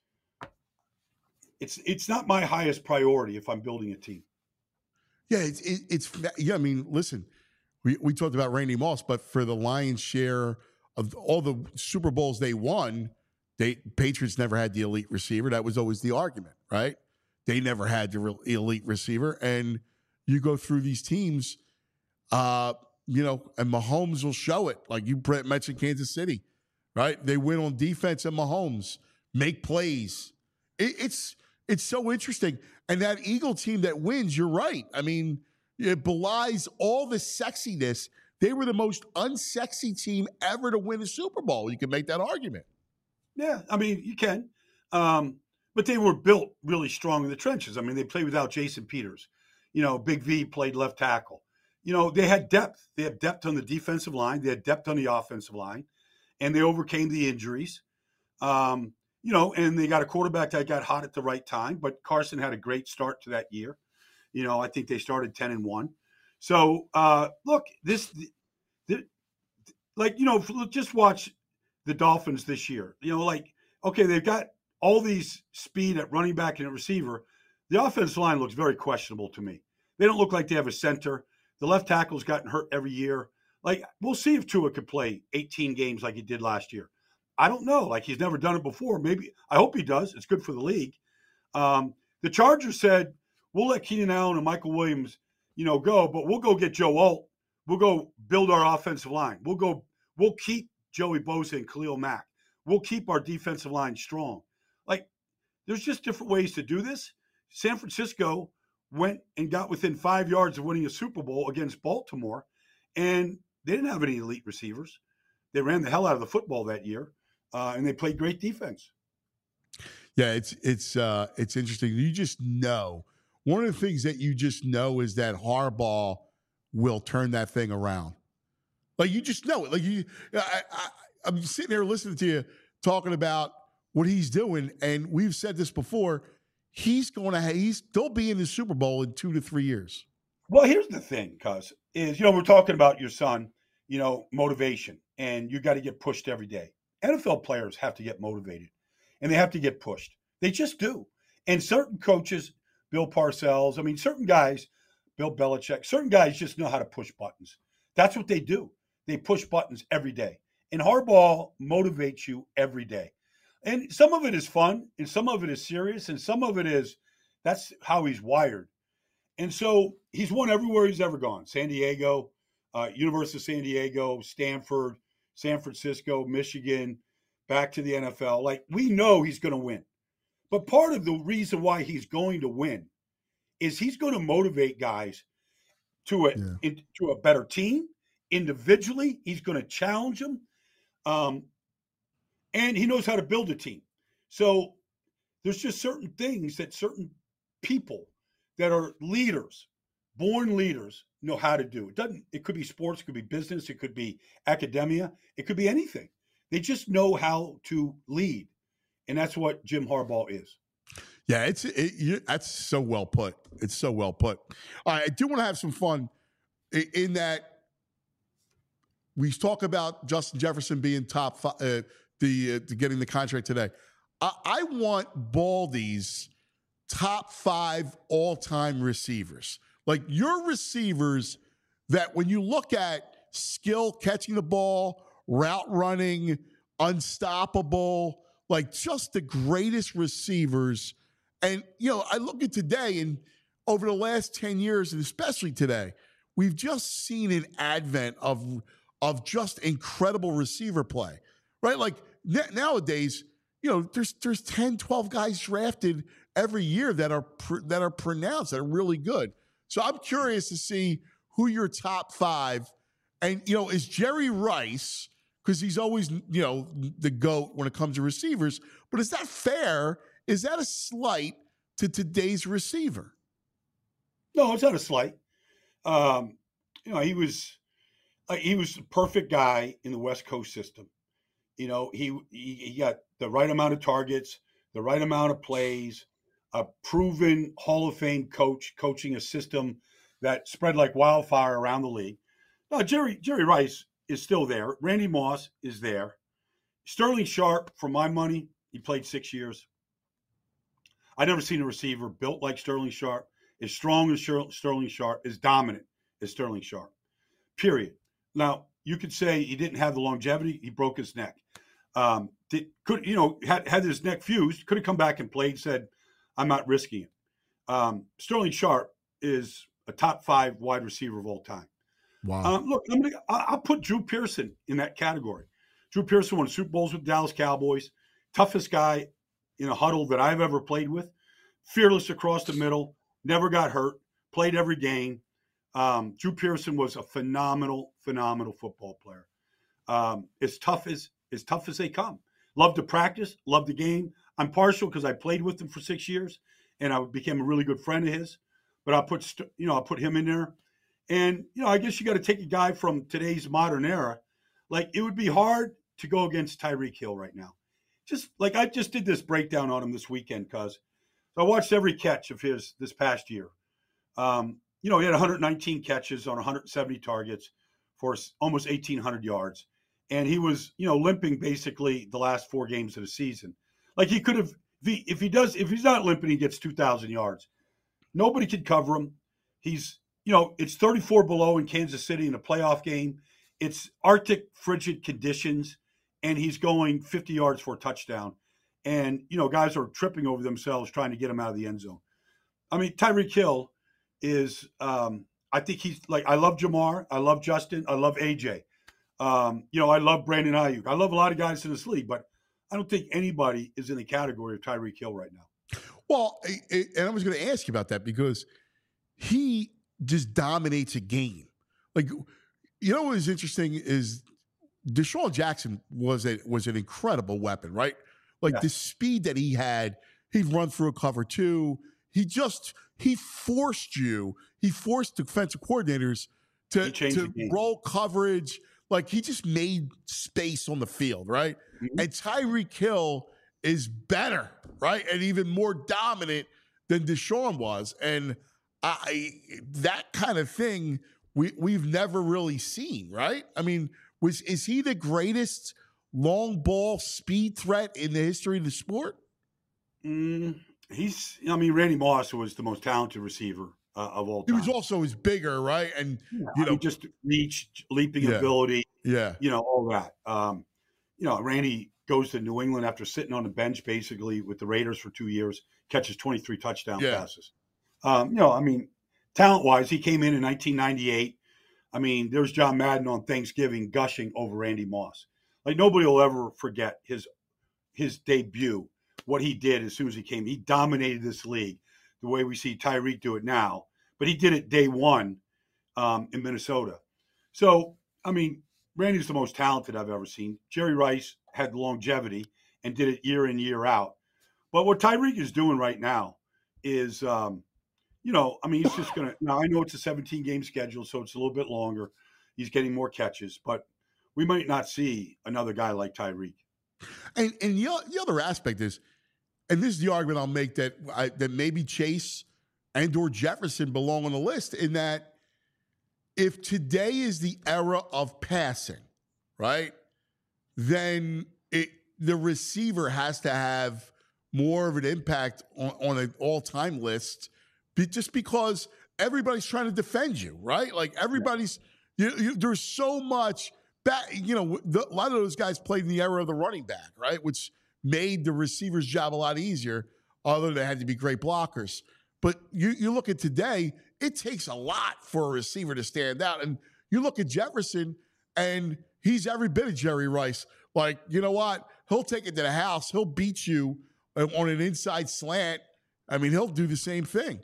it's it's not my highest priority if I'm building a team. Yeah, it's it, it's yeah. I mean, listen, we we talked about Randy Moss, but for the lion's share of all the Super Bowls they won, they Patriots never had the elite receiver. That was always the argument, right? They never had the real elite receiver, and you go through these teams, uh, you know, and Mahomes will show it. Like you mentioned, Kansas City, right? They win on defense, and Mahomes make plays. It, it's it's so interesting. And that Eagle team that wins, you're right. I mean, It belies all the sexiness. They were the most unsexy team ever to win a Super Bowl. You can make that argument. Yeah, I mean, you can. Um, but they were built really strong in the trenches. I mean, they played without Jason Peters. You know, Big V played left tackle. You know, they had depth. They had depth on the defensive line. They had depth on the offensive line. And they overcame the injuries. Um, you know, and they got a quarterback that got hot at the right time. But Carson had a great start to that year. You know, I think they started ten and one. So, uh, look, this, this, like, you know, just watch the Dolphins this year. You know, like, okay, they've got all these speed at running back and at receiver. The offensive line looks very questionable to me. They don't look like they have a center. The left tackle's gotten hurt every year. Like, we'll see if Tua could play eighteen games like he did last year. I don't know. Like, he's never done it before. Maybe. I hope he does. It's good for the league. Um, the Chargers said, we'll let Keenan Allen and Michael Williams, you know, go, but we'll go get Joe Alt. We'll go build our offensive line. We'll go, we'll keep Joey Bosa and Khalil Mack. We'll keep our defensive line strong. Like, there's just different ways to do this. San Francisco went and got within five yards of winning a Super Bowl against Baltimore, and they didn't have any elite receivers. They ran the hell out of the football that year, uh, and they played great defense. Yeah, it's it's uh, it's interesting. You just know. One of the things that you just know is that Harbaugh will turn that thing around. Like, you just know it. Like, you, I, I, I'm sitting here listening to you talking about what he's doing, and we've said this before. He's going to he's they'll be in the Super Bowl in two to three years. Well, here's the thing, cuz is you know we're talking about your son, you know, motivation, and you got to get pushed every day. N F L players have to get motivated, and they have to get pushed. They just do. And certain coaches, Bill Parcells, I mean, certain guys, Bill Belichick, certain guys just know how to push buttons. That's what they do. They push buttons every day. And Harbaugh motivates you every day. And some of it is fun, and some of it is serious, and some of it is that's how he's wired. And so he's won everywhere he's ever gone. San Diego, uh, University of San Diego, Stanford, San Francisco, Michigan, back to the N F L. Like, we know he's going to win. But part of the reason why he's going to win is he's going to motivate guys to a, yeah. in, to a better team. Individually, he's going to challenge them. Um, and he knows how to build a team. So there's just certain things that certain people that are leaders, born leaders, know how to do. It doesn't, it could be sports, it could be business, it could be academia, it could be anything. They just know how to lead. And that's what Jim Harbaugh is. Yeah, it's it, you, that's so well put. It's so well put. All right, I do want to have some fun in, in that we talk about Justin Jefferson being top five, uh, the, uh, the getting the contract today. I, I want Baldy's top five all-time receivers. Like, your receivers that when you look at skill, catching the ball, route running, unstoppable, like just the greatest receivers. And, you know, I look at today and over the last ten years, and especially today, we've just seen an advent of, of just incredible receiver play, right? Like n- nowadays, you know, there's there's ten, twelve guys drafted every year that are pr- that are pronounced, that are really good. So I'm curious to see who your top five, and, you know, is Jerry Rice, because he's always, you know, the GOAT when it comes to receivers. But is that fair? Is that a slight to today's receiver? No, it's not a slight. Um, you know, he was uh, he was the perfect guy in the West Coast system. You know, he, he he got the right amount of targets, the right amount of plays, a proven Hall of Fame coach coaching a system that spread like wildfire around the league. No, Jerry Jerry Rice is still there. Randy Moss is there. Sterling Sharp, for my money, he played six years. I've never seen a receiver built like Sterling Sharp, as strong as Sterling Sharp, as dominant as Sterling Sharp, period. Now, you could say he didn't have the longevity. He broke his neck. Um, did, could you know, had, had his neck fused, could have come back and played, said, I'm not risking it. Um, Sterling Sharp is a top five wide receiver of all time. Wow. Um, look, I'm gonna, I'll put Drew Pearson in that category. Drew Pearson won Super Bowls with the Dallas Cowboys. Toughest guy in a huddle that I've ever played with. Fearless across the middle. Never got hurt. Played every game. Um, Drew Pearson was a phenomenal, phenomenal football player. Um, as tough as as tough as they come. Love to practice, love the game. I'm partial because I played with him for six years, and I became a really good friend of his. But I'll put you know I'll put him in there, and you know I guess you got to take a guy from today's modern era. Like it would be hard to go against Tyreek Hill right now. Just like I just did this breakdown on him this weekend, cuz so I watched every catch of his this past year. Um, you know, he had one hundred nineteen catches on one hundred seventy targets for almost eighteen hundred yards. And he was, you know, limping basically the last four games of the season. Like he could have, if he, if he does, if he's not limping, he gets two thousand yards. Nobody could cover him. He's, you know, it's thirty-four below in Kansas City in a playoff game. It's Arctic frigid conditions, and he's going fifty yards for a touchdown. And, you know, guys are tripping over themselves trying to get him out of the end zone. I mean, Tyreek Hill is, um, I think he's like, I love Jamar. I love Justin. I love A J. Um, you know, I love Brandon Ayuk. I love a lot of guys in this league, but I don't think anybody is in the category of Tyreek Hill right now. Well, and I was going to ask you about that because he just dominates a game. Like, you know what is interesting is Deshaun Jackson was a was an incredible weapon, right? Like yeah. the speed that he had, he'd run through a cover two. He just he forced you. He forced defensive coordinators to to roll coverage. Like he just made space on the field, right? Mm-hmm. And Tyreek Hill is better, right? And even more dominant than Deshaun was. And I that kind of thing we we've never really seen, right? I mean, was is he the greatest long ball speed threat in the history of the sport? Mm, he's I mean, Randy Moss was the most talented receiver uh, of all time. He was also is bigger, right? And yeah, you I know, mean, just reach, leaping yeah. ability, yeah, you know, all that. Um, you know, Randy goes to New England after sitting on the bench basically with the Raiders for two years, catches twenty-three touchdown yeah. passes. Um, you know, I mean, talent-wise, he came in in nineteen ninety-eight. I mean, there's John Madden on Thanksgiving gushing over Randy Moss. Like nobody will ever forget his his debut, what he did as soon as he came. He dominated this league the way we see Tyreek do it now, but he did it day one um, in Minnesota. So, I mean, Randy's the most talented I've ever seen. Jerry Rice had longevity and did it year in, year out. But what Tyreek is doing right now is, um, you know, I mean, he's just going to – now, I know it's a seventeen-game schedule, so it's a little bit longer. He's getting more catches, but we might not see another guy like Tyreek. And and the, the other aspect is, and this is the argument I'll make, that I, that maybe Chase and or Jefferson belong on the list, in that if today is the era of passing, right, then it, the receiver has to have more of an impact on, on an all-time list, be, just because everybody's trying to defend you, right? Like everybody's you, you, there's so much back. You know, the, a lot of those guys played in the era of the running back, right, which made the receiver's job a lot easier. Although they had to be great blockers, but you you look at today, it takes a lot for a receiver to stand out. And you look at Jefferson, and he's every bit of Jerry Rice. Like, you know what? He'll take it to the house. He'll beat you on an inside slant. I mean, he'll do the same thing.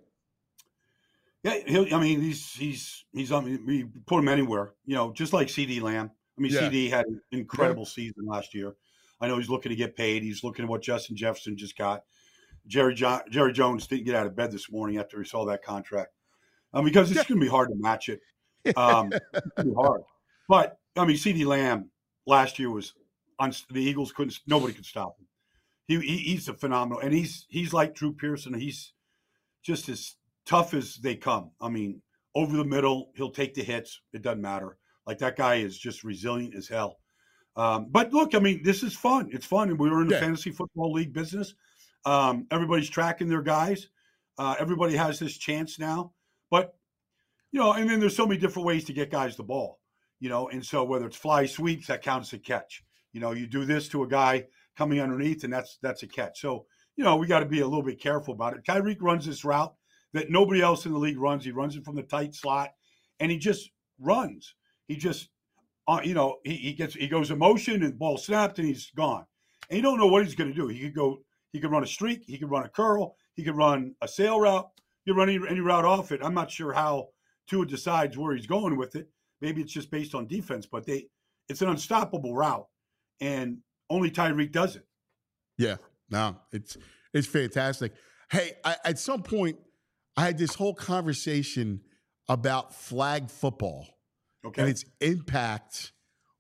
Yeah, he'll, I mean, he's he's he's on. We put him anywhere, you know, just like CeeDee Lamb. I mean, yeah. CeeDee had an incredible yeah. season last year. I know he's looking to get paid. He's looking at what Justin Jefferson just got. Jerry jo- Jerry Jones didn't get out of bed this morning after he saw that contract, um, because it's going to be hard to match it. Um, it's going to be hard. But I mean, CeeDee Lamb last year was on the Eagles. Couldn't nobody could stop him. He, he he's a phenomenal, and he's he's like Drew Pearson. He's just as tough as they come. I mean, over the middle, he'll take the hits. It doesn't matter. Like that guy is just resilient as hell. Um, but look, I mean, this is fun. It's fun, and we're in the yeah. fantasy football league business. Um, everybody's tracking their guys. Uh, everybody has this chance now. But, you know, and then there's so many different ways to get guys the ball, you know. And so whether it's fly sweeps, that counts as a catch. You know, you do this to a guy coming underneath, and that's that's a catch. So, you know, we got to be a little bit careful about it. Tyreek runs this route that nobody else in the league runs. He runs it from the tight slot, and he just runs. He just, uh, you know, he, he gets he goes in motion, and the ball snapped, and he's gone. And you don't know what he's going to do. He could go. He could run a streak. He could run a curl. He could run a sail route. He could run any, any route off it. I'm not sure how Tua decides where he's going with it. Maybe it's just based on defense, but they it's an unstoppable route, and only Tyreek does it. Yeah, no, it's it's fantastic. Hey, I, at some point, I had this whole conversation about flag football Okay. and its impact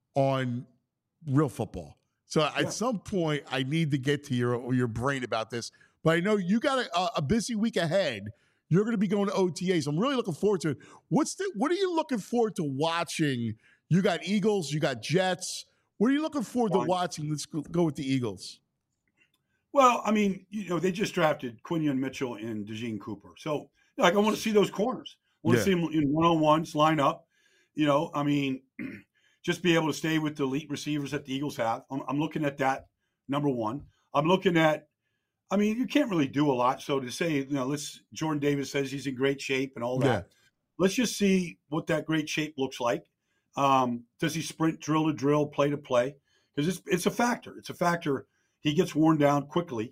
on real football. So Yeah. at some point, I need to get to your your brain about this. But I know you got a, a busy week ahead. You're going to be going to O T As. I'm really looking forward to it. What's the what are you looking forward to watching? You got Eagles, you got Jets. What are you looking forward to Fine. watching? Let's go, go with the Eagles. Well, I mean, you know, they just drafted Quinion Mitchell and DeJean Cooper. So, like, I want to see those corners. I want Yeah. to see them in one-on-ones, line up. You know, I mean, just be able to stay with the elite receivers that the Eagles have. I'm, I'm looking at that, number one. I'm looking at, I mean, you can't really do a lot. So to say, you know, let's, Jordan Davis says he's in great shape and all that. Yeah. Let's just see what that great shape looks like. Um, does he sprint drill to drill, play to play? Because it's, it's a factor. It's a factor. He gets worn down quickly.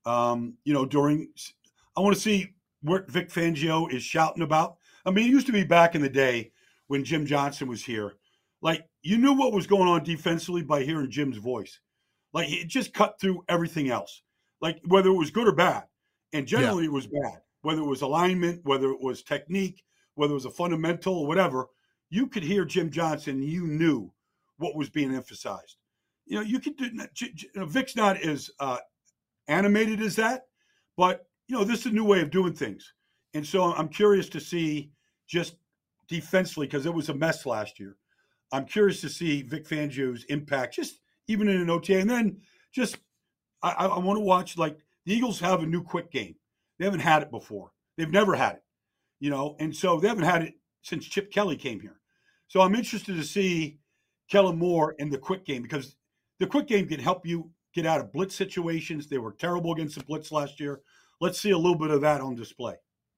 Um, you know, during, I want to see what Vic Fangio is shouting about. I mean, it used to be back in the day when Jim Johnson was here. Like, you knew what was going on defensively by hearing Jim's voice. Like, it just cut through everything else. Like, whether it was good or bad. And generally it was bad. Whether it was alignment, whether it was technique, whether it was a fundamental or whatever, you could hear Jim Johnson and you knew what was being emphasized. You know, you could do, you know, Vic's not as uh, animated as that, but, you know, this is a new way of doing things. And so I'm curious to see just defensively, because it was a mess last year. I'm curious to see Vic Fangio's impact, just even in an O T A. And then just, I, I want to watch, like, the Eagles have a new quick game. They haven't had it before. They've never had it, you know, and so they haven't had it since Chip Kelly came here. So I'm interested to see Kellen Moore in the quick game, because the quick game can help you get out of blitz situations. They were terrible against the blitz last year. Let's see a little bit of that on display.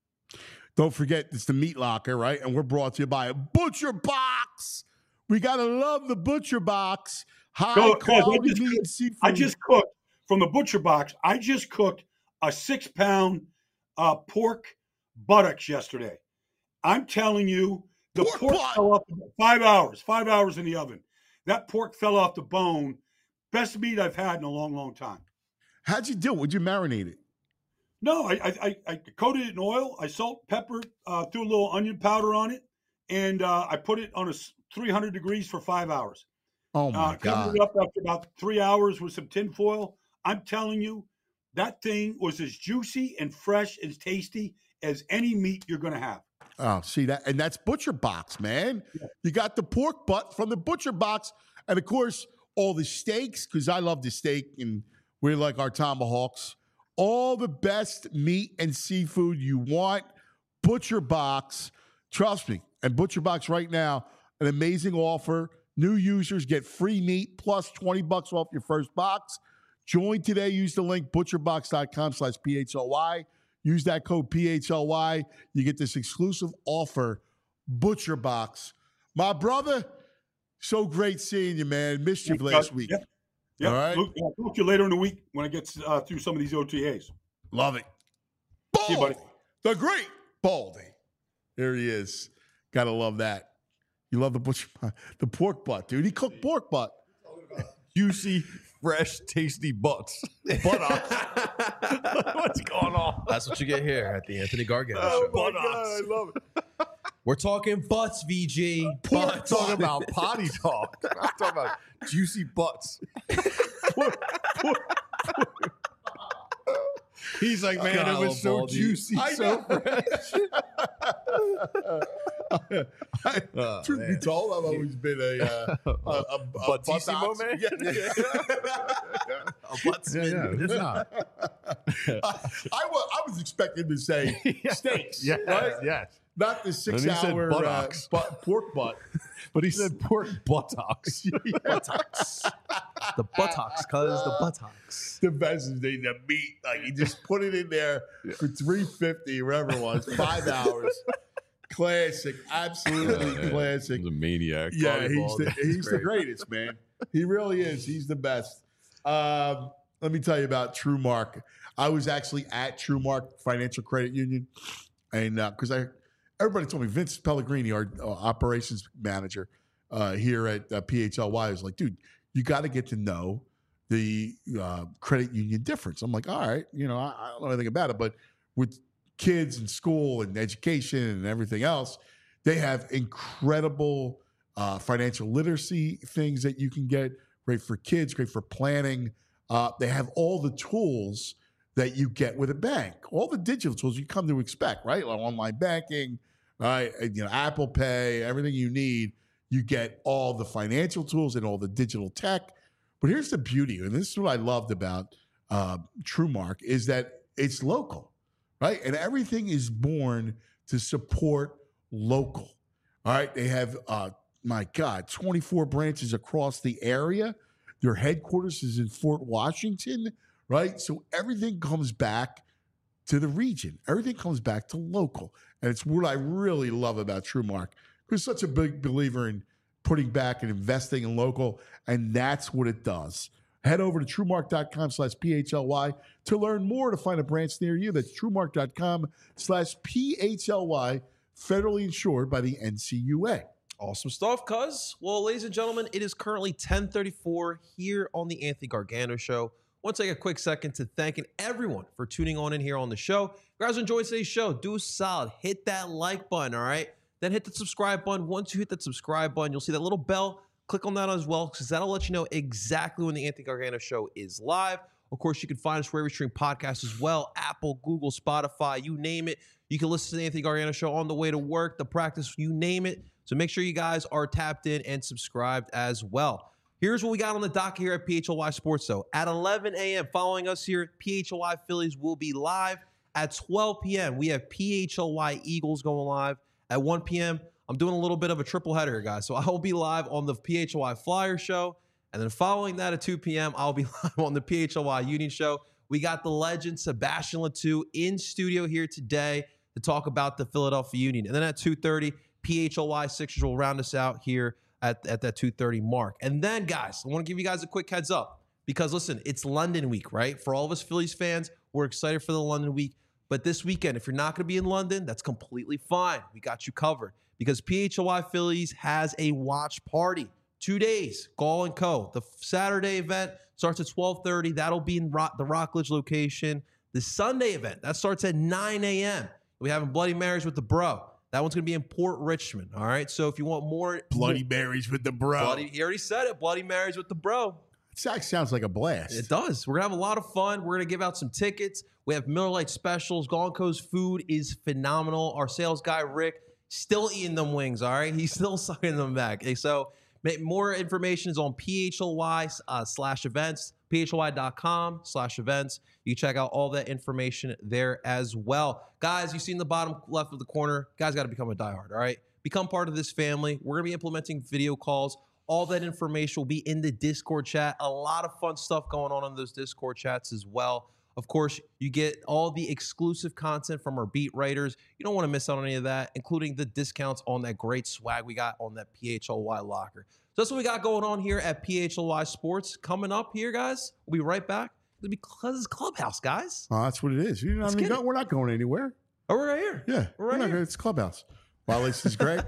Don't forget, it's the Meat Locker, right? And we're brought to you by Butcher Box. We got to love the Butcher Box. High Go- guys, I quality just meat cooked- and seafood. I just cooked from the Butcher Box. I just cooked a six pound uh, pork buttocks yesterday. I'm telling you, the Pork pork, butt. fell off five hours, five hours in the oven. That pork fell off the bone. Best meat I've had in a long, long time. How'd you do it? Would you marinate it? No, I I, I, I coated it in oil. I salt, pepper, uh, threw a little onion powder on it, and uh, I put it on a s- three hundred degrees for five hours. Oh, my uh, God. Covered it up after about three hours with some tin foil. I'm telling you, that thing was as juicy and fresh and tasty as any meat you're going to have. Oh, see that? And that's Butcher Box, man. You got the pork butt from the Butcher Box. And, of course, all the steaks, because I love the steak, and we like our tomahawks. All the best meat and seafood you want, Butcher Box. Trust me. And Butcher Box right now, an amazing offer. New users get free meat plus twenty bucks off your first box. Join today. Use the link butcherbox.com slash PHLY. Use that code P H L Y. You get this exclusive offer, Butcher Box. My brother, so great seeing you, man. Missed you last week. Yep. Yep. All right. Luke, I'll talk to you later in the week when I get uh, through some of these O T As. Love it. See you, buddy. The great Baldy. There he is. Gotta love that. You love the butcher, the pork butt, dude. He cooked pork butt. Juicy, fresh, tasty butts. Buttocks. What's going on? That's what you get here at the Anthony Gargano Oh, Show. my God, I love it. We're talking butts, V G. I'm Butts. talking about potty talk. I'm talking about juicy butts. He's like, man, it was so Baldy. juicy, I so know. fresh. I, Oh, truth be man. told, I've always been a, uh, a, a, a Buttissimo, buttocks- man? Yeah. A buttsman. it's not. I, was, I was expecting him to say steaks, Yes, right? yes. Not the he said six-hour uh, buttocks. butt, pork butt. But he said pork buttocks. Buttocks. The buttocks, cuz the buttocks. The best is the, the meat. Like you just put it in there for three fifty, wherever it was, five hours. Classic, absolutely classic. He's a maniac. Yeah, he's Baldy. the, he's the Great. greatest, man. He really is. He's the best. Um, let me tell you about TrueMark. I was actually at TrueMark Financial Credit Union, and because I, everybody told me Vince Pellegrini, our uh, operations manager uh, here at uh, P H L Y, was like, dude, you got to get to know the uh, credit union difference. I'm like, all right, you know, I, I don't know anything about it, but with kids and school and education and everything else, they have incredible uh, financial literacy things that you can get. Great for kids, great for planning. Uh, they have all the tools that you get with a bank, all the digital tools you come to expect, right? Like online banking, right? You know, Apple Pay, everything you need. You get all the financial tools and all the digital tech. But here's the beauty, and this is what I loved about uh, TrueMark, is that it's local, right? And everything is born to support local, all right? They have, uh, my God, twenty-four branches across the area. Their headquarters is in Fort Washington, right? So everything comes back to the region. Everything comes back to local. And it's what I really love about TrueMark. We're such a big believer in putting back and investing in local, and that's what it does. Head over to TrueMark.com slash PHLY to learn more, to find a branch near you. That's TrueMark.com slash PHLY, federally insured by the N C U A. Awesome stuff, cuz. Well, ladies and gentlemen, it is currently ten thirty-four here on the Anthony Gargano Show. I want to take a quick second to thanking everyone for tuning on in here on the show. If you guys enjoyed today's show, do a solid. Hit that like button, all right? Then hit the subscribe button. Once you hit that subscribe button, you'll see that little bell. Click on that as well, because that'll let you know exactly when the Anthony Gargano Show is live. Of course, you can find us wherever you stream podcasts as well. Apple, Google, Spotify, you name it. You can listen to the Anthony Gargano Show on the way to work, the practice, you name it. So make sure you guys are tapped in and subscribed as well. Here's what we got on the docket here at P H L Y Sports, though. At eleven a.m., following us here, P H L Y Phillies will be live. At twelve p.m., we have P H L Y Eagles going live. At one p.m., I'm doing a little bit of a triple header here, guys. So I will be live on the P H L Y Flyer Show. And then following that at two p.m., I'll be live on the P H L Y Union Show. We got the legend Sebastian Latou in studio here today to talk about the Philadelphia Union. And then at two thirty, P H L Y Sixers will round us out here at, at that two thirty mark. And then, guys, I want to give you guys a quick heads up because, listen, it's London week, right? For all of us Phillies fans, we're excited for the London week. But this weekend, if you're not going to be in London, that's completely fine. We got you covered because P H L Y Phillies has a watch party. Two days, Gall and Co. The Saturday event starts at twelve thirty. That'll be in Rock, the Rockledge location. The Sunday event, that starts at nine a.m. We're having Bloody Marys with the bro. That one's going to be in Port Richmond, all right? So if you want more... Bloody Marys with the bro. Bloody, he already said it, Bloody Marys with the bro. It sounds like a blast. It does. We're going to have a lot of fun. We're going to give out some tickets. We have Miller Lite specials. Gall and Co.'s food is phenomenal. Our sales guy, Rick, still eating them wings, all right? He's still sucking them back. Okay, so more information is on P H L Y uh, slash events, P H L Y dot com slash events. You can check out all that information there as well. Guys, you see in the bottom left of the corner, guys got to become a diehard, all right? Become part of this family. We're going to be implementing video calls. All that information will be in the Discord chat. A lot of fun stuff going on in those Discord chats as well. Of course, you get all the exclusive content from our beat writers. You don't want to miss out on any of that, including the discounts on that great swag we got on that P H L Y locker. So that's what we got going on here at P H L Y Sports. Coming up here, guys, we'll be right back. It'll be Cuz Clubhouse, guys. Oh, that's what it is. You know, I mean, no, we're not going anywhere. Oh, we're right here. Yeah, we're right we're here. Not, it's Clubhouse. While this is Greg,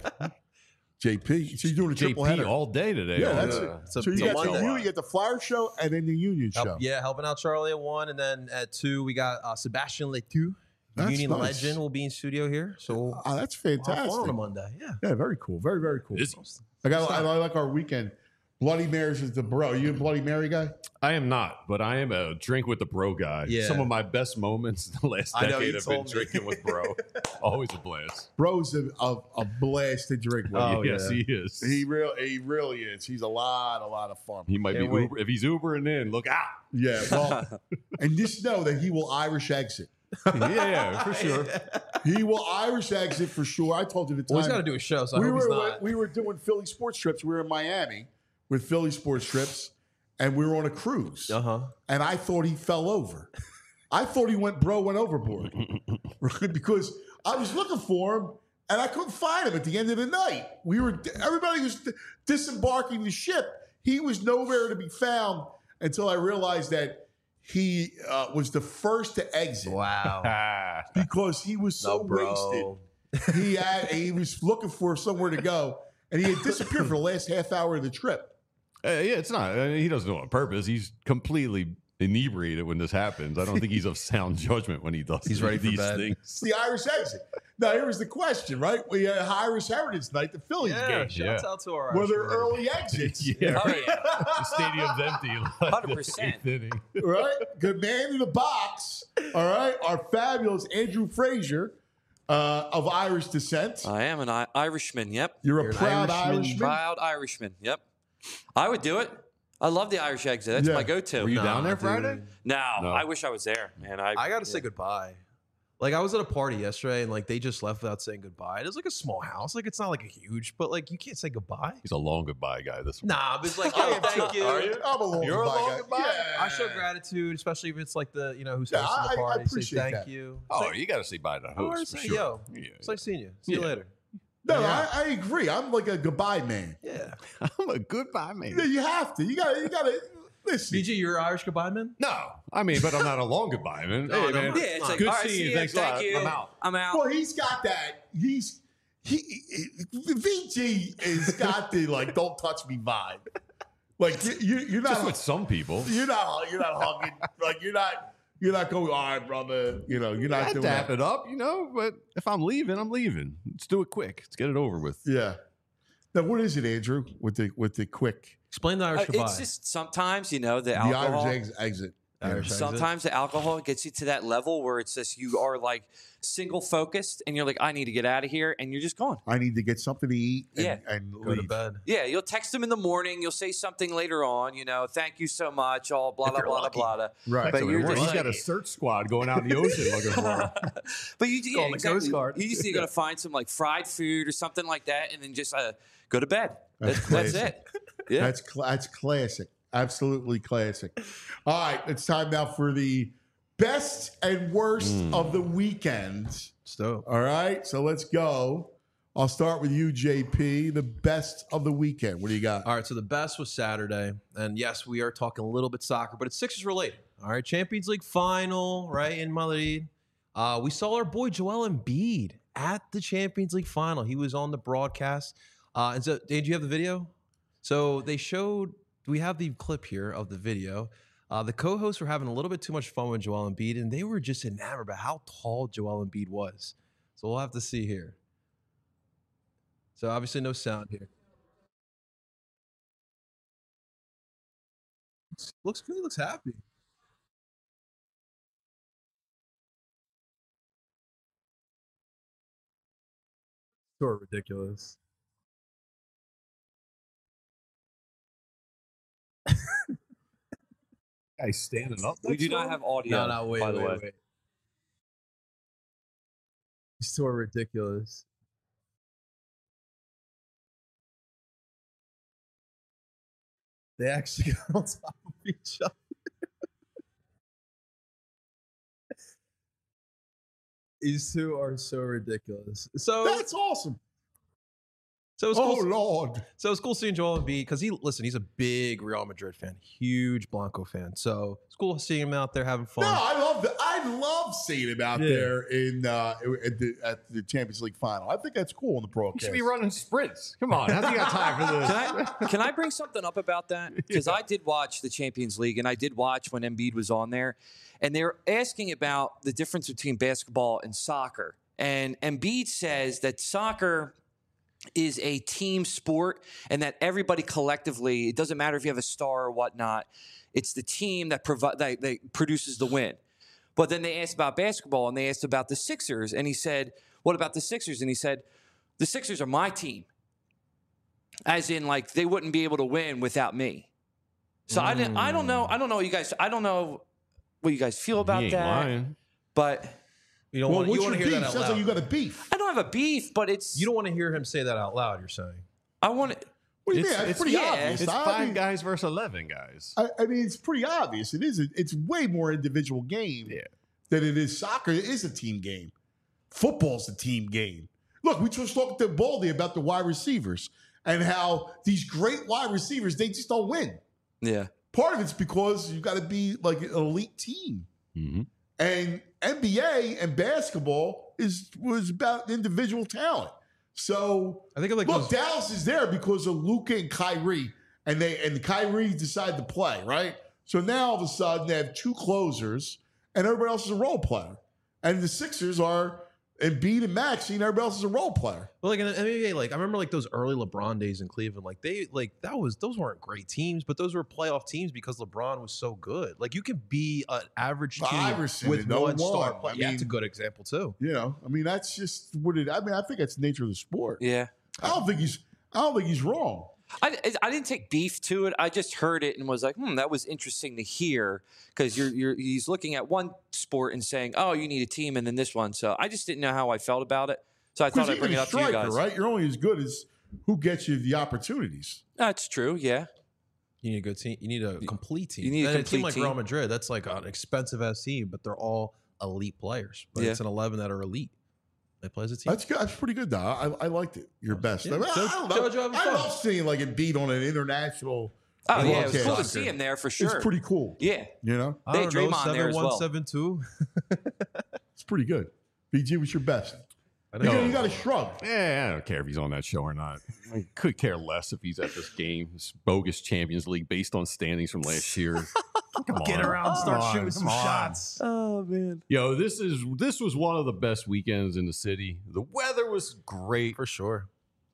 J P. So you're doing a triple J P header all day today. Yeah, that's uh, it. it's a- so you it's a got the Monday. you, you get the Flyer Show and then the Union Help- Show. yeah, helping out Charlie at one, and then at two we got uh, Sebastian Latou, the That's Union nice. legend, will be in studio here. So Oh, that's we'll have fantastic. fun on a Monday. Yeah. Yeah, very cool. Very, very cool. Busy. I got. I, I like our weekend. Bloody Marys is the bro. You a Bloody Mary guy? I am not, but I am a drink with the bro guy. Yeah. Some of my best moments in the last I know, decade you have been told me. drinking with bro. Always a blast. Bro's a, a, a blast to drink with. Oh, yes, yeah. he is. He real. He really is. He's a lot, a lot of fun. He might Can't be wait. Uber. If he's Ubering in, look out. Yeah. Well, and just know that he will Irish exit. yeah, yeah, for sure. He will Irish exit for sure. I told you the time. Well, he's got to do a show, so I we hope were he's not. we were doing Philly sports trips. We were in Miami with Philly sports trips, and we were on a cruise. Uh huh. And I thought he fell over. I thought he went bro went overboard because I was looking for him and I couldn't find him at the end of the night. We were everybody was disembarking the ship. He was nowhere to be found until I realized that he uh, was the first to exit Wow. Ah, because he was so No, bro. wasted. he had he was looking for somewhere to go, and he had disappeared for the last half hour of the trip. Uh, yeah, it's not. I mean, he doesn't do it on purpose. He's completely inebriated when this happens. I don't think he's of sound judgment when he does He's ready for these bed. things. It's the Irish exit. Now, here was the question, right? We had Irish Heritage Night, the Phillies Yeah, game. shouts Yeah. out to our Were Irish there fans. early exits? Yeah, Oh, right. yeah. The stadium's empty. Like one hundred percent. the eighth inning. Right? Good man in the box. All right. Our fabulous Andrew Frazier uh, of Irish descent. I am an I- Irishman. Yep. You're a You're an proud Irishman. Irishman. Proud Irishman. Yep. I would do it. I love the Irish exit. That's Yeah. my go-to. Were you Nah, down there dude. Friday? No, No. I wish I was there, man. I, I got to yeah. say goodbye. Like I was at a party yesterday, and like they just left without saying goodbye. It was like a small house, like it's not like a huge, but like you can't say goodbye. He's a long goodbye guy. This one. Nah, but it's like, I yo, am thank too. you. Are you? I'm a long You're a goodbye long guy. goodbye? Yeah. I show gratitude, especially if it's like the you know who's Yeah, hosting I- the I party. Say appreciate thank that. you. Oh, Say- you got to say bye to the I wanna host for say, sure. yo, Yeah, it's like seeing you. See you Yeah. later. No, Yeah. I, I agree. I'm like a goodbye man. Yeah. I'm a goodbye man. Yeah, you have to. You got. to You got to listen. B G, you're Irish goodbye man. No, I mean, but I'm not a long goodbye man. No, Hey, no, man. no. Yeah, it's like, Good all right, seeing see you. ya, Thanks a thank lot. you. I'm out. I'm out. Well, he's got that. He's he. V G has got the like "don't touch me" vibe. Like you, you you're Just not. with some people. You're not. You're not hugging. Like you're not. You're not going. All right, brother. You know. You're not I doing dap that. it up, you know, but if I'm leaving, I'm leaving. Let's do it quick. Let's get it over with. Yeah. Now, what is it, Andrew? With the with the quick Explain the Irish Uh, goodbye. it's just sometimes, you know, the the alcohol. Irish ex- exit. Irish exit. Sometimes the alcohol gets you to that level where it's just you are like single focused and you're like, I need to get out of here, and you're just gone. I need to get something to eat. And, Yeah. and Go to leave. bed. Yeah, you'll text them in the morning. You'll say something later on. You know, thank you so much. All blah If blah you're blah lucky. blah blah. Right. But So you're it works. just He's got a like- search squad going out in the ocean looking for him. But you, yeah, Call the exactly. Coast Guard. You just you're gonna find some like fried food or something like that, and then just uh, go to bed. That's That's, that's classic. it. Yeah. That's cl- that's classic. Absolutely classic. All right, it's time now for the best and worst Mm. of the weekend. Stop. All right, so let's go. I'll start with you, J P. The best of the weekend. What do you got? All right, so the best was Saturday. And yes, we are talking a little bit soccer, but it's Sixers related. All right, Champions League final, right, in Madrid. Uh, we saw our boy Joel Embiid at the Champions League final. He was on the broadcast. Uh, and so, did you have the video? So they showed, we have the clip here of the video. Uh, the co-hosts were having a little bit too much fun with Joel Embiid, and they were just enamored by how tall Joel Embiid was. So we'll have to see here. So obviously no sound here. Looks good. Looks happy. Sort of ridiculous. Guy's standing up. We do not have audio. No, no, wait, by the wait, way. wait. So ridiculous. They actually got on top of each other. These two are so ridiculous. So, That's awesome. so it's Oh cool. Lord. So it's cool seeing Joel Embiid because he listen. He's a big Real Madrid fan, huge Blanco fan. So it's cool seeing him out there having fun. No, I love the, I love seeing him out Yeah. there in uh, at, the, at the Champions League final. I think that's cool on the He broadcast. should be running sprints. Come on. How's he got time for this? Can I can I bring something up about that? Because I did watch the Champions League, and I did watch when Embiid was on there, and they were asking about the difference between basketball and soccer. And Embiid says that soccer is a team sport, and that everybody collectively, it doesn't matter if you have a star or whatnot, it's the team that provi- that, that produces the win. But then they asked about basketball, and they asked about the Sixers, and he said, "What about the Sixers?" And he said, "The Sixers are my team." As in, like, they wouldn't be able to win without me. So I didn't. I don't know. I don't know. You guys. I don't know what you guys feel about He ain't that. lying. But You don't well, want, what's you want your to hear beef? that out Sounds loud. like you got a beef. I don't have a beef. But it's. you don't want to hear him say that out loud. You're saying. I want to. What do you It's- mean? It's, it's- pretty yeah, obvious. It's I five mean, guys versus eleven guys. I, I mean, it's pretty obvious. It is. A, it's way more individual game Yeah. than it is soccer. It is a team game. Football's a team game. Look, we just talked to Baldy about the wide receivers and how these great wide receivers, they just don't win. Yeah. Part of it's because you got to be like an elite team. Mm-hmm. And N B A and basketball is was about individual talent. So I think of like look, those- Dallas is there because of Luka and Kyrie, and they and Kyrie decided to play, right? So now all of a sudden they have two closers, and everybody else is a role player. And the Sixers are Embiid and Maxey, and everybody else is a role player. But like in the N B A, like I remember like those early LeBron days in Cleveland. Like they like that was those weren't great teams, but those were playoff teams because LeBron was so good. Like you could be an average team Iverson with and no one star one. player. I Yeah, that's a mean- good example too. You know, I mean, that's just what it. I mean, I think that's the nature of the sport. Yeah. I don't think he's. I don't think he's wrong. I, I didn't take beef to it. I just heard it and was like, hmm, that was interesting to hear because you're you're he's looking at one sport and saying, oh, you need a team, and then this one. So I just didn't know how I felt about it. So I thought Because I'd bring even it a up to you striker, guys. right? You're only as good as who gets you the opportunities. That's true. Yeah. You need a good team. You need a complete team. You need a and a complete team like team. Real Madrid. That's like an expensive ass team, but they're all elite players. But Yeah. it's an eleven that are elite. They play as a team. That's good. That's pretty good, though. I, I liked it. Your best. Yeah. I, mean, I, Jo- I don't know. Jojo having I fun. love seeing like Embiid on an international. Oh yeah, it was broadcast. cool to see him there for sure. It's pretty cool. Yeah. You know, I They don't had know, Draymond there as well. seven one, seven two. it's pretty good. B G, what's your best? I You, know. got, you got to shrug. Yeah, I don't care if he's on that show or not. I could care less if he's at this game, this bogus Champions League based on standings from last year. Come on, Get around, start Come on, shooting some come on. shots. Oh man. Yo, this is this was one of the best weekends in the city. The weather was great. For sure.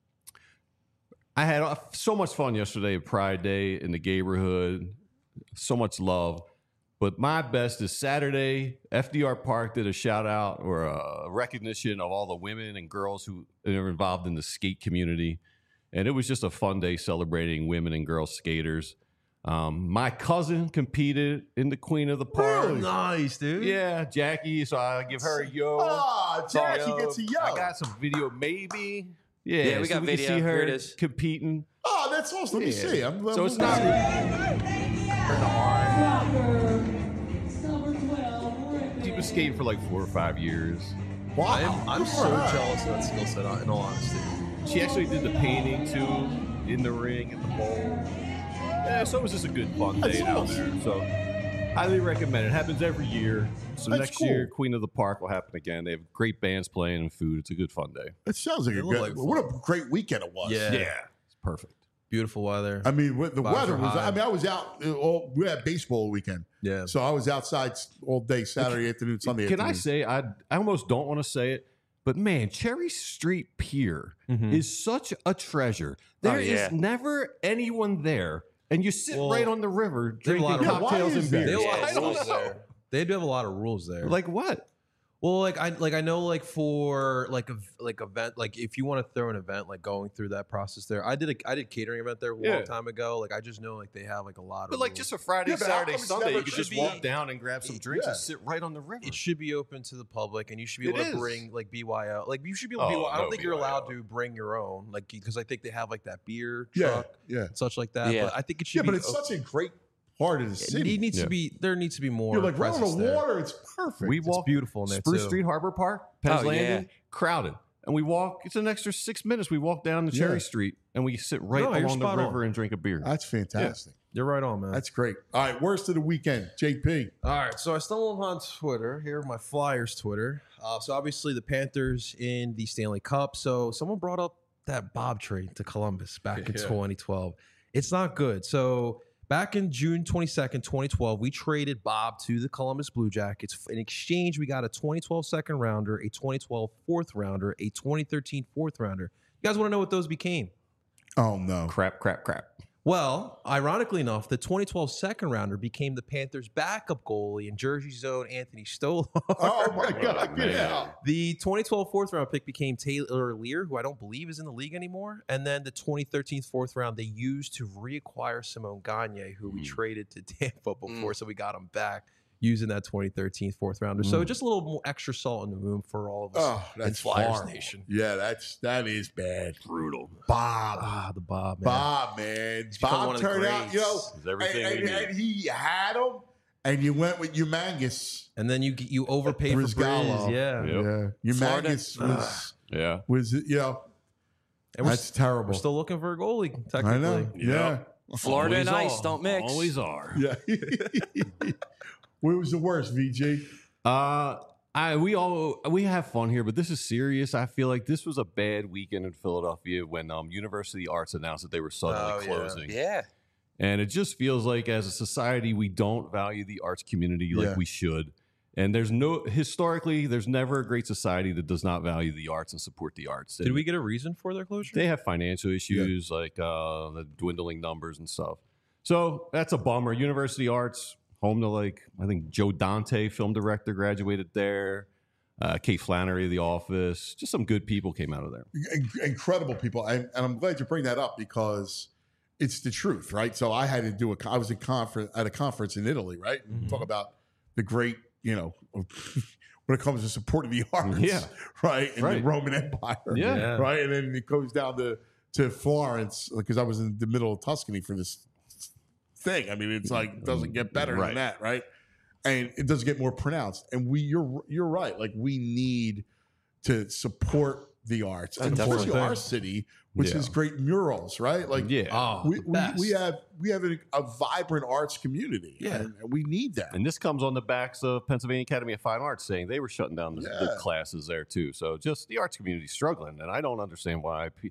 I had uh, so much fun yesterday at Pride Day in the neighborhood. So much love. But my best is Saturday. F D R Park did a shout out or a recognition of all the women and girls who are involved in the skate community. And it was just a fun day celebrating women and girl skaters. Um, my cousin competed in the Queen of the Park. Really? Nice, dude. Yeah, Jackie. So I give her a yo. Ah, Jackie Yo. gets a yo. I got some video, maybe. Yeah, Yeah, we so got we can video. see her Here it is. competing. Oh, that's awesome. Let me Yeah. see. I'm, So I'm- it's not. She's been skating for like four or five years. Wow. I'm, I'm Good for so her. jealous of that skill set, in all honesty. She actually did the painting too in the ring at the bowl. Yeah, so it was just a good fun day That's down awesome. there. So highly recommend it. Happens every year. So That's next cool. year, Queen of the Park will happen again. They have great bands playing and food. It's a good fun day. It sounds like a It good. looked like what fun. a great weekend it was. Yeah. It's perfect. Beautiful weather. I mean, with the Vibes weather are was. high. I mean, I was out. uh, All, we had baseball weekend, yeah. so I was outside all day, Saturday afternoon, Sunday Can I afternoon. say I I almost don't want to say it, but man, Cherry Street Pier Mhm. is such a treasure. There is yeah. never anyone there, and you sit Well, right on the river they have a drinking lot of- Yeah, why cocktails is and that? beers. They have a Yeah, lot of I don't rules know. there. They do have a lot of rules there. Like what? Well, like I like I know like for like a like event like if you want to throw an event like going through that process there. I did a I did catering event there a Yeah. long time ago. Like I just know like they have like a lot of But like rules. just a Friday, Yeah, but how Saturday, come it's Sunday, never you could just should walk be- down and grab some drinks Yeah. and sit right on the river. it should be open to the public and you should be It able to is. bring like B Y O. Like you should be able to Oh, B Y O. I don't no think you're allowed B Y O. to bring your own like because I think they have like that beer Yeah, truck yeah, and such like that. Yeah. But I think it should yeah. be But it's o- such a great part of the it city. needs Yeah. to be there needs to be more You're like right on presence the there. water. It's perfect. we It's walk beautiful in there Spruce too. Street Harbor Park, Penn's Oh, yeah. Landing, crowded. And we walk, it's an extra six minutes. We walk down to Yeah. Cherry Street and we sit right No, you're along the spot on. river and drink a beer. That's fantastic. You're right on, man. That's great. All right, worst of the weekend, J P. All right, so I stumbled on Twitter. Here, my Flyers Twitter. Uh, so obviously the Panthers in the Stanley Cup. So someone brought up that Bob trade to Columbus back in Yeah. twenty twelve. It's not good. So back in June twenty-second, twenty twelve, we traded Bob to the Columbus Blue Jackets. In exchange, we got a twenty twelve second rounder, a twenty twelve fourth rounder, a twenty thirteen fourth rounder. You guys want to know what those became? Oh no. crap, crap, crap. Well, ironically enough, the twenty twelve second rounder became the Panthers' backup goalie in Jersey Zone, Anthony Stolar. Oh my God. man. Yeah. The twenty twelve fourth round pick became Taylor Lear, who I don't believe is in the league anymore. And then the twenty thirteen fourth round they used to reacquire Simone Gagne, who we Mm. traded to Tampa before, Mm. so we got him back using that twenty thirteen fourth rounder. So Mm. just a little more extra salt in the wound for all of us Oh, in that's Flyers horrible. Nation. Yeah, that's that is bad. Brutal. Bob. Ah, the Bob, man. Bob, man. become one Bob of the turned out, you know, greats. It's everything and, we and, need. and he had him, and you went with Humongous. And then you you overpaid for Brizgallo. Briz, yeah. Yep. Yeah. Florida. Humongous was, Yeah. was, you know, And we're, that's terrible. we're still looking for a goalie, technically. I know. Yeah. Yep. Florida and Always ice are. don't mix. Always are. Yeah. What was the worst, V G? Uh, I we all we have fun here, but this is serious. I feel like this was a bad weekend in Philadelphia when um, University Arts announced that they were suddenly Oh, yeah. closing. Yeah. And it just feels like as a society, we don't value the arts community like Yeah. we should. And there's no, historically, there's never a great society that does not value the arts and support the arts. Did And we get a reason for their closure? They have financial issues like uh, the dwindling numbers and stuff. So that's a bummer. University Arts, home to like, I think Joe Dante, film director, graduated there. Uh, Kate Flannery of The Office. Just some good people came out of there. In- incredible people, and, and I'm glad you bring that up because it's the truth, right? So I had to do a. I was in conference at a conference in Italy, right? Mm-hmm. Talk about the great, you know, when it comes to supporting the arts, Yeah. right, in Right. the Roman Empire, Yeah. Yeah. right, and then it goes down to to Florence because I was in the middle of Tuscany for this thing. I mean, it's like doesn't get better Right. than that, right? And it doesn't get more pronounced. And we, you're you're right. Like we need to support the arts, and Definitely. especially our city, which Yeah. is great murals, right? Like Yeah. Oh, we, the we, best. we have we have a, a vibrant arts community, Yeah. and, and we need that. And this comes on the backs of Pennsylvania Academy of Fine Arts saying they were shutting down the, the Yeah. classes there too. So just the arts community struggling, and I don't understand why. pe-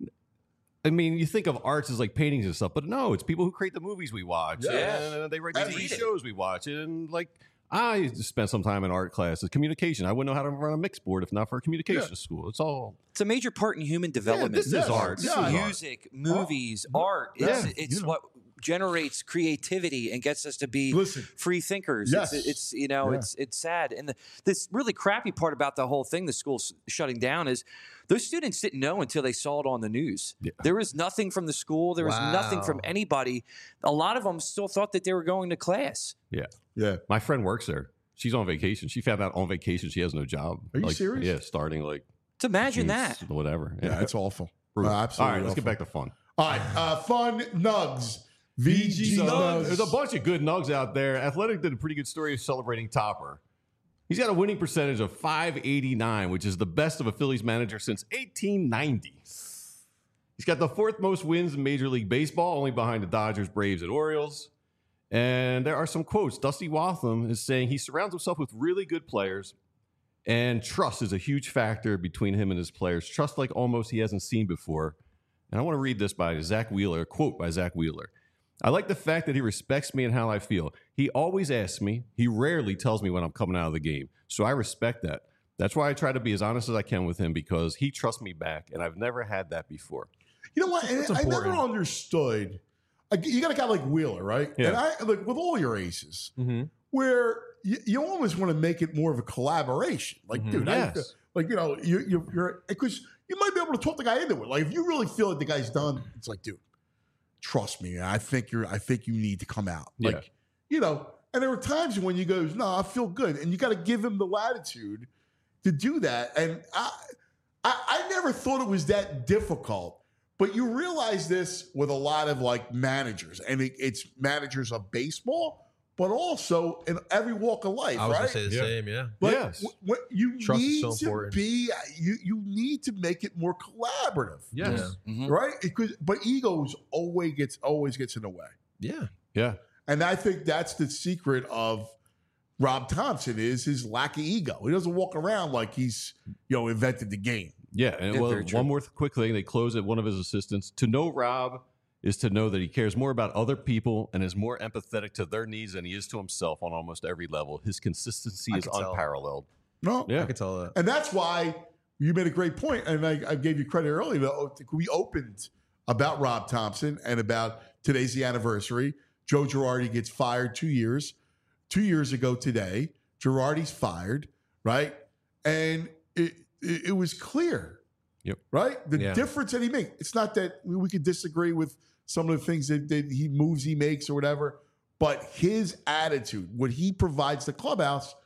I mean, you think of arts as like paintings and stuff, but no, it's people who create the movies we watch, Yeah. and they write the And T V read it. shows we watch, and like I spent some time in art classes, communication. I wouldn't know how to run a mix board if not for a communication Yeah. school. It's all It's a major part in human development. this is Yes. art. This Yeah. is music, movies, art. It's, Yeah. it's You know. what generates creativity and gets us to be Listen. free thinkers. Yes. It's, it's you know Yeah. it's it's sad. And the, this really crappy part about the whole thing, the school's shutting down, is those students didn't know until they saw it on the news. Yeah. There was nothing from the school. There was nothing from Wow. anybody. A lot of them still thought that they were going to class. yeah. Yeah, My friend works there. She's on vacation. She found out on vacation she has no job. Are you Like, serious? Yeah, starting like To imagine June, that. whatever. yeah, it's awful. Brutal. Uh, absolutely. All right, let's get awful. back to fun. All right, uh, fun nugs. V G So, nugs. there's a bunch of good nugs out there. Athletic did a pretty good story of celebrating Topper. He's got a winning percentage of five eighty-nine, which is the best of a Phillies manager since eighteen ninety. He's got the fourth most wins in Major League Baseball, only behind the Dodgers, Braves, and Orioles. And there are some quotes. Dusty Waltham is saying he surrounds himself with really good players, and trust is a huge factor between him and his players. Trust like almost he hasn't seen before. And I want to read this by Zach Wheeler, a quote by Zach Wheeler. I like the fact that he respects me and how I feel. He always asks me. He rarely tells me when I'm coming out of the game. So I respect that. That's why I try to be as honest as I can with him because he trusts me back, and I've never had that before. You know what? And That's I never important. understood. like, You got a guy like Wheeler, right? Yeah. And I like with all your aces, Mm-hmm. where you, you almost want to make it more of a collaboration. Like, Mhm. dude, I, Yes. like you know, you, you, you're because you might be able to talk the guy into it. Like, if you really feel like the guy's done, it's like, dude, trust me. I think you're. I think you need to come out. Yeah. Like, you know. And there were times when you goes, no, I feel good, and you got to give him the latitude to do that. And I, I, I never thought it was that difficult. But you realize this with a lot of like managers, and it, it's managers of baseball, but also in every walk of life, I was right? gonna say the Yeah. same. Yeah. Like, Yes. wh- what you Trust is need so to important. be, you you need to make it more collaborative, Yes. Mhm. right? Because but egos always gets always gets in the way, Yeah. Yeah. and I think that's the secret of Rob Thompson is his lack of ego. He doesn't walk around like he's you know invented the game. Yeah. And Yeah, well, very true. one more th- quick thing. They close at one of his assistants. To know Rob is to know that he cares more about other people and is more empathetic to their needs than he is to himself on almost every level. His consistency I is can tell. unparalleled. No, I Yeah. could tell that. And that's why you made a great point, and I, I gave you credit earlier. Though we opened about Rob Thompson and about today's the anniversary. Joe Girardi gets fired two years, two years ago today. Girardi's fired, right? And it it, it was clear, Yep. right? The Yeah. difference that he made. It's not that we, we could disagree with some of the things that, that he moves he makes or whatever, but his attitude, what he provides the clubhouse,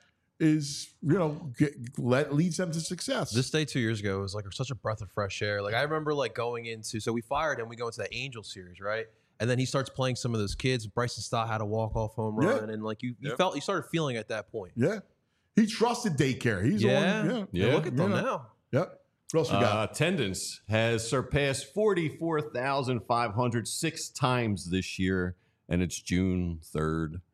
is you know get, let, leads them to success. This day two years ago was like such a breath of fresh air. Like I remember like going into so we fired him, we go into that Angel series, right? And then he starts playing some of those kids. Bryson Stott had a walk off home run, Yeah. and like you, you Yep. felt you started feeling at that point. Yeah. He trusted daycare. He's Yeah. on. Yeah. Yeah. And look at them Yeah. now. Yep. What else we Uh, got? attendance has surpassed forty-four thousand five hundred six times this year, and it's June third.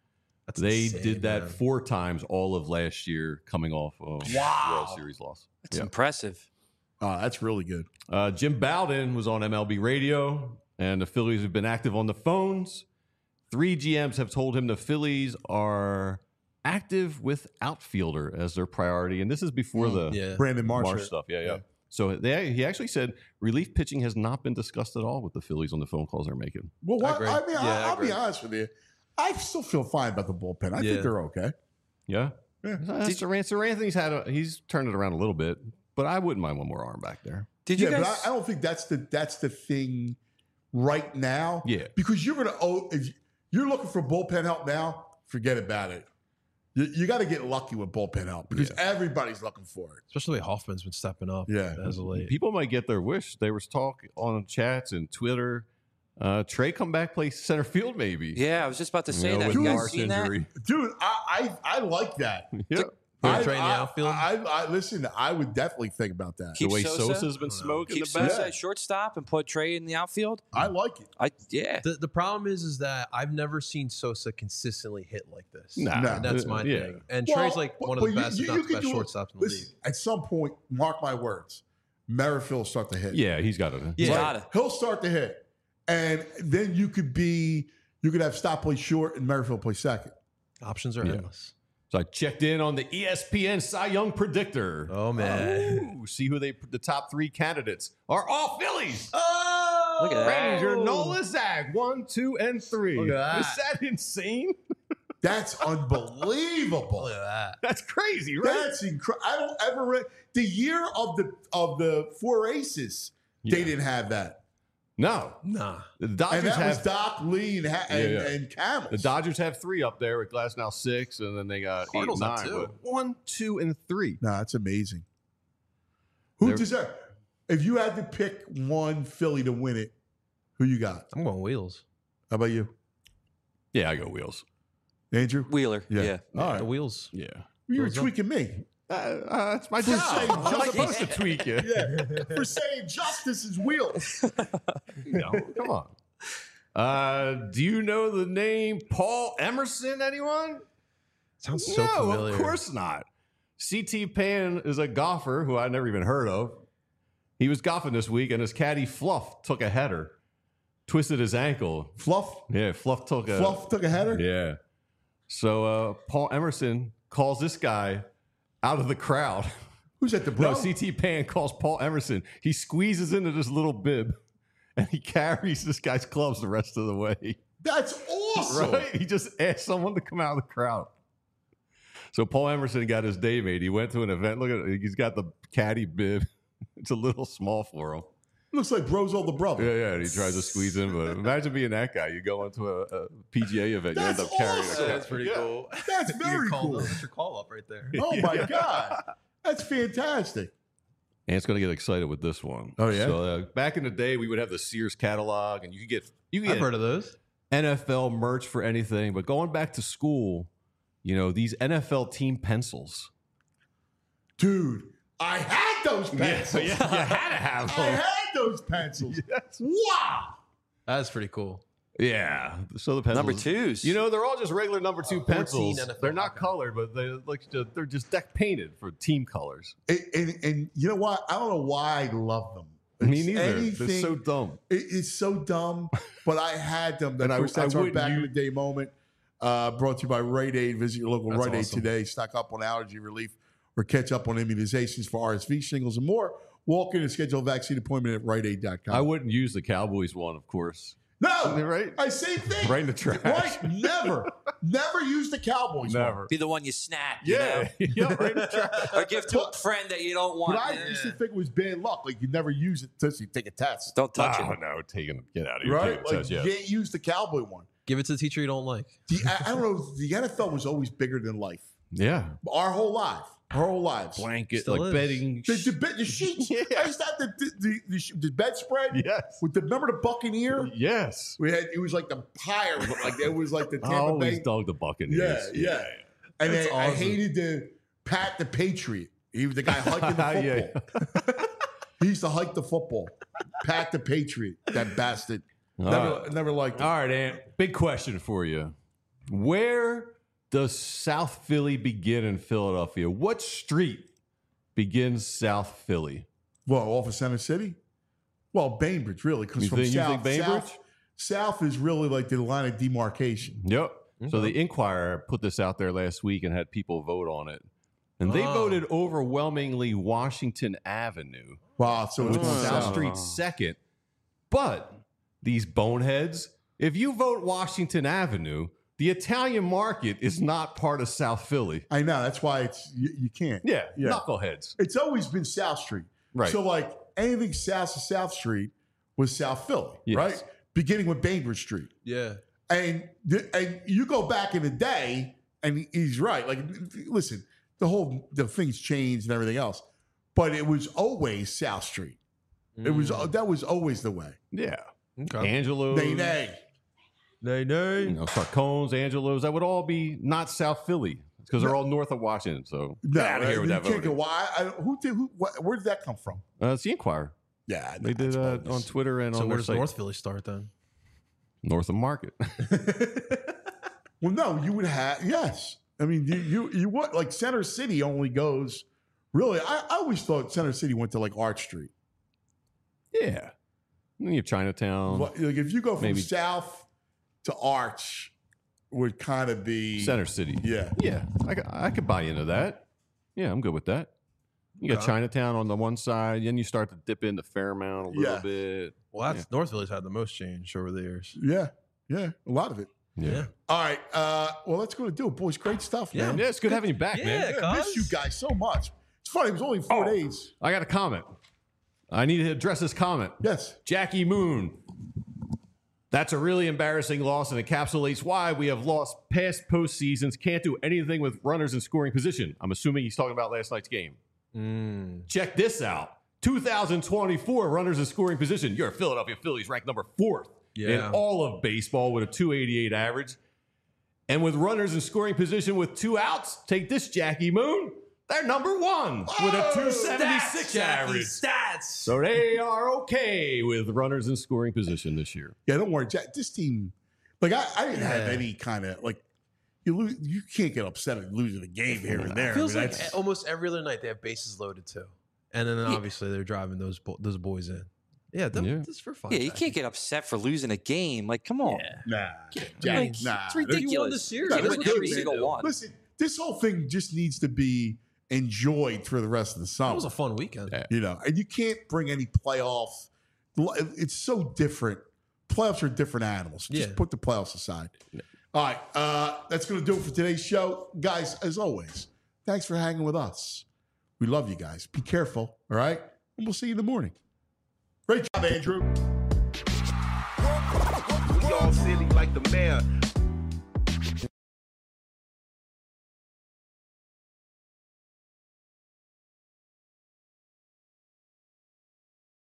That's they insane, did that man. four times all of last year, coming off a Wow. World Series loss. That's Yeah. impressive. Oh, that's really good. Uh, Jim Bowden was on M L B radio, and the Phillies have been active on the phones. Three G Ms have told him the Phillies are active with outfielder as their priority, and this is before the Yeah. Brandon Marsh. Marsh stuff. Yeah, yeah. Yeah. So they, he actually said relief pitching has not been discussed at all with the Phillies on the phone calls they're making. Well, what, agree. I, mean, Yeah, I, I I'll be agree. honest with you. I still feel fine about the bullpen. I Yeah. think they're okay. Yeah. Yeah. Uh, Sir, Sir Anthony's had a, he's turned it around a little bit, but I wouldn't mind one more arm back there. Did you yeah, guys? but I, I don't think that's the that's the thing right now. Yeah. Because you're gonna oh if you're looking for bullpen help now, forget about it. You, you got to get lucky with bullpen help because everybody's looking for it. Especially the way Hoffman's been stepping up. Yeah. as of late. People might get their wish. There was talk on chats and Twitter. Uh, Trey come back play center field maybe. yeah, I was just about to say You know, that. with You guys Marsh seen that? injury. Dude, I I, I like that. Yeah. Put I, Trey in the I- outfield? I, I listen. I would definitely think about that. Keep the way Sosa? Sosa's been smoking Keep the back. Sosa at shortstop and put Trey in the outfield. I like it. I yeah. The, the problem is, is that I've never seen Sosa consistently hit like this. Nah. No. And that's my Yeah. thing. And Well, Trey's like but- one of but the you- best, you- if you not the could best do it- shortstops in the listen, league. At some point, mark my words, Merrifield will start to hit. Yeah, he's got it. Yeah. Right? Gotta. He'll start to hit, and then you could be you could have Stop play short and Merrifield play second. Options are Yeah. endless. So I checked in on the E S P N Cy Young predictor. Oh, man. Ooh, see who they the top three candidates are. All Phillies. Oh! Look at that. Ranger, Nola, Zag, one, two, and three. Look at Is that. that insane? That's unbelievable. Look at that. That's crazy, right? That's incredible. I don't ever re- the year of the of the four aces. They Yeah. didn't have that, No, Nah. the and Dodgers that was have Doc Lee and ha- and, Yeah, yeah. and Camels. the Dodgers have three up there with Glass now six, and then they got Cardinals eight, have nine. two. But one, two, and three. No, that's amazing. Who They're- deserves? If you had to pick one Philly to win it, who you got? I'm going Wheels. How about you, Yeah, I go Wheels. Andrew? Wheeler. Yeah. All right. The Wheels. Yeah, You were Wheels up. tweaking me. uh, uh, that's my For job. saying I'm just- supposed to tweak you. Yeah, for saying justice is wheels. No, come on. Uh, do you know the name Paul Emerson? Anyone? Sounds so no, familiar. of course not. C T Pan is a golfer who I never even heard of. He was golfing this week, and his caddy Fluff took a header, twisted his ankle. Fluff, Yeah, Fluff took a Fluff took a header. Yeah. So uh, Paul Emerson calls this guy out of the crowd. Who's at the bro? No, C T Pan calls Paul Emerson. He squeezes into this little bib, and he carries this guy's clubs the rest of the way. That's awesome. Right? He just asked someone to come out of the crowd. So Paul Emerson got his day made. He went to an event. Look at it. He's got the caddy bib. It's a little small for him. Looks like bro's older brother. Yeah, yeah. And he tries to squeeze in, but imagine being that guy. You go into a, a P G A event, That's you end up carrying awesome. a That's pretty Yeah. cool. That's very call cool. Up. That's your call up right there. Oh my god, that's fantastic. Ant's gonna get excited with this one. Oh, yeah? So uh, back in the day, we would have the Sears catalog, and you could get you could I've get heard of those. N F L merch for anything. But going back to school, you know these N F L team pencils. Dude, I had those pencils. you had to have I them. had those pencils. Yes. Wow. That's pretty cool. Yeah. So the pencils, Number twos. You know, they're all just regular number two fourteen pencils. N F L They're not hockey. colored, but they look they're just deck painted for team colors. And, and, and you know what? I don't know why I love them. Me It's neither. They're anything- so dumb. It- it's so dumb, but I had them. And Of I- course, that's I our wouldn't back in use- the day moment. Uh, brought to you by Rite Aid. Visit your local That's Rite Aid awesome. today. Stock up on allergy relief or catch up on immunizations for R S V, shingles, and more. Walk in and schedule a vaccine appointment at rite aid dot com. I wouldn't use the Cowboys one, of course. No, Right? I same thing. Right in the trash. Right? Never, never use the Cowboys. one. Never. Be the one you snap. You Yeah. yeah, right in the trash. know? Or give to a friend that you don't want. But I Yeah. used to think it was bad luck. Like you never use it until you take a test, Don't touch Oh, it. no, taking get out of here. right? Take Like it, says, yeah. you can't use the Cowboy one. Give it to the teacher you don't like. The, I, I don't know. The N F L was always bigger than life. yeah. Our whole life, our whole lives. Blanket, Still like is. bedding. The, the, bed- the sheets. Yeah. I used to have the the, the, the, the bedspread Yes. with the remember the Buccaneer. Yes. We had it was like the pyre, like it was like the I Tampa always Bay. dog the Yeah, Buccaneers. yeah. And That's then I awesome. hated the Pat the Patriot. He was the guy hiking the Yeah. football. He used to hike the football. Pat the Patriot, that bastard. All Never, right. never liked him. All right, Ant. Big question for you. Where does South Philly begin in Philadelphia? What street begins South Philly? Well, off of Center City? Well, Bainbridge, really, because You from think- you south, think Bainbridge? south, south is really like the line of demarcation. Yep. So the Inquirer put this out there last week and had people vote on it. And they Oh. voted overwhelmingly Washington Avenue. Wow, so it's With going South south. Street second. But these boneheads, if you vote Washington Avenue, the Italian market is not part of South Philly. I know, that's why it's you, you can't. Yeah, Yeah. knuckleheads. It's always been South Street. Right. So, like, anything south of South Street was South Philly, Yes. right? Beginning with Bainbridge Street. Yeah. And the, and you go back in the day, and he's right. Like, listen, the whole the things changed and everything else, but it was always South Street. It was that was always the way. Yeah. Okay. Angelo's, Nay, nay. Nay, you nay. know, Sarcones, Angelo's, that would all be not South Philly because they're all north of Washington. So No, get out of here with you that can't go. voting. Why? I, who did? Who? What, where did that come from? Uh, it's the Inquirer. Yeah, They did uh, on Twitter and So on where their does site. North Philly start then? North of Market. Well, no, you would have. Yes, I mean, you you you would like Center City only goes. Really, I, I always thought Center City went to like Arch Street. Yeah. And you have Chinatown, But, like if you go from maybe- south to Arch, would kind of be Center City. Yeah, Yeah. I, c- I could buy into that. Yeah, I'm good with that. You got Okay. Chinatown on the one side, then you start to dip into Fairmount a little Yeah. bit. Well, that's North Philly's had the most change over the years. yeah, yeah, a lot of it. Yeah. All right, uh, well, that's going to do it, boys. Great stuff, Yeah. man. Yeah, it's good having you back, Yeah, man. I miss you guys so much. It's funny. It was only four days. I got a comment. I need to address this comment. Yes. Jackie Moon. That's a really embarrassing loss and encapsulates why we have lost past postseasons, can't do anything with runners in scoring position. I'm assuming he's talking about last night's game. Mm. Check this out. two thousand twenty-four runners in scoring position. Your Philadelphia Phillies ranked number fourth in Yeah. all of baseball with a two eighty-eight average. And with runners in scoring position with two outs, take this, Jackie Moon. They're number one with a two seventy-six average. Stats. So they are okay with runners in scoring position this year. Yeah, don't worry, Jack. This team, like I, I didn't have Yeah. any kind of like you lose. You can't get upset at losing a game here and there. It feels I mean, like that's- almost every other night they have bases loaded too, and then obviously they're driving those bo- those boys in. Yeah, that, Yeah. that's for fun. Yeah, you can't get upset for losing a game. Like, come on. nah, Like, Jack, it's nah. ridiculous. You won the series. You That's win good, every man. single one. Listen, this whole thing just needs to be enjoyed for the rest of the That summer. was a fun weekend. Yeah. You know, and you can't bring any playoff. It's so different. Playoffs are different animals. Just Yeah. put the playoffs aside. All right, uh, that's going to do it for today's show, guys. As always, thanks for hanging with us. We love you guys. Be careful, all right? And we'll see you in the morning. Great job, Andrew. We all silly like the mayor.